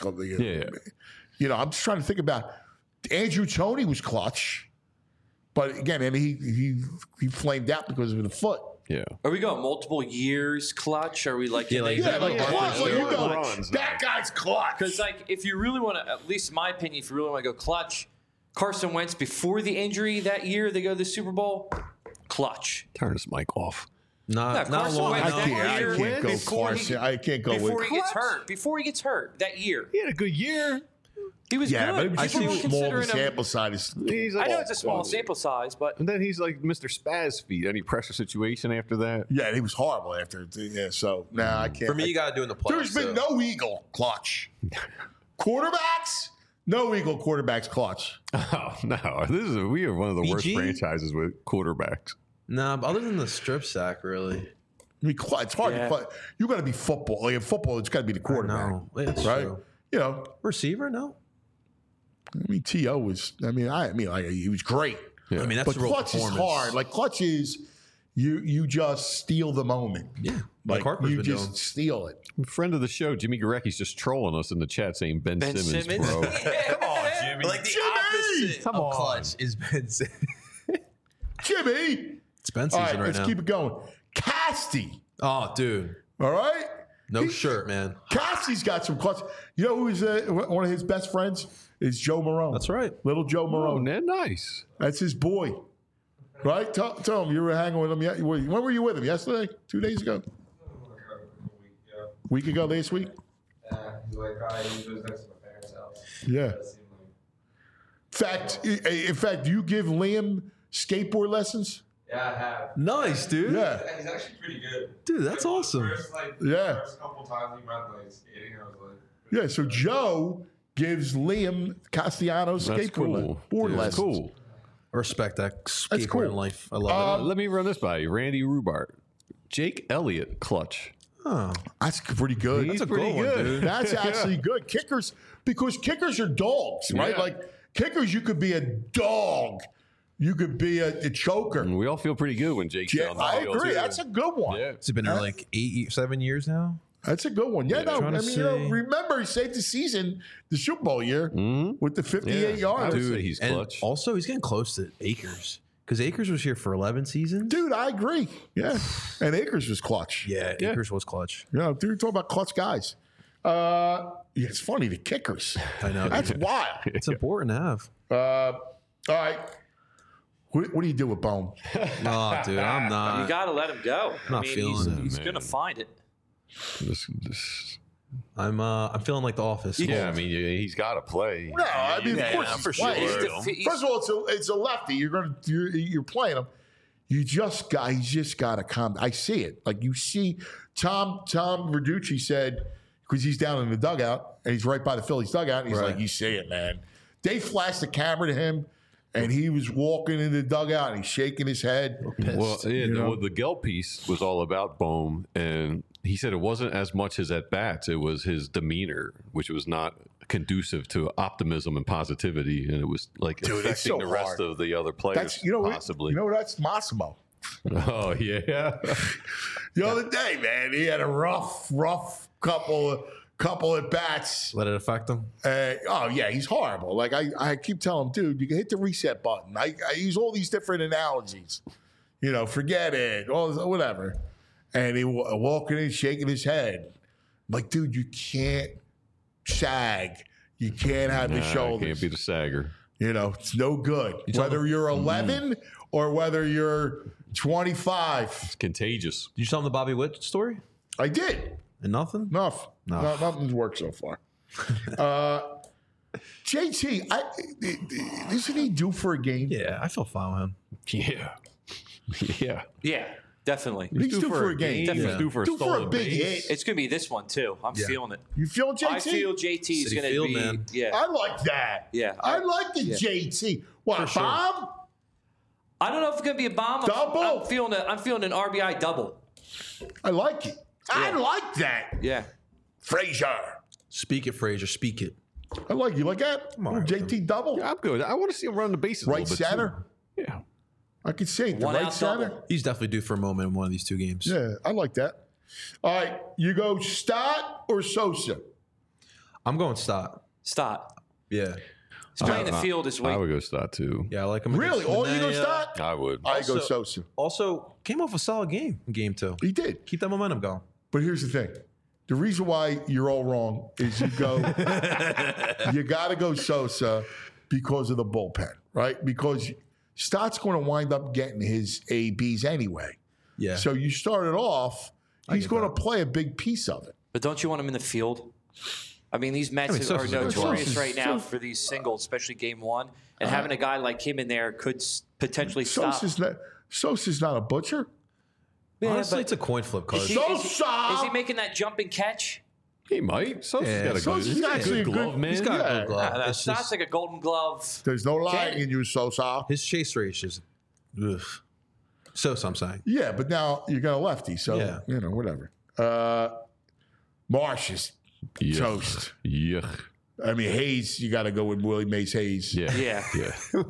I'm just trying to think about Andrew Toney was clutch, but again, and he flamed out because of the foot. Yeah. Are we going multiple years clutch? Are we like, like clutch? Like, you go, runs, that guy's clutch. Because like, if you really want to, at least in my opinion, if you really want to go clutch, Carson Wentz before the injury that year they go to the Super Bowl, clutch. Turn this mic off. Not Carson long Wentz enough. that year I can't go before Carson. I can't go before with he gets hurt. Before he gets hurt that year, He had a good year. he was Yeah, good. but People were it's small. The considering him. sample size. He's I like, know it's a small sample size, but and then he's like Mr. Spaz feet. Any pressure situation after that? Yeah, he was horrible after. Yeah, so I can't. For me, you got to do in the playoffs. There's been no Eagle clutch. Quarterbacks, no Eagle quarterbacks clutch. Oh no, we are one of the worst BG? franchises with quarterbacks. Nah, but other than the strip sack, really. I mean, it's hard to play. You got to be football. Like in football, it's got to be the quarterback, No, it's right? true. Receiver, no. I mean, T.O. was. I mean, he was great. Yeah. I mean, that's But a real clutch is performance. hard. Like clutch is, you just steal the moment. Yeah, Like Harper's you been just doing. steal it. Friend of the show, Jimmy Garecki's just trolling us in the chat saying Ben Simmons, bro. Come on, Jimmy. Like the opposite of clutch is Ben Simmons. Jimmy. It's Ben All season right, right let's now. keep it going. Casty. Oh, dude. All right. No shirt, man. Cassie's got some clutch. You know who's one of his best friends is Joe Marone. That's right. Little Joe Oh, Marone. man, nice. That's his boy. Right? Tell him you were hanging with him. When were you with him? Yesterday? 2 days ago? Week ago, last week? He's like, he was next to my parents' house. Yeah. In fact, do you give Liam skateboard lessons? Yeah, I have. Nice, dude. Yeah. He's actually pretty good. Dude, that's awesome. First couple times he went skating, I was like, Yeah, so Joe gives Liam Castellanos That's skateboard cool. board Dude, lessons. cool. I respect that That's skateboarding cool. life. I love it. Let me run this by you. Randy Rubart. Jake Elliott, clutch. Oh, That's pretty good. He's that's a pretty good one, dude. That's actually good. Kickers, because kickers are dogs, right? Yeah. Like kickers, you could be a dog. You could be a choker. And we all feel pretty good when Jake's Yeah, on the I field, agree. too. That's a good one. Yeah. It's been there like 7 years now. That's a good one. Yeah, no, I Trying to mean, see. remember he saved the season, the Super Bowl year, with the 58 I yards. would say he's And clutch. also, he's getting close to Akers because Akers was here for 11 seasons. Dude, I agree. Yeah, and Akers was clutch. Yeah, Akers was clutch. Yeah, dude, talk about clutch guys. Yeah, it's funny the kickers. I know. That's wild. It's important to have. All right, what do you do with Bone? Oh, dude, I'm you not. got to let him go. Not feeling it, he's man. going to find it. I'm feeling like The Office. Yeah, I mean, he's got to play. No, I mean, of course he's for playing. sure. First of all, it's a lefty. You're playing him. He's just got to come. I see it. Like you see, Tom Verducci said, because he's down in the dugout and he's right by the Phillies dugout. And he's like, you see it, man. They flashed the camera to him, and he was walking in the dugout and he's shaking his head. Well, yeah, the Gelb piece was all about Bohm, and he said it wasn't as much his at bats; it was his demeanor, which was not conducive to optimism and positivity, and it was like Dude, it's affecting so the rest hard. of the other players. That's possibly. that's Massimo. Oh yeah. The other day, man, he had a rough couple at bats. Let it affect him. Oh yeah, he's horrible. Like I keep telling him, dude, you can hit the reset button. I use all these different analogies. forget it, whatever. And he walking in, shaking his head. I'm like, dude, you can't sag. You can't have the shoulders. Can't be the sagger. It's no good. Whether you're 11 or whether you're 25. It's contagious. Did you tell him the Bobby Witt story? I did. And nothing? Nothing's worked so far. JT, isn't he due for a game? Yeah, I feel fine with him. Yeah. Yeah, definitely. He's due for a game. Definitely due for a stolen big base. hit. It's going to be this one, too. I'm feeling it. You feeling JT? I feel JT is going to be. man. Yeah. I like that. Yeah. I like the JT. What, For sure. bomb? I don't know if it's going to be a bomb. Double? I'm feeling an RBI double. I like it. I like that. Yeah. Frazier. Speak it, Frazier. Speak it. I like you. Like that? JT double? Yeah, I'm good. I want to see him run the bases. Right a little bit, center? too. Yeah. I could see it. The One right out center? double. He's definitely due for a moment in one of these two games. Yeah, I like that. All right. You go Stott or Sosa? I'm going Stott. Stop. Yeah. He's playing the field this week. I would go Stott, too. Yeah, I like him. Really? against All you go Manaea. Stott? I would. I go Also- Sosa. Also, came off a solid game in game 2. He did. Keep that momentum going. But here's the thing. The reason why you're all wrong is you got to go Sosa because of the bullpen, right? Because Stott's going to wind up getting his ABs anyway. Yeah. So you started off, he's get going to that. play a big piece of it. But don't you want him in the field? I mean, these Mets are Sosa's good. notorious Sosa's- right now for these singles, especially game 1. And having a guy like him in there could potentially stop. Sosa's not a butcher. Yeah, Honestly, but it's a coin flip card. is he making that jumping catch? He might. Sosa's Yeah, got a Sosa's good, he's got a actually good a good- glove, man. He's got a Yeah. good glove. That It's sounds just- like a golden glove. There's no lying Can- in you, Sosa. his chase rate is ugh. So I'm saying. Yeah, but now you got a lefty, so, Yeah. whatever. Marsh is Yuck. toast. Yuck. I mean, Hayes, you got to go with Willie Mays Hayes. Yeah. Yeah. Yeah.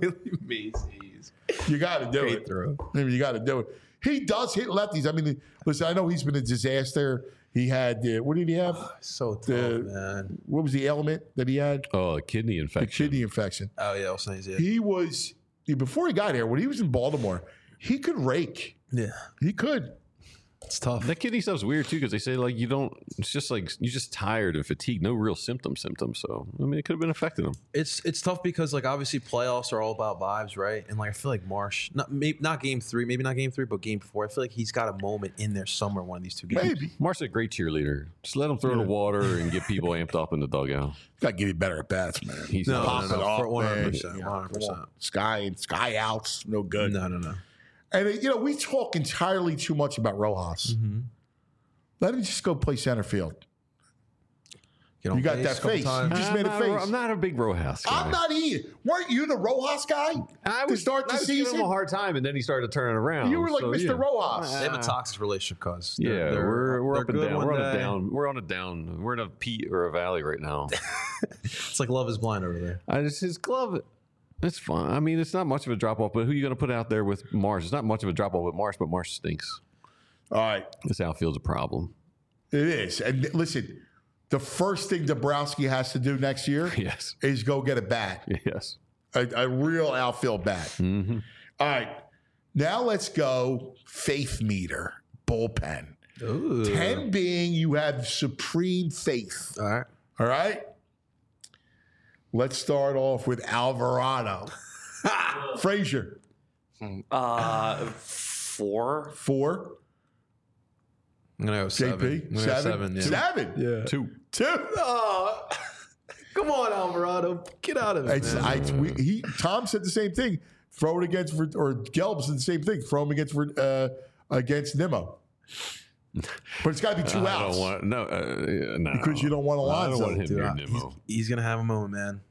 You got to do it. I mean, you got to do it. He does hit lefties. I mean, listen, I know he's been a disaster. He had, what did he have? So tough, man. What was the ailment that he had? Oh, a kidney The infection. kidney infection. Oh yeah, I was saying yeah. He was, before he got here, when he was in Baltimore, he could rake. Yeah, He could. it's tough. That kidney stuff's weird too because they say like you don't. It's just like you're just tired and fatigued. No real symptoms. So I mean, it could have been affecting him. It's tough because like obviously playoffs are all about vibes, right? And like I feel like Marsh, not game 3, maybe not game 3, but game 4. I feel like he's got a moment in there somewhere one of these two games. Maybe. Marsh's a great cheerleader. Just let him throw the water and get people amped up in the dugout. Got to give you better at bats, man. He's No, Pop it off, 100%, man. 100%. Sky outs, no good. No. And, we talk entirely too much about Rojas. Mm-hmm. Let him just go play center field. Get on You got base that a couple face. times. You just made a face. I'm not a big Rojas guy. I'm not either. Weren't you the Rojas guy to start the I was giving season? him a hard time, and then he started turning around. You were like So, Mr. yeah. Rojas. They have a toxic relationship, cause Yeah, we're up and good down. one We're on a day. down. We're on a down. We're in a peak or a valley right now. It's like Love Is Blind over there. His glove. It's fine. I mean, it's not much of a drop off. But who are you going to put out there with Marsh? It's not much of a drop off with Marsh, but Marsh stinks. All right. This outfield's a problem. It is. And listen, the first thing Dabrowski has to do next year Yes. is go get a bat, Yes. a real outfield bat. Mm-hmm. All right. Now let's go faith meter, bullpen. Ooh. 10 being you have supreme faith. All right. All right. Let's start off with Alvarado. Frazier, 4. 4. I'm gonna go 7. JP, I'm gonna go 7. Yeah. 7. Yeah. 2. 2. Oh, come on, Alvarado, get out of it. Man. Tom said the same thing. Throw it against, or Gelb said the same thing. Throw him against Nimmo. But it's got to be 2 I outs. don't want no Because you don't want I don't Alonso. want him Dude, near Nimmo. he's gonna have a moment, man.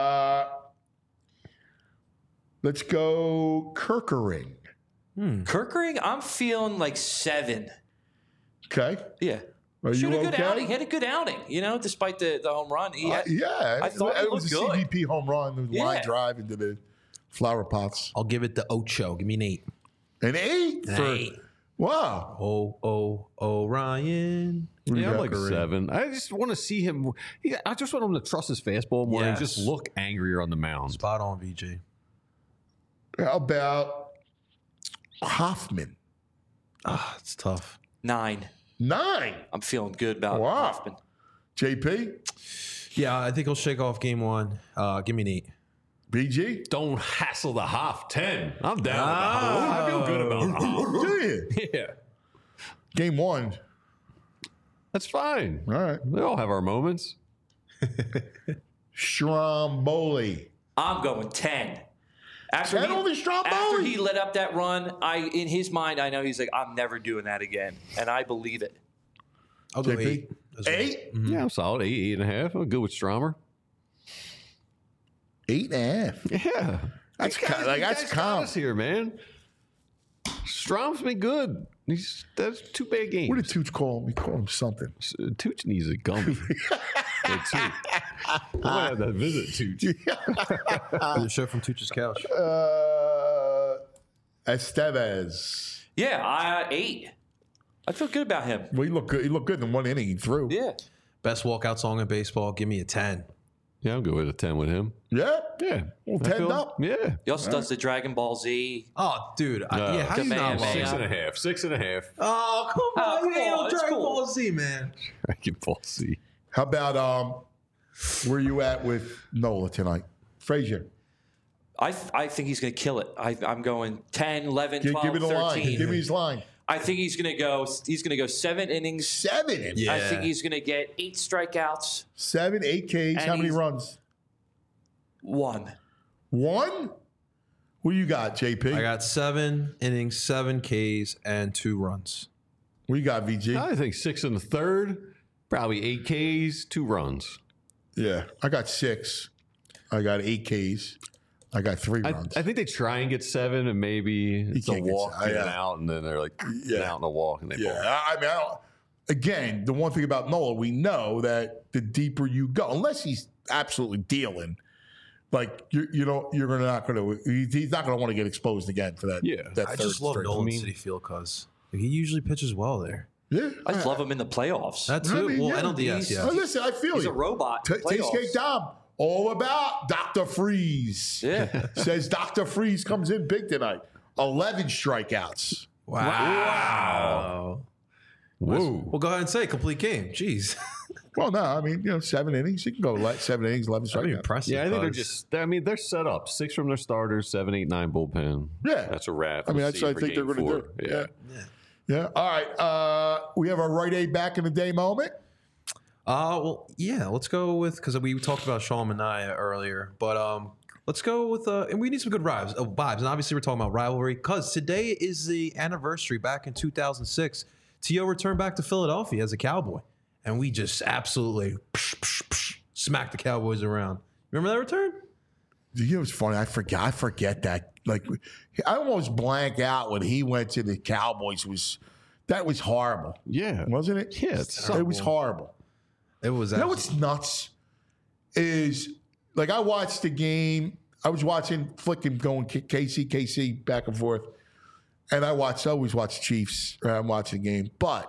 Let's go Kirkering. Kirkering, I'm feeling like 7. Okay. Yeah. Are you Shoot a good okay? outing. He had a good outing, despite the home run. Yeah. I thought it he was a looked good. CBP home run. The line Yeah. drive into the flower pots. I'll give it the Ocho. Give me an 8. An 8? An 8. Wow. Ryan. Yeah, I'm like Kirkering. 7. I just want to see him. I just want him to trust his fastball more and just Yes. look angrier on the mound. Spot on, VJ. How about Hoffman. It's tough. 9. 9. I'm feeling good about Hoffman. JP? Yeah, I think he'll shake off game 1. Give me an 8. BG? Don't hassle the Hoff. 10. I'm down with the Hoff. I feel good about the Hoff. Do you? Yeah. Game 1. That's fine. All right. We all have our moments. Stromboli. I'm going 10. After he let up that run, in his mind, I know he's like, I'm never doing that again. And I believe it. I'll go 8. 8? Mm-hmm. Yeah, I'm solid. 8, 8.5. I'm good with Stromer. 8.5. Yeah. That's that's calm here, man. Strom's been good. That's 2 bad games. What did Tooch call him? He called him something. Tooch needs a gummy. I might have that visit, Tooch. The show from Tooch's couch. Estevez. Yeah, 8. I feel good about him. Well, he looked good. He looked good in 1 inning. He threw. Yeah. Best walkout song in baseball. Give me a 10. Yeah, I'll go with a 10 with him. Yeah? Yeah. Well, 10 up. Yeah. He also does the Dragon Ball Z. Oh, dude. How do you not love 6.5. 6.5. Oh, come on. You ain't no It's Dragon cool. Ball Z, man. Dragon Ball Z. How about where you at with Nola tonight? Frazier. I think he's going to kill it. I'm going 10, 11, 12, Give me the 13. line. Give me his line. I think he's going to go 7 innings. 7 innings? Yeah. I think he's going to get 8 strikeouts. 7, 8 Ks. And How many he's- runs? 1. 1? What do you got, JP? I got 7 innings, 7 Ks, and 2 runs. What you got, VG? I think 6 1/3. Probably 8 Ks, 2 runs. Yeah, I got 6. I got 8 Ks. I got 3 runs. I think they try and get 7, and maybe it's a can't get walk se- and yeah. out, and then they're like out and a walk, and they ball. I mean, again, the one thing about Nola, we know that the deeper you go, unless he's absolutely dealing, like you're not going to. He's not going to want to get exposed again for that. Yeah. that I third just love straight. Nolan City Field because he usually pitches well there. Yeah, I love him in the playoffs. That too. NLDS, yeah. Listen, I feel He's you. a robot. in Taste playoffs. Cake Dom, all about Dr. Freeze. Yeah. Says Dr. Freeze comes in big tonight. 11 strikeouts. Wow. Whoa. Well, go ahead and say complete game. Jeez. Well, no, I mean, 7 innings. You can go 7 innings, 11 That'd be strikeouts. impressive. Yeah, I think cuz- they're set up. 6 from their starters, 7, 8, 9 bullpen. Yeah. That's a wrap. I mean, We'll that's see what I for think they're game going to 4. do. Yeah. Yeah. All right. We have our right aid back in the day moment. Well, yeah, let's go with, because we talked about Sean Manaea earlier, but let's go with, and we need some good vibes. And obviously, we're talking about rivalry because today is the anniversary back in 2006. T.O. returned back to Philadelphia as a Cowboy, and we just absolutely smacked the Cowboys around. Remember that return? You know, it's funny. I forget that. Like, I almost blank out when he went to the Cowboys. That was horrible. Yeah. Wasn't it? Yeah, it was horrible. It was. You know what's nuts is, like, I watched the game. I was watching flicking going KC back and forth, and I always watch Chiefs. I'm watching the game, but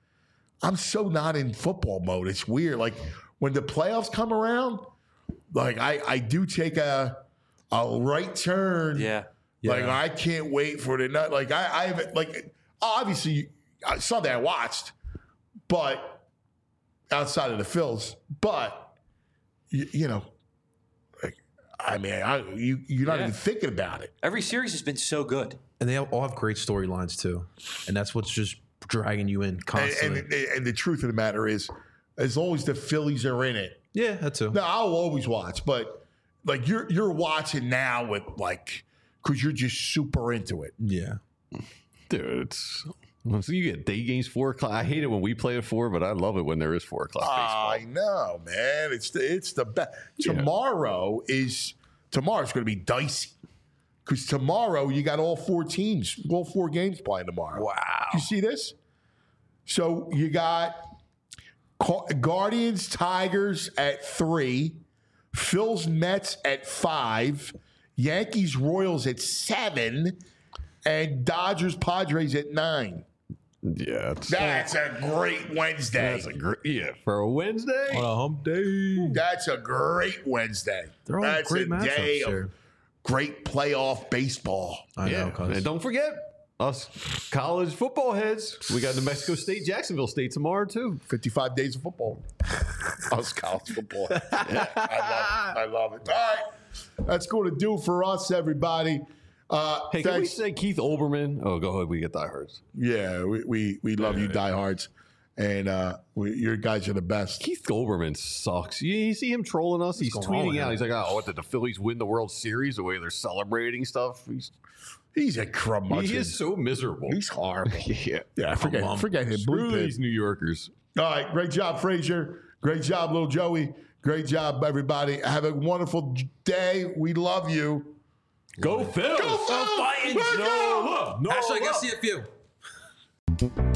I'm so not in football mode. It's weird. Like when the playoffs come around, like I do take a right turn. Yeah. Like I can't wait for the nut. Like I have like obviously Sunday I watched, but outside of the Phils, but you know, like, I mean, you're not even thinking about it. Every series has been so good, and they all have great storylines too, and that's what's just dragging you in constantly. And the truth of the matter is, as long as the Phillies are in it, yeah, that too. No, I'll always watch, but like you're watching now with like because you're just super into it. Yeah, dude, so you get day games 4 o'clock. I hate it when we play at 4, but I love it when there is 4 o'clock baseball. I know, man. It's the best. Tomorrow's going to be dicey because tomorrow you got all 4 teams, all 4 games playing tomorrow. Wow. You see this? So you got Guardians, Tigers at 3, Phils, Mets at 5, Yankees, Royals at 7, and Dodgers, Padres at 9. Yeah, that's a great Wednesday. That's a great for a Wednesday. On a hump day. That's a great Wednesday. They're all that's great a matchups day here. of great playoff baseball. I know, cuz. And don't forget, us college football heads, we got New Mexico State, Jacksonville State tomorrow too. 55 days of football. Us college football. Yeah, I love it. All right. That's going to do for us, everybody. Hey, can we say Keith Olbermann? Oh, go ahead. We get diehards. Yeah, we love you, diehards. And your guys are the best. Keith Olbermann sucks. You see him trolling us? He's tweeting out. He's like, oh, what, did the Phillies win the World Series? The way they're celebrating stuff? He's a curmudgeon. He is so miserable. He's horrible. Yeah, forget him. Screw these New Yorkers. All right, great job, Frazier. Great job, little Joey. Great job, everybody. Have a wonderful day. We love you. Go Phil. Go Phil. Fighting. No, Hashtag SCFU.